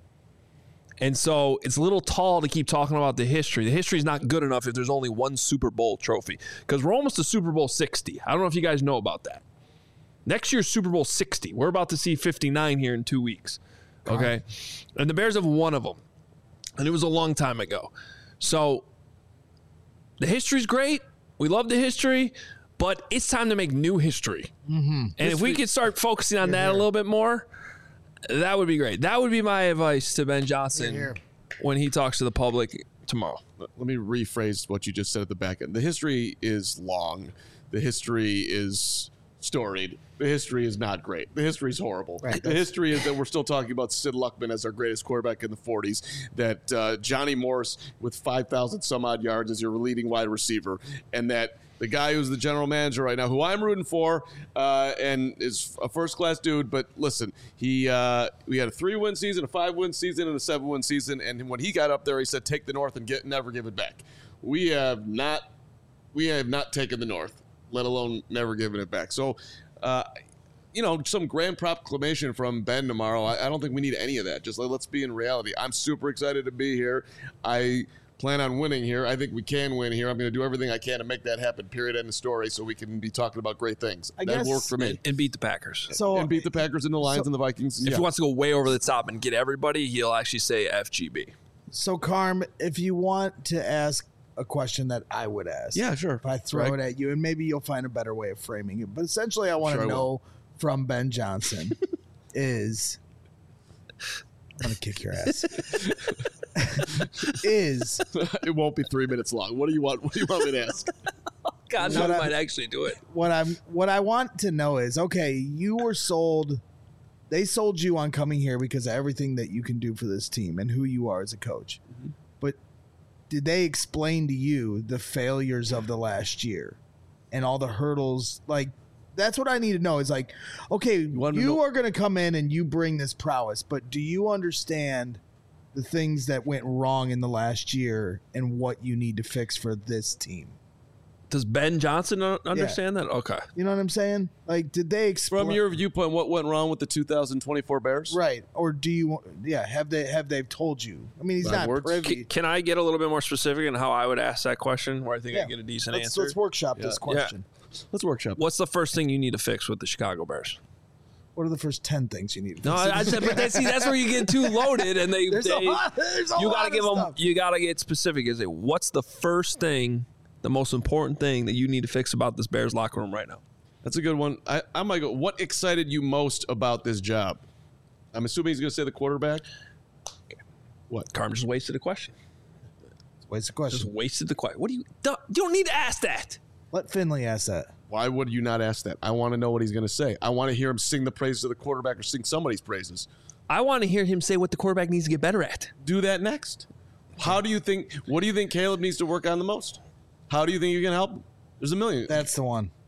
And so it's a little tall to keep talking about the history. The history is not good enough if there's only one Super Bowl trophy, because we're almost to Super Bowl 60. I don't know if you guys know about that. Next year's Super Bowl 60. We're about to see 59 here in 2 weeks. Okay. And the Bears have one of them. And it was a long time ago. So the history's great. We love the history, but it's time to make new history. Mm-hmm. And if we could start focusing on that a little bit more, that would be great. That would be my advice to Ben Johnson when he talks to the public tomorrow. Let me rephrase what you just said at the back end. The history is long. The history is storied. The history is not great. The history is horrible. Right, the history is that we're still talking about Sid Luckman as our greatest quarterback in the 40s, that Johnny Morris with 5,000 some odd yards as your leading wide receiver, and that the guy who's the general manager right now, who I'm rooting for, and is a first-class dude. But listen, we had a 3-win season, a 5-win season, and a 7-win season. And when he got up there, he said, "Take the North and never give it back." We have not taken the North, let alone never given it back. So, some grand proclamation from Ben tomorrow. I don't think we need any of that. Just let's be in reality. I'm super excited to be here. I plan on winning here. I think we can win here. I'm going to do everything I can to make that happen, period, end of story, so we can be talking about great things. That worked for me. And beat the Packers. And beat the Packers and the Lions and the Vikings. If he wants to go way over the top and get everybody, he'll actually say FGB. So, Carm, if you want to ask a question that I would ask. Yeah, sure. If I throw it at you, and maybe you'll find a better way of framing it. But essentially, I want to know from Ben Johnson is... I'm going to kick your ass. It won't be 3 minutes long. What do you want? What do you want me to ask? God, no, I might actually do it. What I want to know is, okay, you were sold. They sold you on coming here because of everything that you can do for this team and who you are as a coach. Mm-hmm. But did they explain to you the failures of the last year and all the hurdles? Like, that's what I need to know. Is like, okay, you are going to come in and you bring this prowess, but do you understand the things that went wrong in the last year and what you need to fix for this team? Does Ben Johnson understand that? Okay. You know what I'm saying? Like, did they explain from your viewpoint what went wrong with the 2024 Bears? Right. Or do you? Yeah. Have they told you? I mean, he's not privy. Can I get a little bit more specific in how I would ask that question, where I think I get a decent answer? Let's workshop this question. Yeah. Let's workshop. What's the first thing you need to fix with the Chicago Bears? What are the first 10 things you need to fix? No, I said, but that's where you get too loaded, and there's a lot of stuff. You gotta get specific. Is it what's the first thing, the most important thing that you need to fix about this Bears locker room right now? That's a good one. I might go. What excited you most about this job? I'm assuming he's going to say the quarterback. Okay. What? Carm just wasted a question. Wasted the question. Just wasted the question. What do you? You don't need to ask that. Let Finley ask that. Why would you not ask that? I want to know what he's going to say. I want to hear him sing the praises of the quarterback or sing somebody's praises. I want to hear him say what the quarterback needs to get better at. Do that next. What do you think Caleb needs to work on the most? How do you think you can help him? There's a million. That's the one.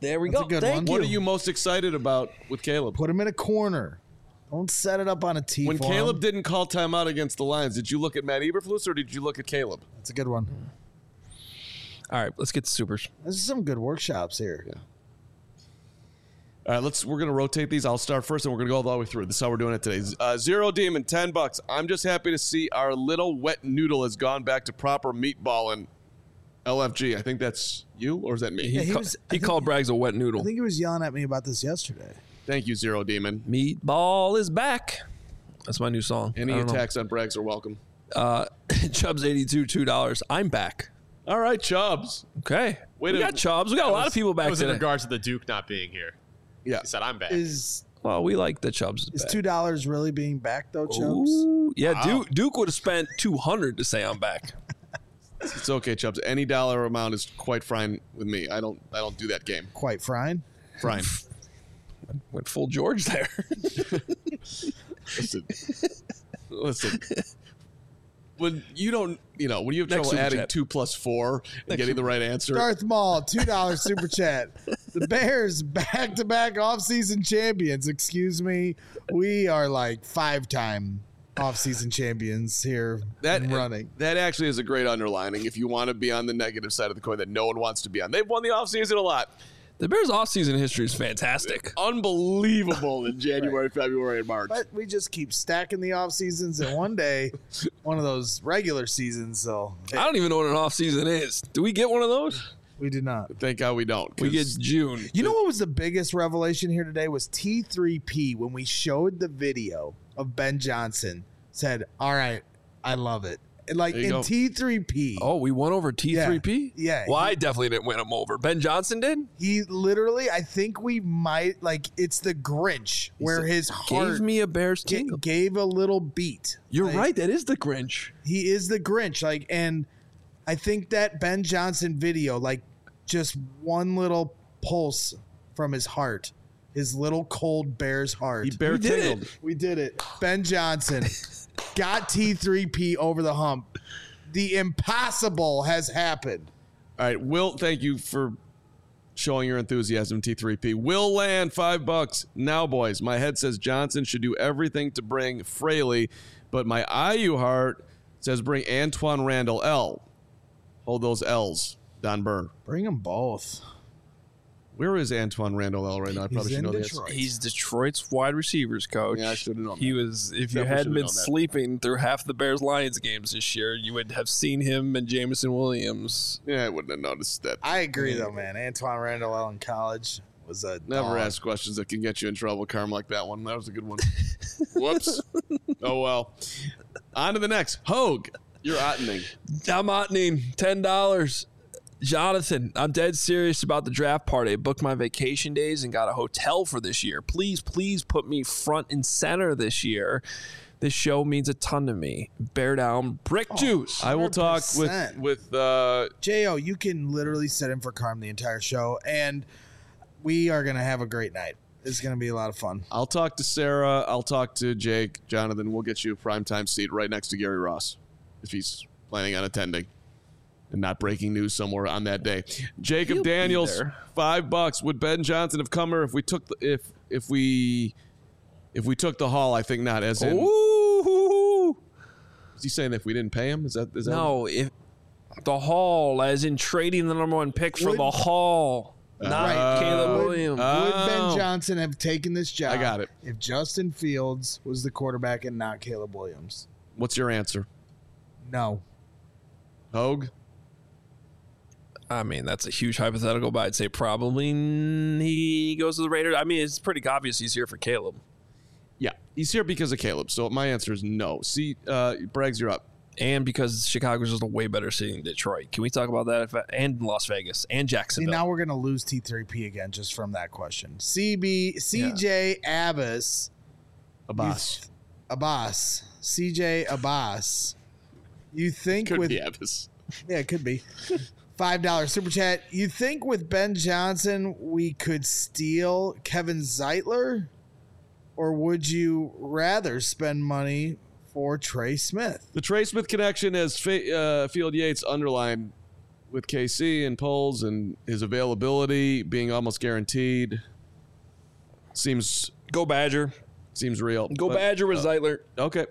There we That's go. a good Thank one. you. What are you most excited about with Caleb? Put him in a corner. Don't set it up on a tee. When for Caleb him. didn't call timeout against the Lions, did you look at Matt Eberflus or did you look at Caleb? That's a good one. All right, let's get to supers. There's some good workshops here. Yeah. All right, we're going to rotate these. I'll start first, and we're going to go all the way through. This is how we're doing it today. Zero Demon, $10. I'm just happy to see our little wet noodle has gone back to proper meatballing. LFG, I think that's you, or is that me? He called Braggs a wet noodle. I think he was yelling at me about this yesterday. Thank you, Zero Demon. Meatball is back. That's my new song. Any attacks on Braggs are welcome. Chubbs 82, $2. I'm back. All right, Chubbs. Okay. We got Chubbs. We got a lot of people back That was in today. regards to the Duke not being here. Yeah. He said, I'm back. Well, we like the Chubbs. Is $2 really being back though, Chubbs? Ooh, yeah, wow. Duke would have spent $200 to say I'm back. It's okay, Chubbs. Any dollar amount is quite fine with me. I don't do that game. Quite fine. Fine. Went full George there. Listen. When you don't, when you have trouble adding 2 + 4 and getting the right answer. Darth Maul, $2 super chat. The Bears back-to-back offseason champions. Excuse me. We are like 5-time offseason champions here running. That actually is a great underlining if you want to be on the negative side of the coin that no one wants to be on. They've won the offseason a lot. The Bears' offseason history is fantastic. Unbelievable in January, February, and March. But we just keep stacking the off seasons, and one day, one of those regular seasons, I don't even know what an off season is. Do we get one of those? We do not. Thank God we don't. We get June. You know what was the biggest revelation here today was T3P when we showed the video of Ben Johnson said, all right, I love it. Like in T3P. Oh, we won over T3P? Yeah. Well, I definitely didn't win him over. Ben Johnson did? He literally, I think we might, it's the Grinch where his heart gave me a Bears tingle. Gave a little beat. You're right. That is the Grinch. He is the Grinch. And I think that Ben Johnson video, just one little pulse from his heart, his little cold Bears heart. He bear tingled. We did it. Ben Johnson. Got T3P over the hump. The impossible has happened. All right, Will, thank you for showing your enthusiasm, T3P. Will Land, $5. Now, boys, my head says Johnson should do everything to bring Fraley, but my IU heart says bring Antoine Randall L. Hold those L's, Don Byrne. Bring them both. Where is Antoine Randall L right now? I probably should know this. He's Detroit's wide receivers coach. Yeah, I should have known. He was. If you hadn't been sleeping through half the Bears-Lions games this year, you would have seen him and Jameson Williams. Yeah, I wouldn't have noticed that. I agree, though, man. Antoine Randall L in college was a never ask questions that can get you in trouble. Carm like that one. That was a good one. Whoops. Oh well. On to the next. Hogue, you're ottening. I'm ottening. $10. Jonathan, I'm dead serious about the draft party. I booked my vacation days and got a hotel for this year. Please put me front and center this year. This show means a ton to me. Bear down, brick juice. I will talk with J.O., you can literally sit in for Carm the entire show, and we are going to have a great night. It's going to be a lot of fun. I'll talk to Sarah. I'll talk to Jake. Jonathan, we'll get you a primetime seat right next to Gary Ross if he's planning on attending. And not breaking news somewhere on that day. Jacob Daniels, $5. Would Ben Johnson have come here if we took if we took the haul? I think not. As in, is he saying if we didn't pay him? Is that no? If the haul, as in trading the number 1 pick for the haul, not Caleb Williams. Would Ben Johnson have taken this job? I got it. If Justin Fields was the quarterback and not Caleb Williams. What's your answer? No. Hogue. I mean, that's a huge hypothetical, but I'd say probably he goes to the Raiders. I mean, it's pretty obvious he's here for Caleb. Yeah, he's here because of Caleb. So my answer is no. See, Braggs, you're up. And because Chicago's just a way better city than Detroit. Can we talk about that? And Las Vegas and Jacksonville. See, now we're going to lose T3P again just from that question. CJ Abbas. CJ Abbas. You think could be Abbas. Yeah, it could be. $5 super chat. You think with Ben Johnson we could steal Kevin Zeitler? Or would you rather spend money for Trey Smith? The Trey Smith connection, as Field Yates underlined, with KC and Poles and his availability being almost guaranteed seems Go Badger. Seems real. Go Badger with Zeitler. Okay.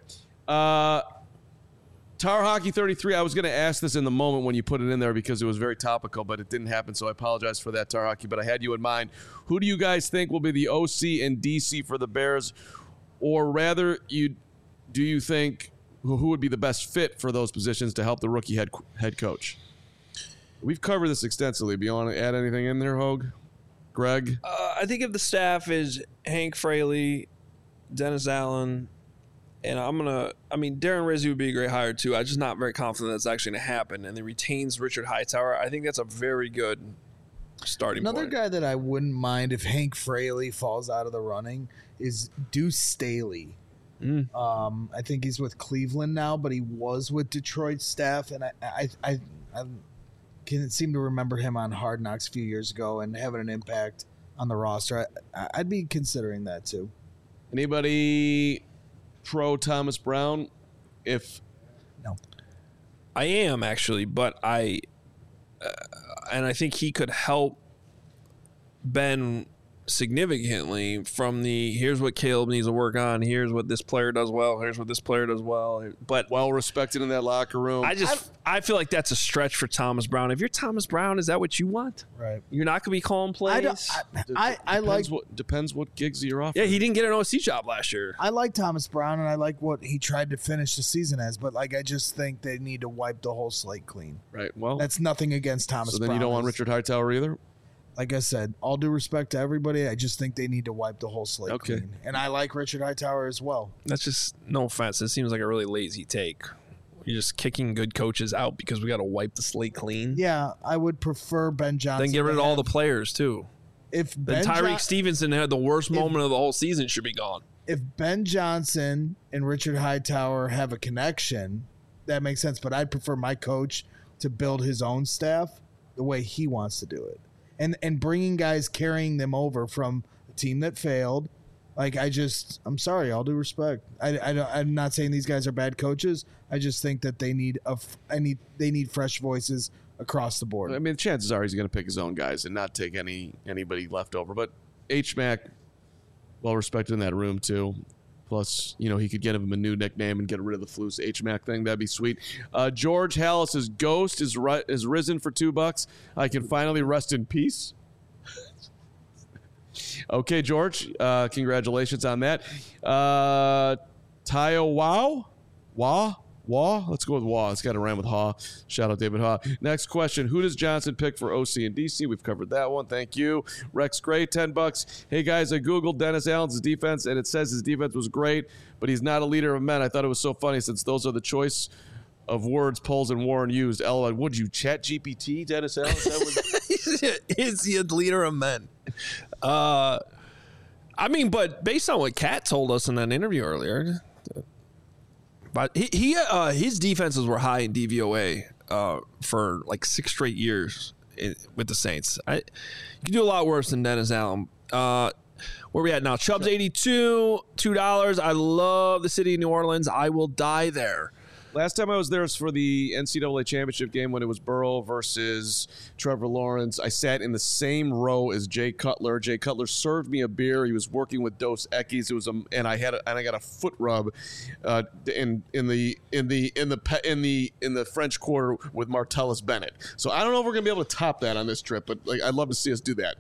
Tar Hockey 33, I was going to ask this in the moment when you put it in there because it was very topical, but it didn't happen, so I apologize for that, Tar Hockey, but I had you in mind. Who do you guys think will be the OC and DC for the Bears? Or rather, do you think who would be the best fit for those positions to help the rookie head coach? We've covered this extensively. Do you want to add anything in there, Hogue? Greg? I think if the staff is Hank Fraley, Dennis Allen, and Darren Rizzi would be a great hire too. I'm just not very confident that's actually going to happen. And he retains Richard Hightower. I think that's a very good starting point. Another guy that I wouldn't mind if Hank Fraley falls out of the running is Deuce Staley. I think he's with Cleveland now, but he was with Detroit staff, and I can seem to remember him on Hard Knocks a few years ago and having an impact on the roster. I'd be considering that too. Anybody pro Thomas Brown? No, I am actually, but I think he could help Ben significantly from here's what Caleb needs to work on, here's what this player does well, here's what this player does well, but well respected in that locker room. I feel like that's a stretch for Thomas Brown. If you're Thomas Brown, is that what you want? Right. You're not going to be calling plays. Depends what gigs you're offering. Yeah, he didn't get an OC job last year. I like Thomas Brown, and I like what he tried to finish the season as, but I just think they need to wipe the whole slate clean. Right. Well, that's nothing against Thomas Brown. So then you don't want Richard Hightower either? Like I said, all due respect to everybody, I just think they need to wipe the whole slate clean. And I like Richard Hightower as well. That's just, no offense, it seems like a really lazy take. You're just kicking good coaches out because we got to wipe the slate clean. Yeah, I would prefer Ben Johnson. Then get rid of all the players too. Then Tyreek Stevenson had the worst moment of the whole season, should be gone. If Ben Johnson and Richard Hightower have a connection, that makes sense. But I'd prefer my coach to build his own staff the way he wants to do it. And bringing guys, carrying them over from a team that failed. I'm sorry, all due respect. I'm not saying these guys are bad coaches. I just think that they need fresh voices across the board. I mean, chances are he's going to pick his own guys and not take anybody left over. But H-Mac, well respected in that room too. Plus, he could get him a new nickname and get rid of the Flus H-Mac thing. That'd be sweet. George Hallis's ghost is risen for $2. I can finally rest in peace. Okay, George. Congratulations on that. Tayo Wah? Let's go with Wah. It's got to rhyme with Haw. Shout out David Haw. Next question. Who does Johnson pick for OC and DC? We've covered that one. Thank you. Rex Gray, $10. Hey, guys, I Googled Dennis Allen's defense, and it says his defense was great, but he's not a leader of men. I thought it was so funny since those are the choice of words Poles and Warren used. LOL. Would you chat GPT, Dennis Allen? Is he a leader of men? But based on what Kat told us in that interview earlier, but his defenses were high in DVOA for like 6 straight years with the Saints. You can do a lot worse than Dennis Allen. Where we at now? Chubbs 82, $2. I love the city of New Orleans. I will die there. Last time I was there was for the NCAA championship game when it was Burrow versus Trevor Lawrence. I sat in the same row as Jay Cutler. Jay Cutler served me a beer. He was working with Dos Equis. It was and I got a foot rub in the French Quarter with Martellus Bennett. So I don't know if we're gonna be able to top that on this trip, but I'd love to see us do that.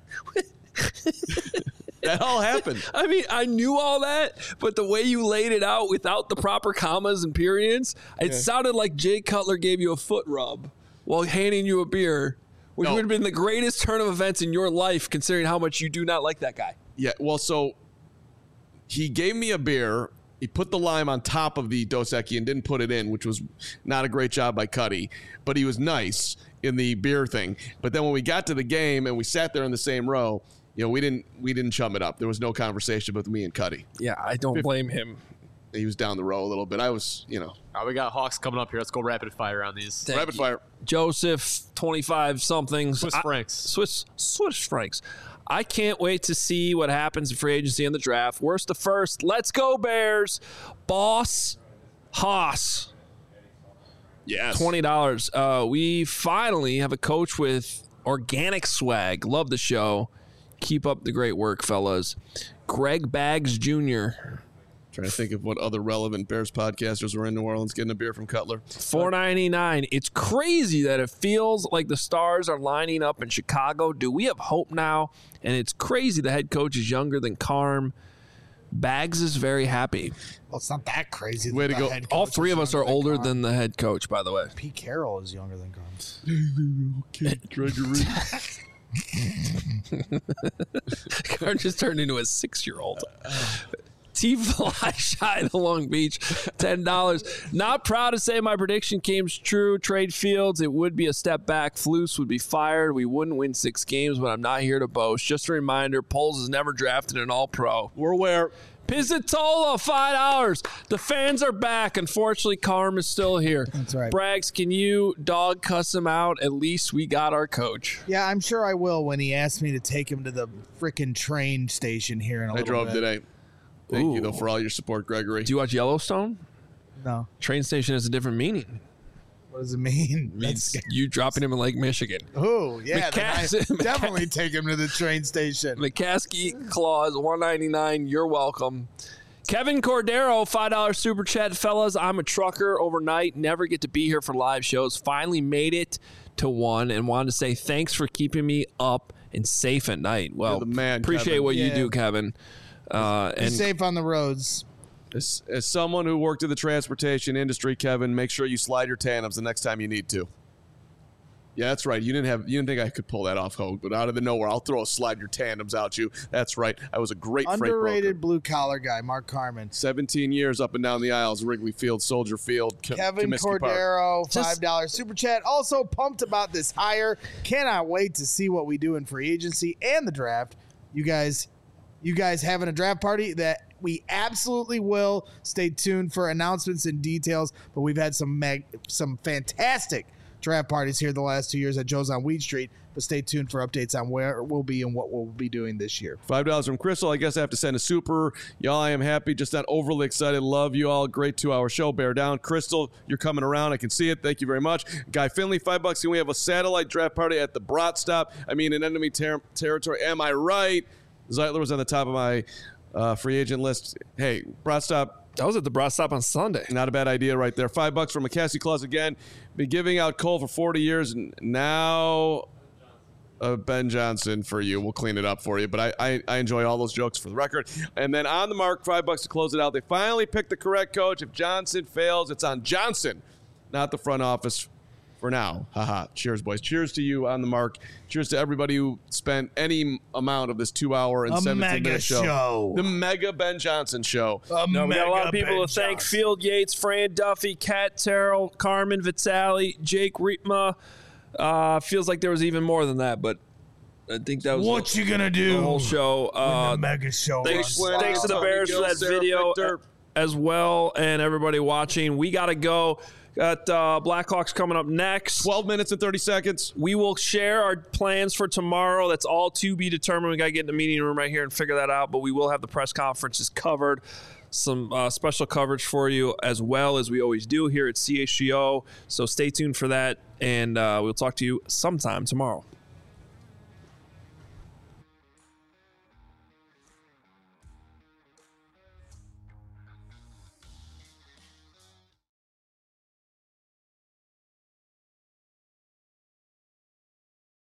That all happened. I mean, I knew all that, but the way you laid it out without the proper commas and periods, it sounded like Jay Cutler gave you a foot rub while handing you a beer, which would have been the greatest turn of events in your life, considering how much you do not like that guy. Yeah, well, so he gave me a beer. He put the lime on top of the Dos Equis and didn't put it in, which was not a great job by Cuddy, but he was nice in the beer thing. But then when we got to the game and we sat there in the same row, we didn't chum it up. There was no conversation with me and Cuddy. Yeah, I don't blame him. He was down the row a little bit. I was, All right, we got Hawks coming up here. Let's go rapid fire on these. Rapid fire. Joseph, 25 something. Swiss francs. Swiss francs. I can't wait to see what happens in free agency and the draft. Worst to first. Let's go, Bears. Boss Haas. Yes. $20. We finally have a coach with organic swag. Love the show. Keep up the great work, fellas. Greg Baggs Jr. Trying to think of what other relevant Bears podcasters were in New Orleans getting a beer from Cutler. $4.99. It's crazy that it feels like the stars are lining up in Chicago. Do we have hope now? And it's crazy the head coach is younger than Carm. Bags is very happy. Well, it's not that crazy. Way to go. All three of us are older than the head coach, by the way. Pete Carroll is younger than Carm. Okay, Gregory. Carm just turned into a 6-year-old. T-Fly Shy to Long Beach, $10. Not proud to say my prediction came true. Trade Fields, it would be a step back. Flus would be fired. We wouldn't win 6 games, but I'm not here to boast. Just a reminder, Poles has never drafted an All-Pro. We're aware. Pizzatola, $5. The fans are back. Unfortunately, Carm is still here. That's right. Braggs, can you dog cuss him out? At least we got our coach. Yeah, I'm sure I will when he asks me to take him to the freaking train station here in a little bit. I drove today. Thank you, though, for all your support, Gregory. Do you watch Yellowstone? No. Train station has a different meaning. What does it mean? It means you dropping him in Lake Michigan. Oh, yeah. Definitely take him to the train station. McCaskey Clause, $1.99. You're welcome. Kevin Cordero, $5 super chat. Fellas, I'm a trucker overnight. Never get to be here for live shows. Finally made it to one and wanted to say thanks for keeping me up and safe at night. Well, you're the man, appreciate Kevin. what you do, Kevin. Be safe on the roads. As someone who worked in the transportation industry, Kevin, make sure you slide your tandems the next time you need to. Yeah, that's right. You didn't think I could pull that off, Hogue, but out of the nowhere, I'll throw a slide your tandems out you. That's right. I was a great freight broker. Underrated blue collar guy, Mark Carman. 17 years up and down the aisles, Wrigley Field, Soldier Field, Kevin Comiskey Cordero, Park. $5 super chat. Also pumped about this hire. Cannot wait to see what we do in free agency and the draft. You guys having a draft party that we absolutely will. Stay tuned for announcements and details. But we've had some fantastic draft parties here the last 2 years at Joe's on Weed Street. But stay tuned for updates on where we'll be and what we'll be doing this year. $5 from Crystal. I guess I have to send a super. Y'all, I am happy, just not overly excited. Love you all. Great 2-hour show. Bear down. Crystal, you're coming around. I can see it. Thank you very much. Guy Finley, $5. Can we have a satellite draft party at the Brat Stop? I mean, in enemy territory. Am I right? Zeitler was on the top of my free agent list. Hey, Brat Stop. That was at the Brat Stop on Sunday. Not a bad idea right there. $5 from McCaskey Claus again. Been giving out coal for 40 years, and now Ben Johnson for you. We'll clean it up for you. But I enjoy all those jokes for the record. And then on the mark, $5 to close it out. They finally picked the correct coach. If Johnson fails, it's on Johnson, not the front office. For now. Haha. Cheers, boys. Cheers to you on the mark. Cheers to everybody who spent any amount of this 2-hour and 17-minute show. The mega Ben Johnson show. We got a lot of people to thank. Field Yates, Fran Duffy, Kat Terrell, Carmen Vitale, Jake Rietma. Feels like there was even more than that, but I think that was what you gonna do the whole show. The mega show. Thanks to the Bears for that video as well, and everybody watching. We got to go. Got Blackhawks coming up next. 12 minutes and 30 seconds. We will share our plans for tomorrow. That's all to be determined. We got to get in the meeting room right here and figure that out. But we will have the press conferences covered. Some special coverage for you as well as we always do here at CHGO. So stay tuned for that. And we'll talk to you sometime tomorrow.